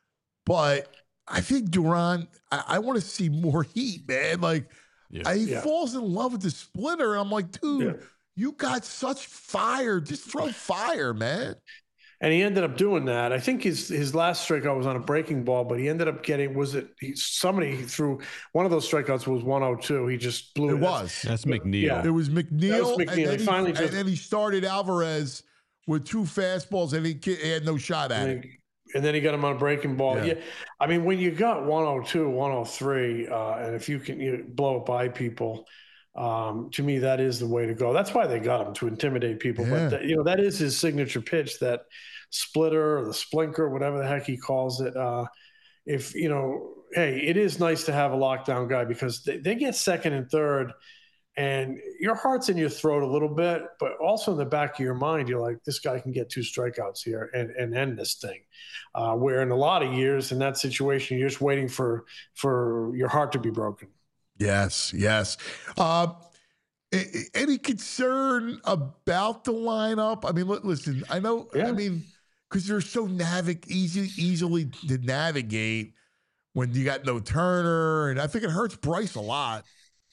but I think Duran. I, I want to see more heat, man. Like yeah. I, he yeah. falls in love with the splitter. I'm like, dude, yeah. you got such fire. Just throw fire, man. And he ended up doing that. I think his his last strikeout was on a breaking ball, but he ended up getting, was it, he, somebody threw, one of those strikeouts was one oh two. He just blew it. It was. That's McNeil. Yeah. It was McNeil. That was McNeil. And, then he, finally and just, then he started Alvarez with two fastballs, and he, he had no shot at it. And then he got him on a breaking ball. Yeah. yeah. I mean, when you got one oh two, one oh three, uh, and if you can you know, blow it by people, um, to me, that is the way to go. That's why they got him, to intimidate people. Yeah. But, that, you know, that is his signature pitch, that splitter or the splinker, whatever the heck he calls it. Uh, if, you know, hey, it is nice to have a lockdown guy, because they, they get second and third, and your heart's in your throat a little bit, but also in the back of your mind, you're like, this guy can get two strikeouts here and, and end this thing. Uh, where in a lot of years in that situation, you're just waiting for for your heart to be broken. Yes, yes. Uh, any concern about the lineup? I mean, listen, I know, yeah. I mean, because they're so navig- easy, easily to navigate when you got no Turner, and I think it hurts Bryce a lot.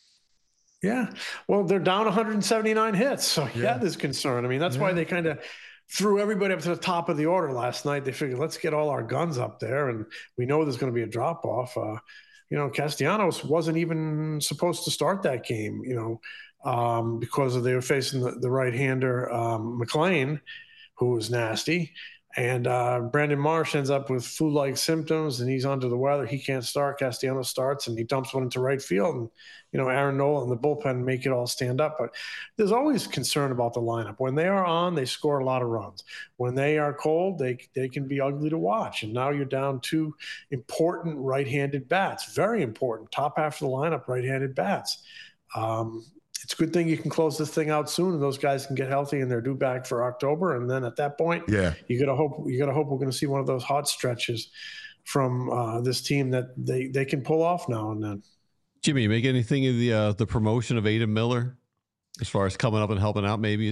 Yeah. Well, they're down one hundred seventy-nine hits. So, yeah, yeah there's concern. I mean, that's yeah. why they kind of threw everybody up to the top of the order last night. They figured, let's get all our guns up there, and we know there's going to be a drop-off. Uh, you know, Castellanos wasn't even supposed to start that game, you know, um, because of they were facing the, the right-hander, um, McLean, who was nasty. And uh, Brandon Marsh ends up with flu-like symptoms, and he's under the weather. He can't start. Castellanos starts, and he dumps one into right field. And, you know, Aaron Nola and the bullpen make it all stand up. But there's always concern about the lineup. When they are on, they score a lot of runs. When they are cold, they they can be ugly to watch. And now you're down two important right-handed bats, very important, top half of the lineup, right-handed bats. Um, It's a good thing you can close this thing out soon, and those guys can get healthy, and they're due back for October. And then at that point, yeah, you gotta hope you gotta hope we're going to see one of those hot stretches from uh, this team that they they can pull off now and then. Jimmy, you make anything of the uh, the promotion of Aidan Miller as far as coming up and helping out? Maybe.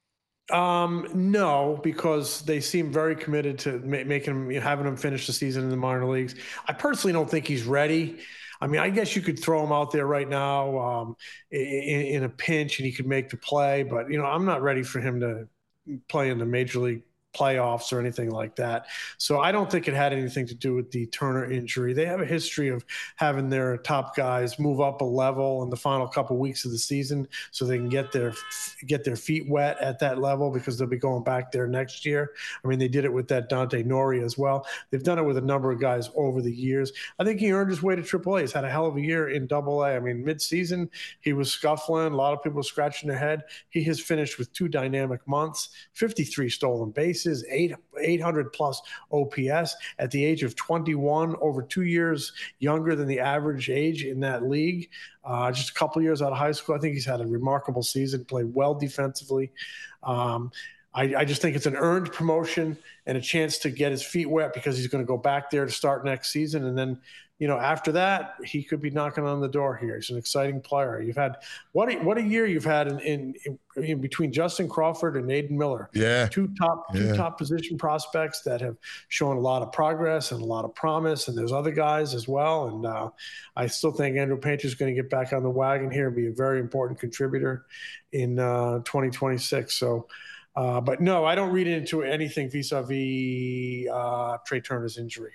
Um, no, because they seem very committed to ma- making him, having him finish the season in the minor leagues. I personally don't think he's ready. I mean, I guess you could throw him out there right now um, in, in a pinch and he could make the play. But, you know, I'm not ready for him to play in the major league playoffs or anything like that. So I don't think it had anything to do with the Turner injury. They have a history of having their top guys move up a level in the final couple weeks of the season so they can get their get their feet wet at that level because they'll be going back there next year. I mean, they did it with that Dante Nori as well. They've done it with a number of guys over the years. I think he earned his way to triple A. He's had a hell of a year in double A. I mean, mid-season, he was scuffling. A lot of people scratching their head. He has finished with two dynamic months, fifty-three stolen bases, eight, eight hundred plus O P S at the age of twenty-one, over two years younger than the average age in that league. Uh, just a couple years out of high school. I think he's had a remarkable season, played well defensively. Um, I, I just think it's an earned promotion and a chance to get his feet wet because he's going to go back there to start next season. And then, you know, after that, he could be knocking on the door here. He's an exciting player. You've had what a, what a year you've had in, in, in between Justin Crawford and Aiden Miller. Yeah, two top two yeah. top position prospects that have shown a lot of progress and a lot of promise. And there's other guys as well. And uh, I still think Andrew Painter is going to get back on the wagon here and be a very important contributor in uh, twenty twenty-six. So. Uh, but no, I don't read into anything vis-a-vis uh, Trey Turner's injury.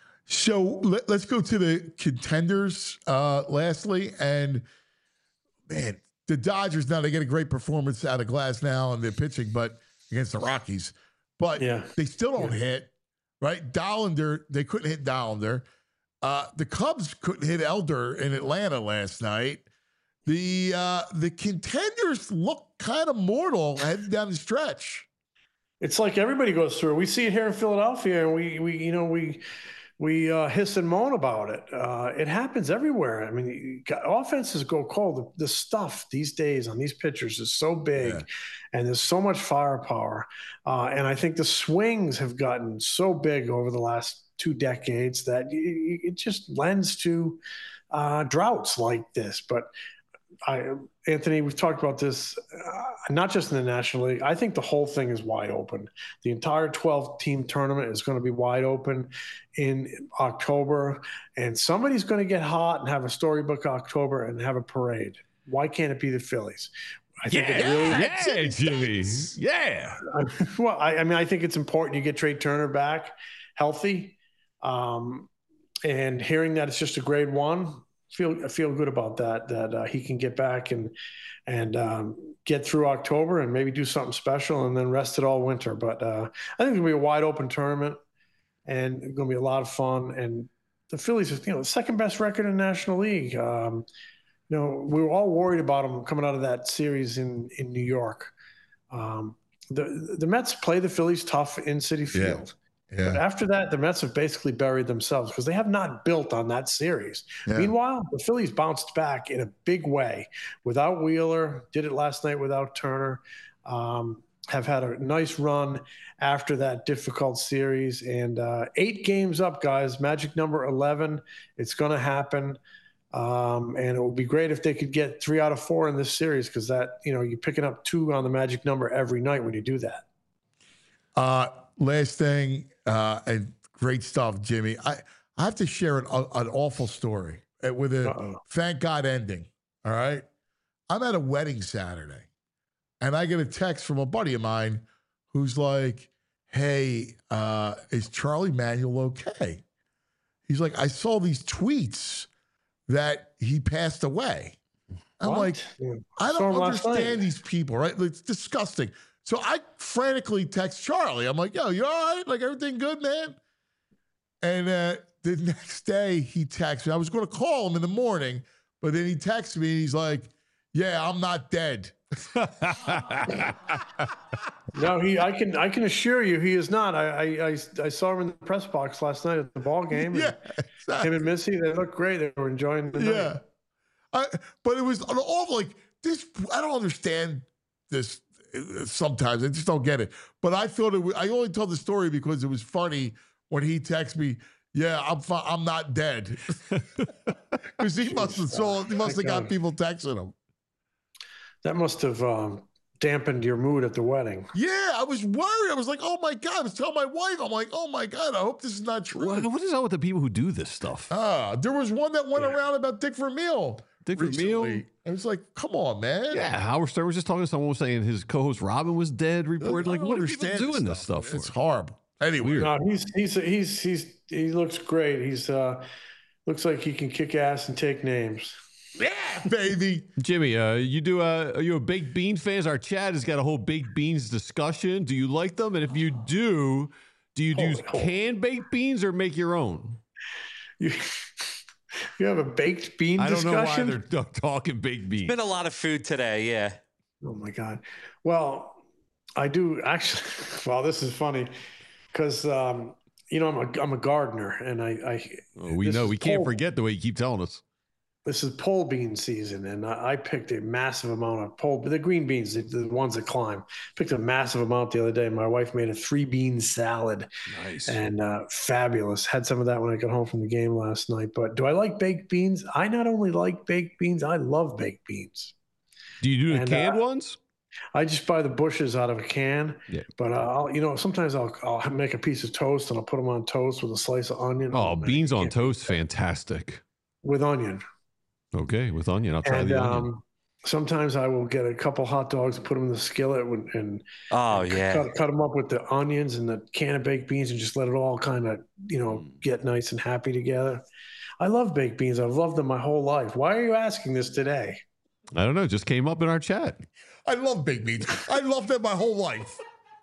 So let, let's go to the contenders uh, lastly. And, man, the Dodgers, now they get a great performance out of Glass now and they're pitching, but against the Rockies. But yeah. they still don't yeah. hit, right? Dollander, they couldn't hit Dollander. Uh, the Cubs couldn't hit Elder in Atlanta last night. The uh, the contenders look kind of mortal heading down the stretch. It's like everybody goes through. We see it here in Philadelphia, and we we you know we we uh, hiss and moan about it. Uh, it happens everywhere. I mean, offenses go cold. The, the stuff these days on these pitchers is so big, yeah. and there's so much firepower. Uh, and I think the swings have gotten so big over the last two decades that it, it just lends to uh, droughts like this. But I, Anthony, we've talked about this, uh, not just in the National League. I think the whole thing is wide open. The entire twelve-team tournament is going to be wide open in October, and somebody's going to get hot and have a storybook October and have a parade. Why can't it be the Phillies? I think yeah, it really, yeah, Jimmy. Yeah. Well, I, I mean, I think it's important you get Trey Turner back healthy, um, and hearing that it's just a grade one. Feel I feel good about that. That uh, he can get back and and um, get through October and maybe do something special and then rest it all winter. But uh, I think it's gonna be a wide open tournament and it's gonna be a lot of fun. And the Phillies, you know, the second best record in the National League. Um, you know, we were all worried about them coming out of that series in in New York. Um, the the Mets play the Phillies tough in Citi Field. Yeah. Yeah. But after that, the Mets have basically buried themselves because they have not built on that series. Yeah. Meanwhile, the Phillies bounced back in a big way without Wheeler, did it last night without Turner, um, have had a nice run after that difficult series. And uh, eight games up, guys, magic number eleven. It's going to happen. Um, and it would be great if they could get three out of four in this series because that, you know, you're picking up two on the magic number every night when you do that. Uh, last thing, uh, and great stuff, Jimmy. I, I have to share an, uh, an awful story with a Uh-oh. thank God ending. All right. I'm at a wedding Saturday and I get a text from a buddy of mine who's like, hey, uh, is Charlie Manuel okay? He's like, I saw these tweets that he passed away. I'm what? like, yeah. I don't understand these people, right? It's disgusting. So I frantically text Charlie. I'm like, yo, you all right? Like, everything good, man? And uh, the next day he texts me. I was going to call him in the morning, but then he texts me and he's like, yeah, I'm not dead. No, he. I can. I can assure you, he is not. I. I. I, I saw him in the press box last night at the ball game. Yeah, exactly. Him and Missy, they look great. They were enjoying the night. Yeah, I, but it was all like this. I don't understand this. Sometimes I just don't get it. But I thought it was, I only told the story because it was funny when he texted me. Yeah, I'm. Fi- I'm not dead. Because he must have saw. He must have got people texting him. That must have um, dampened your mood at the wedding. Yeah, I was worried. I was like, oh my God. I was telling my wife, I'm like, oh my God, I hope this is not true. What, what is up with the people who do this stuff? Ah, there was one that went Yeah. around about Dick Vermeil. Dick recently. Vermeil? I was like, come on, man. Yeah, Howard Stern was just talking to someone was saying his co-host Robin was dead. Reported like, I don't what are people understand doing this stuff for? It's horrible. Anyway, Weird. No, he's he's he's he's he looks great. He's uh looks like he can kick ass and take names. yeah, baby. Jimmy, uh, you do uh, are you a baked bean fan? Our chat has got a whole baked beans discussion. Do you like them? And if you do, do you do Oh, oh. canned baked beans or make your own? You you have a baked bean I don't discussion? know why they're t- talking baked beans. Been a lot of food today. Yeah. Oh my God. Well, I do actually. Well, this is funny because um, you know I'm a I'm a gardener, and I, I Oh, we this know is we can't pole- forget the way you keep telling us. This is pole bean season, and I, I picked a massive amount of pole. The green beans, the, the ones that climb, picked a massive amount the other day. My wife made a three bean salad, Nice. and uh, fabulous. Had some of that when I got home from the game last night. But do I like baked beans? I not only like baked beans, I love baked beans. Do you do the and, canned uh, ones? I just buy the bushes out of a can. Yeah. But uh, I'll, you know, sometimes I'll I'll make a piece of toast and I'll put them on toast with a slice of onion. Oh, man, beans you on can't beat toast, that. fantastic. With onion. Okay, with onion, I'll try And the onion. um, sometimes I will get a couple hot dogs and put them in the skillet and, and Oh cut, yeah. cut, cut them up with the onions and the can of baked beans and just let it all kind of, you know, get nice and happy together. I love baked beans. I've loved them my whole life. Why are you asking this today? I don't know, just came up in our chat. I love baked beans. I loved them my whole life.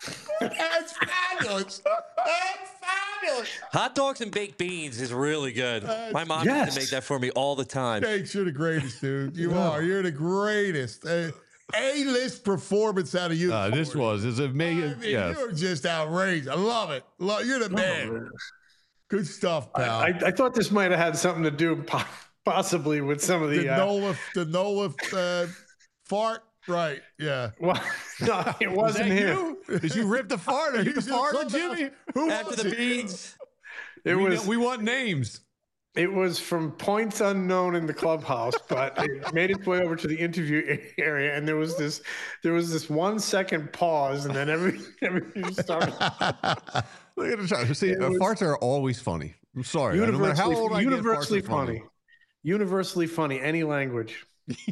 That's fabulous. That's fabulous. Hot dogs and baked beans is really good. My mom used Yes. to make that for me all the time. Thanks. You're the greatest, dude. You Yeah. are. You're the greatest. Uh, A-list performance out of you. Uh, this was is a I mega. mean, Yes. You're just outrageous. I love it. Love, you're the man. Good stuff, pal. I, I thought this might have had something to do po- possibly with some of the. the Uh, Nola, the Nola uh, fart. Right. Yeah. well, no, it Was wasn't that him. you? Did you rip the fart? Are you the He's in farter, clubhouse. Jimmy? Who After was the it? beans. It we, was. know- we want names. It was from points unknown in the clubhouse, but it made its way over to the interview area, and there was this, there was this one second pause, and then every everything started. Look at the chart. See, uh, was- farts are always funny. I'm sorry. No matter Universally, how old I get, farts are universally funny. universally funny, any language.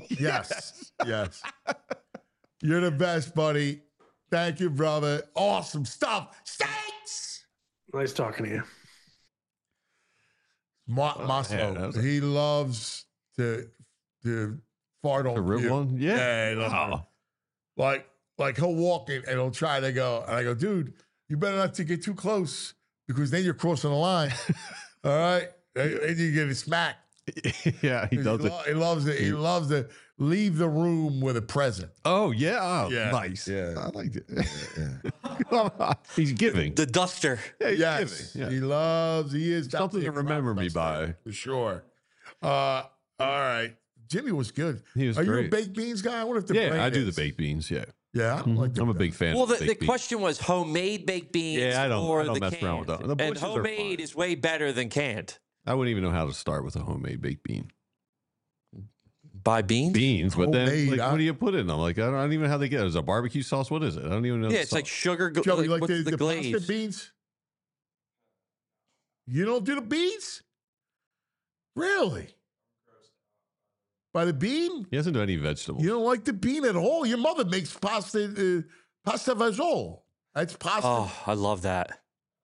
Yes. Yes. You're the best, buddy. Thank you, brother. Awesome stuff. Steaks. Nice talking to you. Ma- Oh, Masso, man, that was a- he loves to to fart on The rib you. one? Yeah. Yeah, he loves Oh. it. Like, like he'll walk in and he'll try to go, and I go, dude, you better not to get too close because then you're crossing the line. All right, and and you get a smack. yeah, he does it. lo- he loves it. He loves to leave the room with a present. Oh yeah, oh, Yeah, nice. yeah. I like it. He's giving. The duster. Yeah, he's Yes, giving. Yeah. he loves. He is Something to definitely a remember me crowd by. for sure. Uh, all right, Jimmy was good. He was Are you a great. baked beans guy? I wonder if the Yeah, brand I do the is. baked beans. Yeah, Yeah, I don't like the I'm a brand. big fan. Well, of the, the, the baked beans. question was homemade baked beans Yeah, I don't- or I don't the mess canned. around with that. The and bushes are homemade fine. is way better than canned. I wouldn't even know how to start with a homemade baked bean. Buy beans? Beans, but then Homemade, like, huh? what do you put in them? Like I don't, I don't even know how they get it. Is it a barbecue sauce? What is it? I don't even know. Yeah, the it's like sauce. sugar. gl- Joe, you like what's the, the, the glaze? pasta beans? You don't do the beans? Really? By the bean? He doesn't do any vegetables. You don't like the bean at all? Your mother makes pasta, uh, pasta fagioli. That's pasta. Oh, I love that.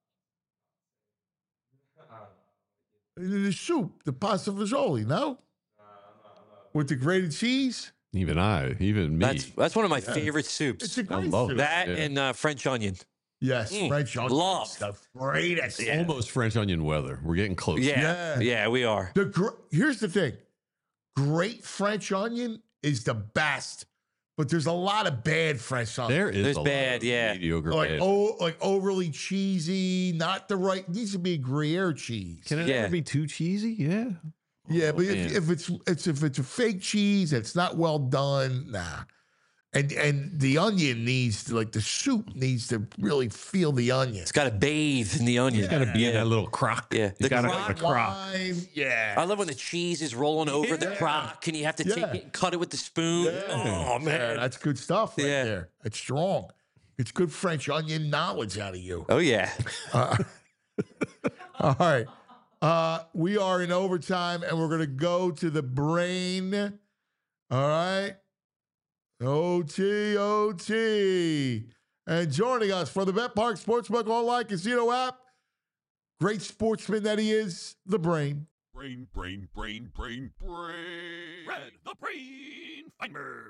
The soup, the pasta fagioli, no? With the grated cheese? Even I, even me. That's that's one of my favorite soups. It's a I great love soup. it. that Yeah. and uh, French onion. Yes, Mm, French onion. love. is the greatest. Almost French onion weather. We're getting close. Yeah, Yeah. yeah, we are. The gr- Here's the thing. Great French onion is the best, but there's a lot of bad French onion. There is There's a lot bad, of yeah. mediocre like bad. oh, like overly cheesy, not the right. Needs to be Gruyere cheese. Can it Yeah. ever be too cheesy? Yeah. yeah, but man. if, if it's it's if it's a fake cheese, it's not well done. Nah. And and the onion needs to, like the soup needs to really feel the onion. It's got to bathe in the onion. It's got to be in that little crock. Yeah, You the got crock. a crock. Lime, yeah. I love when the cheese is rolling over the Yeah. crock and you have to Yeah. take it and cut it with the spoon. Yeah. Oh, man. Yeah, that's good stuff right Yeah. there. It's strong. It's good French onion knowledge out of you. Oh, yeah. Uh, all right. Uh, we are in overtime, and we're going to go to the brain. All right. O T, O T. And joining us from the BetPark Sportsbook Online Casino app, great sportsman that he is, the brain. Brain, brain, brain, brain, brain. Red, the brain finder.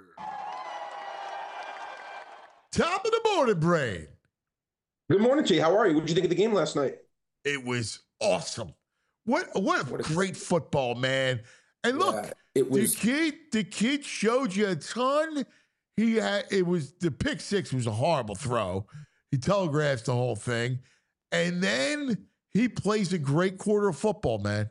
Top of the morning, brain. Good morning, Jay. How are you? What did you think of the game last night? It was awesome. What what, What a- great football, man. And look, Yeah, it was. the kid, the kid showed you a ton. He had it was the pick six was a horrible throw. He telegraphs the whole thing. And then he plays a great quarter of football, man.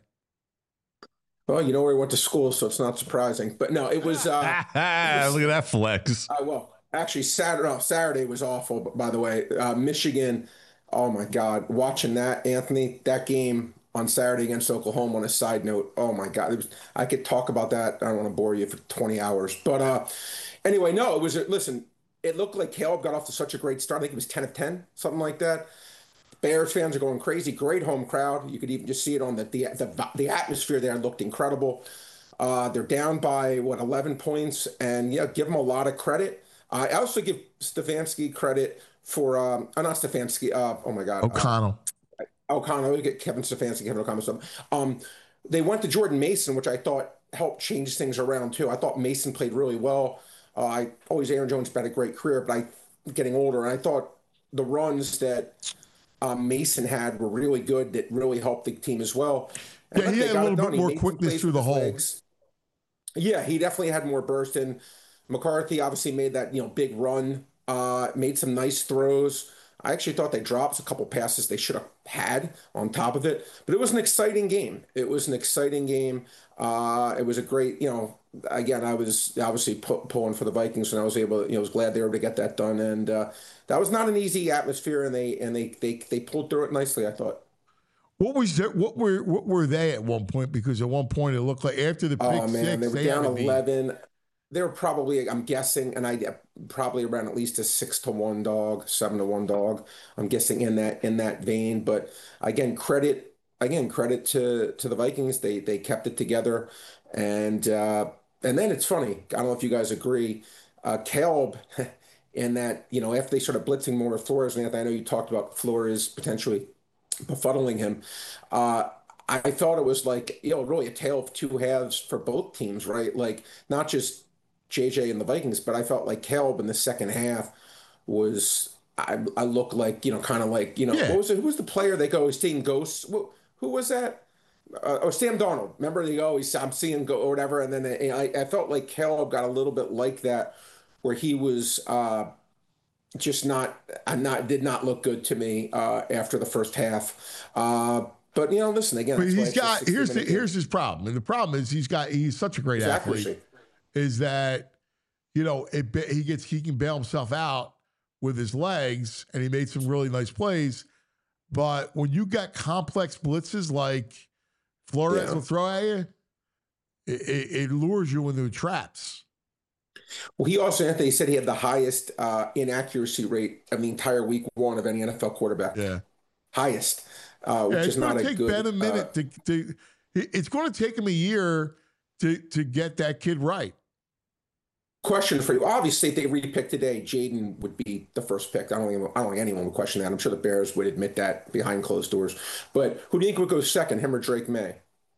Well, you know where he went to school, so it's not surprising. But no, it was. Uh, Look at that flex. uh, well, actually, Saturday. No, Saturday was awful. By the way, uh, Michigan. Oh my God, watching that, Anthony, that game on Saturday against Oklahoma. On a side note, oh my God, it was. I could talk about that. I don't want to bore you for twenty hours, but uh, anyway, no, it was. Listen, it looked like Caleb got off to such a great start. I think it was ten of ten, something like that. Bears fans are going crazy. Great home crowd. You could even just see it on the the the, the atmosphere there looked incredible. Uh, they're down by what eleven points, and yeah, give them a lot of credit. I also give Stefanski credit for um, uh, not Stefanski. Uh, oh my God, O'Connell. Uh, O'Connell. We get Kevin Stefanski, Kevin O'Connell. So, um, they went to Jordan Mason, which I thought helped change things around too. I thought Mason played really well. Uh, I always Aaron Jones had a great career, but I getting older, and I thought the runs that Um, Mason had were really good. That really helped the team as well. And Yeah, look, he they had a got it little done. bit He more made some quickness plays through with the his hole. legs. Yeah, he definitely had more burst. And McCarthy obviously made that you know big run. Uh, made some nice throws. I actually thought they dropped a couple passes they should have had on top of it. But it was an exciting game. It was an exciting game. Uh, it was a great, you know. Again, I was obviously pu- pulling for the Vikings, and I was able to, you know, was glad they were able to get that done. And uh, that was not an easy atmosphere, and they and they they they pulled through it nicely, I thought. What was there, what were what were they at one point? Because at one point it looked like after the pick Oh man, six, they were they down had to be- eleven. They were probably, I'm guessing, and I probably around at least a six to one dog, seven to one dog. I'm guessing in that in that vein. But again, credit again credit to to the Vikings. They they kept it together, and uh, and then it's funny. I don't know if you guys agree. Uh, Caleb, in that you know after they started blitzing more with Flores, and I know you talked about Flores potentially befuddling him. Uh, I thought it was like, you know, really a tale of two halves for both teams, right? Like not just J J and the Vikings, but I felt like Caleb in the second half was, I, I look like, you know, kind of like, you know, Yeah. what was it? Who was the player they go, he's seeing ghosts? Who, who was that? Uh, oh, Sam Darnold. Remember they go, he's, I'm seeing go or whatever. And then they, I, I felt like Caleb got a little bit like that, where he was, uh, just not, uh, not did not look good to me uh, after the first half. Uh, but you know, listen again. But that's why he's it's a got here's the, sixty-minute game. here's his problem, and the problem is he's got he's such a great His athlete. accuracy. Is that you know it, ba- he gets he can bail himself out with his legs, and he made some really nice plays. But when you got complex blitzes like Flores Yeah. will throw at you, it, it, it lures you into traps. Well, he also, Anthony, said he had the highest uh, inaccuracy rate of the entire week one of any N F L quarterback. Yeah, Highest, uh, which yeah, is it's not going a to take good. Ben a uh, minute to, to. It's going to take him a year to to get that kid right. question for you. Obviously, if they repick today, Jaden would be the first pick. I don't think, I don't think anyone would question that. I'm sure the Bears would admit that behind closed doors. But who do you think would go second, him or Drake May?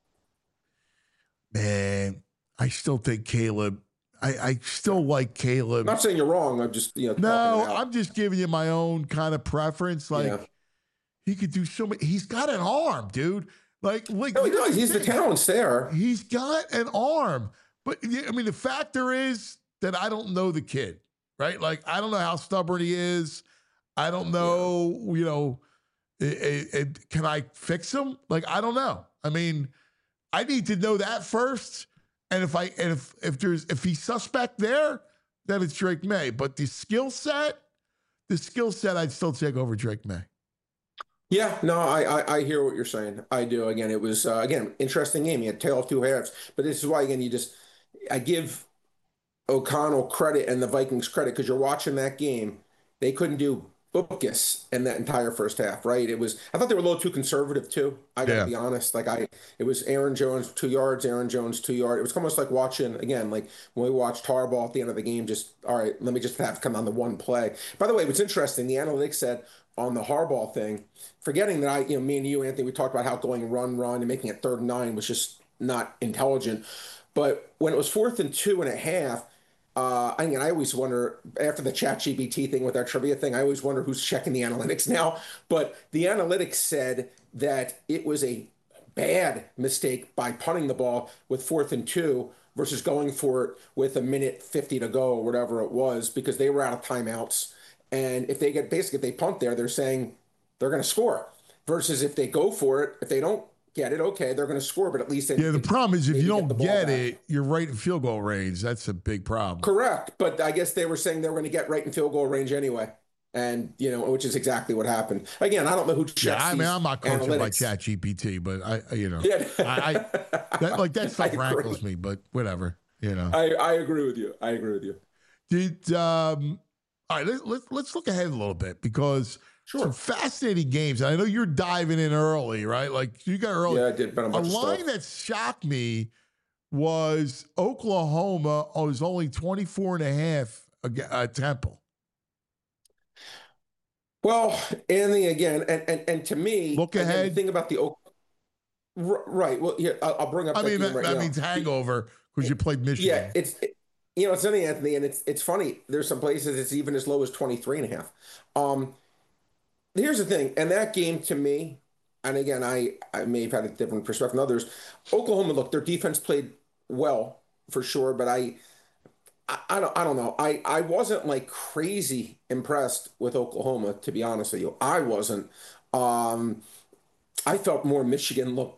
Man, I still think Caleb. I, I still like Caleb. I'm not saying you're wrong. I'm just, you know, No, talking it out. I'm just giving you my own kind of preference. Like Yeah. he could do so many. He's got an arm, dude. Like, like No, he here's does. He's the thing. talent's there. He's got an arm, but yeah, I mean, the factor is that I don't know the kid, right? Like, I don't know how stubborn he is. I don't know, you know, it, it, it- can I fix him? Like, I don't know. I mean, I need to know that first. And if I and if if there's if he's suspect there, then it's Drake May. But the skill set, the skill set, I'd still take over Drake May. Yeah, no, I, I I hear what you're saying. I do. Again, it was uh, again interesting game. He had tail of two halves, but this is why again you just I give O'Connell credit and the Vikings credit because you're watching that game. They couldn't do focus in that entire first half, right? It was I thought they were a little too conservative too. I gotta Yeah. be honest. Like I, it was Aaron Jones two yards, Aaron Jones two yard. It was almost like watching again, like when we watched Harbaugh at the end of the game. Just all right, let me just have come on the one play. By the way, what's interesting, the analytics said on the Harbaugh thing, forgetting that I, you know, me and you, Anthony, we talked about how going run, run, and making it third and nine was just not intelligent. But when it was fourth and two and a half. Uh, I mean, I always wonder after the ChatGPT thing with our trivia thing, I always wonder who's checking the analytics now. But the analytics said that it was a bad mistake by punting the ball with fourth and two versus going for it with a minute fifty to go or whatever it was, because they were out of timeouts. And if they get basically, if they punt there, they're saying they're going to score versus if they go for it, if they don't get it, okay, they're going to score, but at least they, Yeah, the problem is if you don't get the ball get back. it, you're right in field goal range. That's a big problem. Correct, but I guess they were saying they were going to get right in field goal range anyway, and you know, which is exactly what happened. Again, I don't know who checks Yeah, I mean, these I'm not coaching by analytics. ChatGPT, but I, I- you know, Yeah. I, I that, like that I stuff agree. rankles me, but whatever, you know. I, I agree with you. I agree with you. Did um, all right? Let, let, let's look ahead a little bit because Sure. some fascinating games. And I know you're diving in early, right? Like you got early. Yeah, I did bet on a A bunch of line stuff. that shocked me was Oklahoma was only twenty-four and a half ag- uh, Temple. Well, Anthony, again, and and, and to me, Look again, ahead. the thing about the Oak, R- right? Well, here I'll, I'll bring up. I that mean, game that, right that now. means hangover because you played Michigan. Yeah, it's it, you know it's funny, Anthony, and it's it's funny. There's some places it's even as low as twenty-three and a half. Um, here's the thing, and that game to me, and again, I I may have had a different perspective than others. Oklahoma, look, their defense played well for sure, but I. I, I don't. I don't know. I, I wasn't like crazy impressed with Oklahoma, to be honest with you. I wasn't. Um, I felt more Michigan looked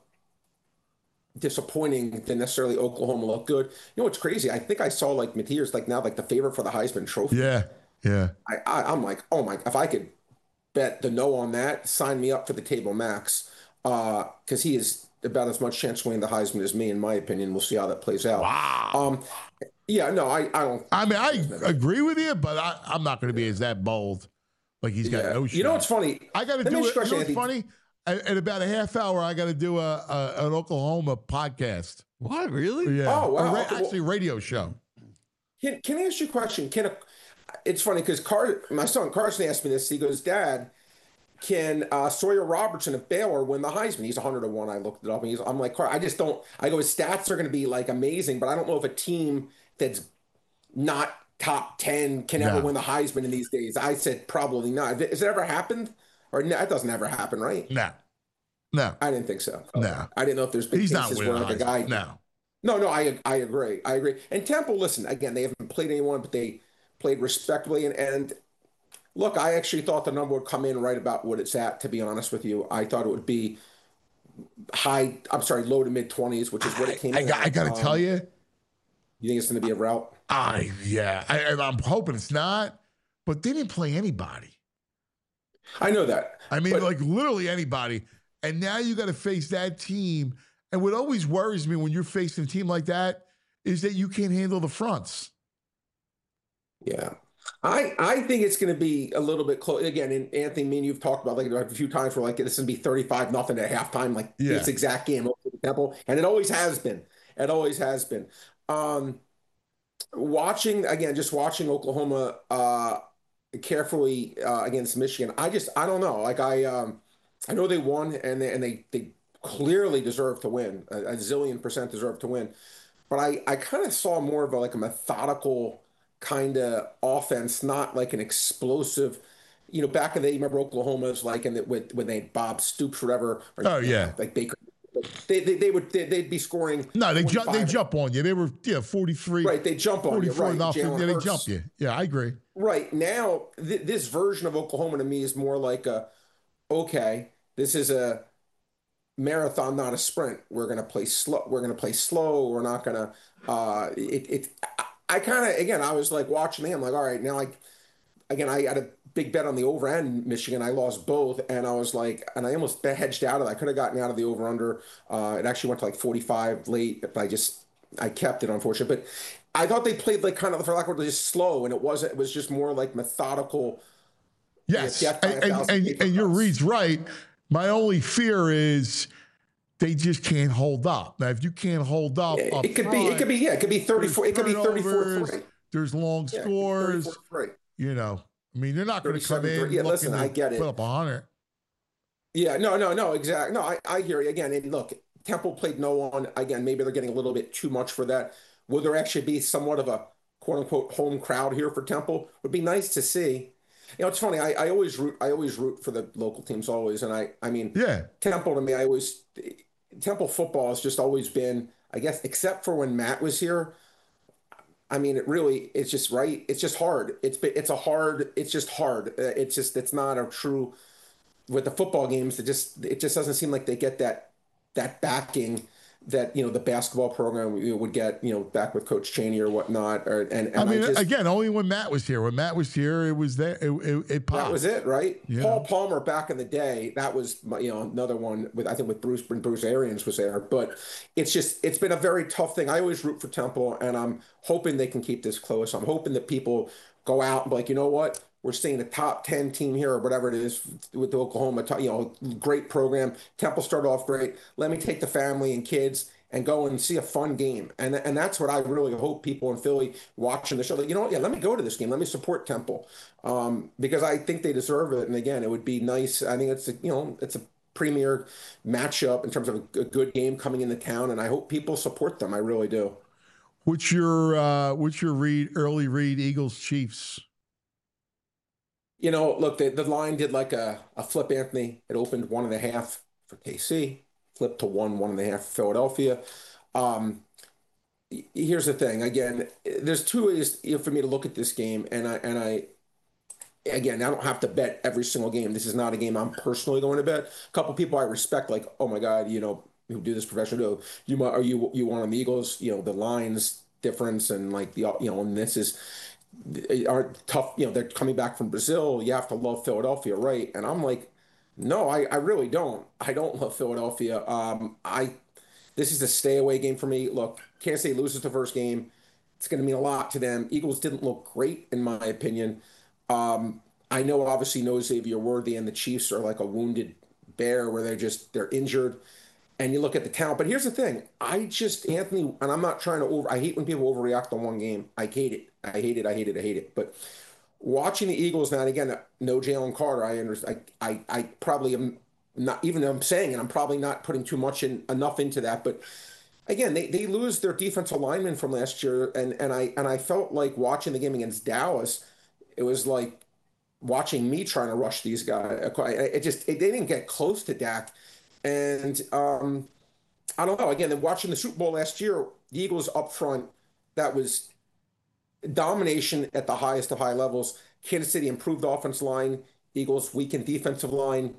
disappointing than necessarily Oklahoma looked good. You know what's crazy? I think I saw like Matthias like now like the favorite for the Heisman Trophy. Yeah, yeah. I, I I'm like, oh my! If I could bet the no on that, sign me up for the table max. Uh, because he is about as much chance of winning the Heisman as me, in my opinion. We'll see how that plays out. Wow. Um, yeah, no, I I don't. I mean, I agree with you, but I, I'm not going to be as that bold. Like he's got Yeah. no shot. You know what's funny? I got to Let me do ask it. you a You know what's question, funny? At, at about a half hour, I got to do a, a an Oklahoma podcast. What, really? Yeah. Oh, wow. Or ra- Okay, well- actually, radio show. Can Can I ask you a question? Can a, it's funny because Car my son Carson asked me this. He goes, Dad, can uh, Sawyer Robertson of Baylor win the Heisman? He's one hundred to one. I looked it up, and he's. I'm like, Car, I just don't. I go, his stats are going to be like amazing, but I don't know if a team that's not top ten can ever No. win the Heisman in these days. I said probably not. Has it ever happened? Or no, that doesn't ever happen, right? No, no, I didn't think so. no. I didn't know if there's been He's not cases winning where the like a guy. Heisman. No. No, no, I I agree. I agree. And Temple, listen, again, they haven't played anyone, but they played respectably. And, and look, I actually thought the number would come in right about what it's at, to be honest with you. I thought it would be high, I'm sorry, low to mid twenties, which is what it came I, in got, at. I got to Um, tell you, You think it's going to be a route? I yeah, I, I- I'm hoping it's not. But they didn't play anybody. I know that. I mean, But- like literally anybody. And now you got to face that team. And what always worries me when you're facing a team like that is that you can't handle the fronts. Yeah. I, I think it's going to be a little bit close. Again, and Anthony, me and you've talked about like a few times where like this is going to be thirty-five nothing at halftime, like Yeah. this exact game over the Temple. And it always has been. It always has been. Um, watching, again, just watching Oklahoma uh, carefully uh, against Michigan, I just, I don't know. Like I, um, I know they won and they, and they, they clearly deserve to win. A, a zillion percent deserve to win. But I, I kind of saw more of a, like a methodical kind of offense, not like an explosive, you know, back in the day, you remember Oklahoma's like, and with, when they had Bob Stoops, or whatever. Or, Oh, yeah. Like Baker. They, they, they would, they, they'd be scoring. No, they jump. They forty-five. jump on you. They were yeah, forty-three. Right. They jump on you. forty-four Right. nothing. Jalen Yeah, they Hurts. jump you. Yeah, I agree. Right now, th- this version of Oklahoma to me is more like a, okay, this is a marathon, not a sprint. We're gonna play slow. We're gonna play slow. We're not gonna. Uh, it, it. I kind of, again, I was like watching me. I'm like, all right, now like, again, I had a big bet on the over and Michigan. I lost both, and I was like, and I almost hedged out of it. I could have gotten out of the over under. Uh, it actually went to like forty-five late, but I just I kept it, unfortunately. But I thought they played like kind of, for lack of a word, just slow, and it wasn't. It was just more like methodical. Yes, death by a and, and, thousand and, paper and your cuts. read's right. My only fear is they just can't hold up. Now, if you can't hold up, It, up it could front, be. It could be. Yeah, it could be thirty-four. It could be thirty-four turnovers, three. There's long Yeah, scores. thirty-four three. You know, I mean, they're not going to come thirty-seven in. three. Yeah, looking listen, to I get it. Put up a hundred. Yeah, no, no, no, exactly. No, I, I hear you again. And look, Temple played no one. Again, maybe they're getting a little bit too much for that. Will there actually be somewhat of a quote unquote home crowd here for Temple? Would be nice to see. You know, it's funny. I, I always root. I always root for the local teams always. And I, I mean, Yeah. Temple to me, I always Temple football has just always been, I guess, except for when Matt was here. I mean, it really, it's just right. It's just hard. It's it's a hard. It's just hard. Uh, It's just it's not a true. With the football games, it just it just doesn't seem like they get that that backing that you know the basketball program would get. You know, back with Coach Chaney or whatnot. Or and, and I mean, I just, again, only when Matt was here. When Matt was here, it was there. It, it, it popped. that was it, right? Yeah. Paul Palmer back in the day, that was you know another one with I think with Bruce when Bruce Arians was there. But it's just it's been a very tough thing. I always root for Temple, and I'm hoping they can keep this close. I'm hoping that people go out and be like, you know what? We're seeing the top ten team here or whatever it is with the Oklahoma, you know, great program. Temple started off great. Let me take the family and kids and go and see a fun game. And and that's what I really hope people in Philly watching the show, like, you know what, yeah, let me go to this game. Let me support Temple um, because I think they deserve it. And again, it would be nice. I think it's, a, you know, it's a premier matchup in terms of a, a good game coming into town. And I hope people support them. I really do. What's your, uh, what's your read, early read Eagles Chiefs? You know, look, the, the line did like a, a flip, Anthony. It opened one and a half for K C, flipped to one, one and a half for Philadelphia. Um, here's the thing. Again, there's two ways you know, for me to look at this game, and I and I again, I don't have to bet every single game. This is not a game I'm personally going to bet. A couple people I respect, like, oh my God, you know, who do this professionally. You are you you want on the Eagles? You know, the lines difference and like the you know, and this is. Are tough, you know, they're coming back from Brazil. You have to love Philadelphia, right? And I'm like, no, I, I really don't. I don't love Philadelphia. Um, I this is a stay away game for me. Look, Kansas City loses the first game. It's going to mean a lot to them. Eagles didn't look great, in my opinion. Um, I know, obviously, no Xavier Worthy and the Chiefs are like a wounded bear where they're just they're injured. And you look at the talent. But here's the thing. I just, Anthony, and I'm not trying to over, I hate when people overreact on one game. I hate it. I hate it. I hate it. I hate it. But watching the Eagles now, and again, no Jalen Carter, I understand. I, I, I probably am not, even though I'm saying it, I'm probably not putting too much in, enough into that. But again, they, they lose their defensive lineman from last year. And, and I, and I felt like watching the game against Dallas, it was like watching me trying to rush these guys. It just, it, they didn't get close to Dak. And um, I don't know. Again, watching the Super Bowl last year, the Eagles up front, that was domination at the highest of high levels. Kansas City improved offensive line. Eagles weakened defensive line.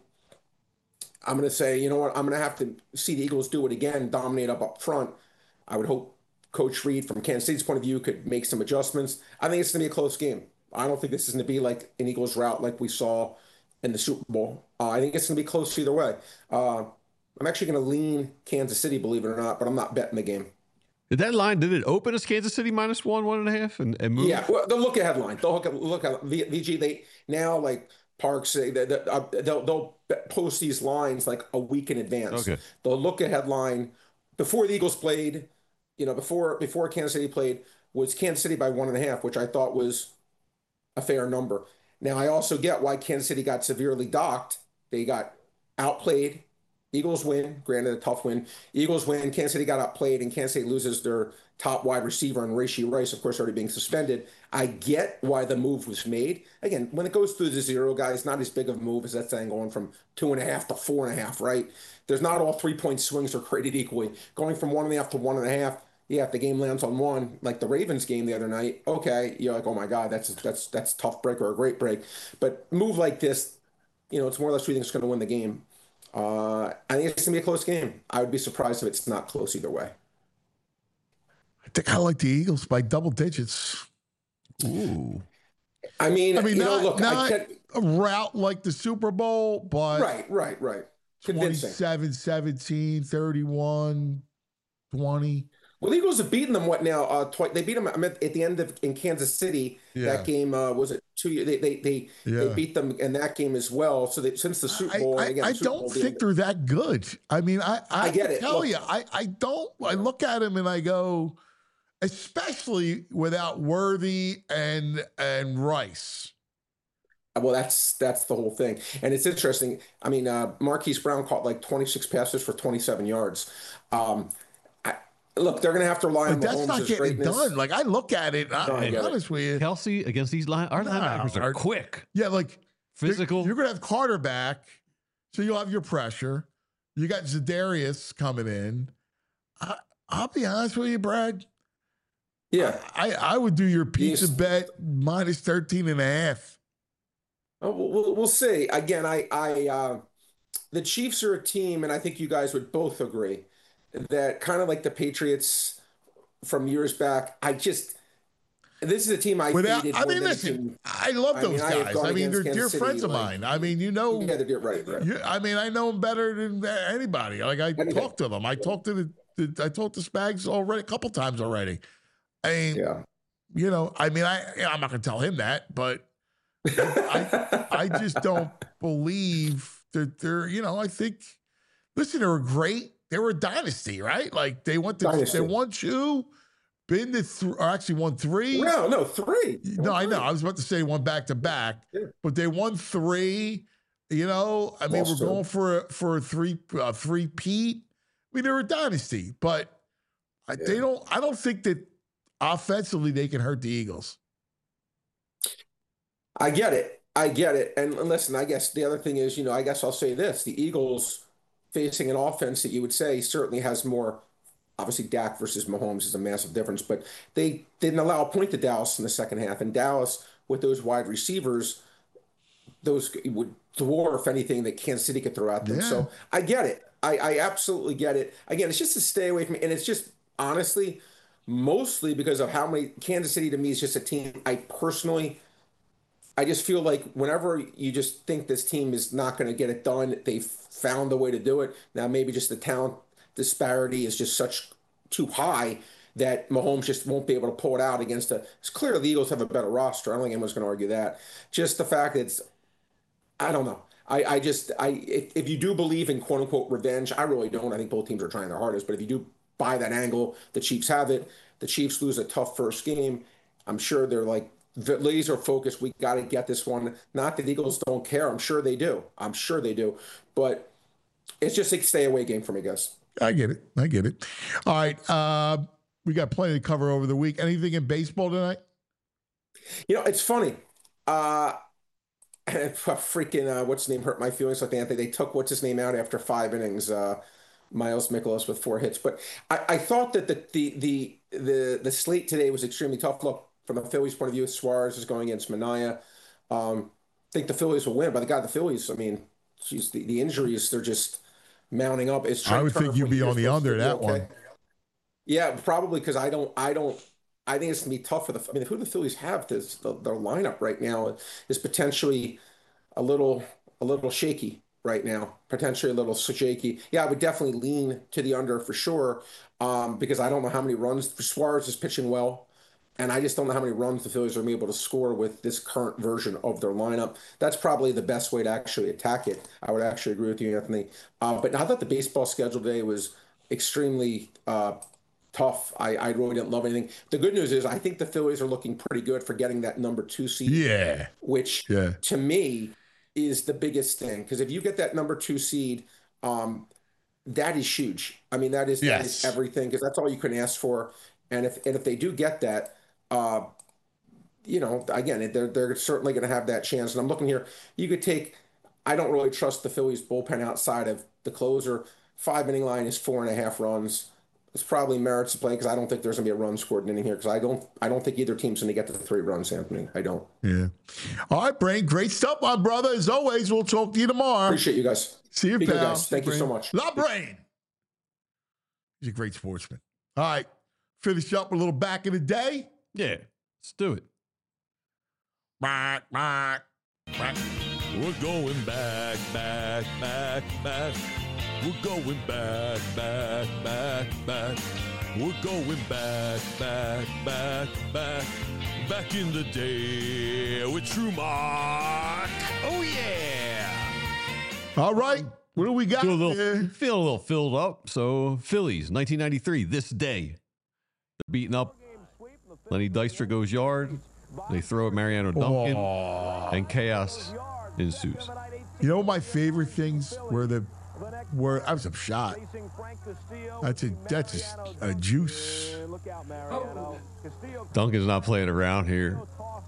I'm going to say, you know what? I'm going to have to see the Eagles do it again, dominate up up front. I would hope Coach Reed, from Kansas City's point of view, could make some adjustments. I think it's going to be a close game. I don't think this is going to be like an Eagles route like we saw in the Super Bowl. Uh, I think it's going to be close either way. Uh, I'm actually going to lean Kansas City, believe it or not, but I'm not betting the game. Did that line, did it open as Kansas City minus one, one and a half and, and move? Yeah, well, the look ahead line. They'll look at, look at V G. They now, like Parks, they, they, uh, they'll, they'll post these lines like a week in advance. Okay. The look ahead line before the Eagles played, you know, before before Kansas City played, was Kansas City by one and a half, which I thought was a fair number. Now, I also get why Kansas City got severely docked. They got outplayed. Eagles win, granted a tough win. Eagles win, Kansas City got outplayed, and Kansas City loses their top wide receiver, and Rashee Rice, of course, already being suspended. I get why the move was made. Again, when it goes through the zero, guys, not as big of a move as that thing going from two and a half to four and a half, right? There's not all three-point swings are created equally. Going from one and a half to one and a half, yeah, if the game lands on one, like the Ravens game the other night, okay, you're like, oh my God, that's that's that's a tough break or a great break. But move like this, you know, it's more or less who you think is going to win the game. Uh, I think it's going to be a close game. I would be surprised if it's not close either way. I think I like the Eagles by double digits. Ooh. I mean, I mean, you not, know, look, not I can't, a route like the Super Bowl, but right, right, right. Convincing. twenty-seven seventeen, thirty-one twenty. Well, the Eagles have beaten them. What now? Uh, twi- they beat them. I mean, at the end of in Kansas City. Yeah. That game uh, was it two years? They they they, Yeah. they beat them in that game as well. So they, since the Super Bowl, I, and again, I, I Super don't Bowl think being- they're that good. I mean, I I, I get it. tell Look. you, I I don't. I look at him and I go, especially without Worthy and and Rice. Well, that's that's the whole thing, and it's interesting. I mean, uh, Marquise Brown caught like twenty-six passes for twenty-seven yards. Um, I, look, they're going to have to rely Like on that's Mahomes' not getting greatness. done. Like I look at it, I, No, I I'm get it. honest with you. Kelsey against these line, our No, linebackers are our- quick, Yeah, like physical. You're, you're gonna have Carter back, so you'll have your pressure. You got Zadarius coming in. I, I'll be honest with you, Brad. Yeah, I, I would do your pizza Yes. bet minus thirteen and a half. Oh, we'll, we'll we'll see. Again, I I uh, the Chiefs are a team, and I think you guys would both agree that kind of like the Patriots from years back. I just this is a team I Without, faded I more mean, than listen, team. I love I those mean, I have guys. gone I mean, they're against dear Kansas friends City, of like- mine. I mean, you know, Yeah, they're right. right. you, I mean, I know them better than anybody. Like I Anything. talk to them. I talked to the, the I talked to Spags already a couple times already. I mean, Yeah. you know, I mean, I I'm not gonna tell him that, but I I just don't believe that they're, you know, I think listen, they were great. They were a dynasty, right? Like they went to Dynasty. they won two, been to three, or actually won three. No, no, three. No, I know. I was about to say one back to back, Yeah. but they won three. You know, I mean, Lost we're two. going for a, for a three uh, three peat. I mean, they're a dynasty, but I, they Yeah. don't. I don't think that offensively they can hurt the Eagles. I get it. I get it. And, and listen, I guess the other thing is, you know, I guess I'll say this: the Eagles facing an offense that you would say certainly has more. Obviously, Dak versus Mahomes is a massive difference, but they didn't allow a point to Dallas in the second half, and Dallas with those wide receivers, those would dwarf anything that Kansas City could throw at them. Yeah. So I get it. I, I absolutely get it. Again, it's just to stay away from it, and it's just honestly mostly because of how many Kansas City to me is just a team I personally. I just feel like whenever you just think this team is not going to get it done, they've found a way to do it. Now, maybe just the talent disparity is just such too high that Mahomes just won't be able to pull it out against a. It's clear the Eagles have a better roster. I don't think anyone's going to argue that. Just the fact that it's, I don't know. I, I just, I if, if you do believe in quote unquote revenge, I really don't. I think both teams are trying their hardest. But if you do buy that angle, the Chiefs have it. The Chiefs lose a tough first game. I'm sure they're like, laser focused. We got to get this one. Not that the Eagles don't care. I'm sure they do. I'm sure they do. But it's just a stay away game for me, guys. I get it. I get it. All right. Uh, we got plenty to cover over the week. Anything in baseball tonight? You know, it's funny. Uh, freaking, uh, what's his name hurt my feelings like Anthony. They took what's his name out after five innings. Uh, Miles Mikolas with four hits. But I, I thought that the, the the the the slate today was extremely tough. Look, from the Phillies' point of view, Suarez is going against Manaea. Um, I think the Phillies will win, but the God, the Phillies, I mean, geez, the, the injuries, they're just mounting up. It's I would think you'd be on the under that one. Yeah, probably because I don't, I don't, I think it's gonna be tough for the. I mean, who do the Phillies have? This the, their lineup right now is potentially a little, a little shaky right now. Potentially a little shaky. Yeah, I would definitely lean to the under for sure, um, because I don't know how many runs. Suarez is pitching well. And I just don't know how many runs the Phillies are going to be able to score with this current version of their lineup. That's probably the best way to actually attack it. I would actually agree with you, Anthony. Uh, but I thought the baseball schedule today was extremely uh, tough. I, I really didn't love anything. The good news is I think the Phillies are looking pretty good for getting that number two seed. Yeah. Which, yeah. to me, is the biggest thing. Because if you get that number two seed, um, that is huge. I mean, that is, yes. that is everything, because that's all you can ask for. And if and if they do get that, Uh, you know, again, they're they're certainly going to have that chance. And I'm looking here. You could take. I don't really trust the Phillies bullpen outside of the closer. Five inning line is four and a half runs. It's probably merits to play because I don't think there's going to be a run scored in inning here because I don't. I don't think either team's going to get to the three runs, Anthony. I don't. Yeah. All right, Brain. Great stuff, my brother. As always, we'll talk to you tomorrow. Appreciate you guys. See you, Be pal. good, guys. Thank Brain. you so much. La Brain. He's a great sportsman. All right. finish up a little back in the day? Yeah, let's do it. Back, back, back. We're going back, back, back, back. We're going back, back, back, back. We're going back, back, back, back. Back in the day with True Mark. Oh, yeah. All right. What do we got Feel a little, here? feel a little filled up. So, Phillies, nineteen ninety-three, this day. They're beating up. Lenny Dykstra goes yard. They throw at Mariano Duncan, Oh. and chaos ensues. You know, my favorite things were the were I was a shot. That's a that's a, a juice. Duncan's not playing around here.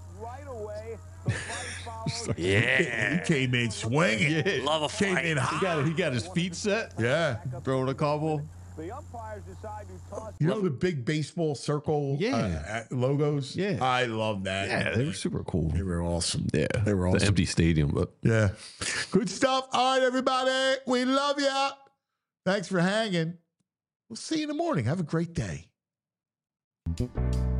He came in swinging. Yeah. Love a Came fight. in He hot. got, he got his feet set, Yeah. throwing a couple. You know the big baseball circle Yeah. uh, logos? Yeah. I love that. Yeah, they were super cool. They were awesome. Yeah, They were the awesome. empty stadium, but Yeah. Good stuff. All right, everybody. We love you. Thanks for hanging. We'll see you in the morning. Have a great day.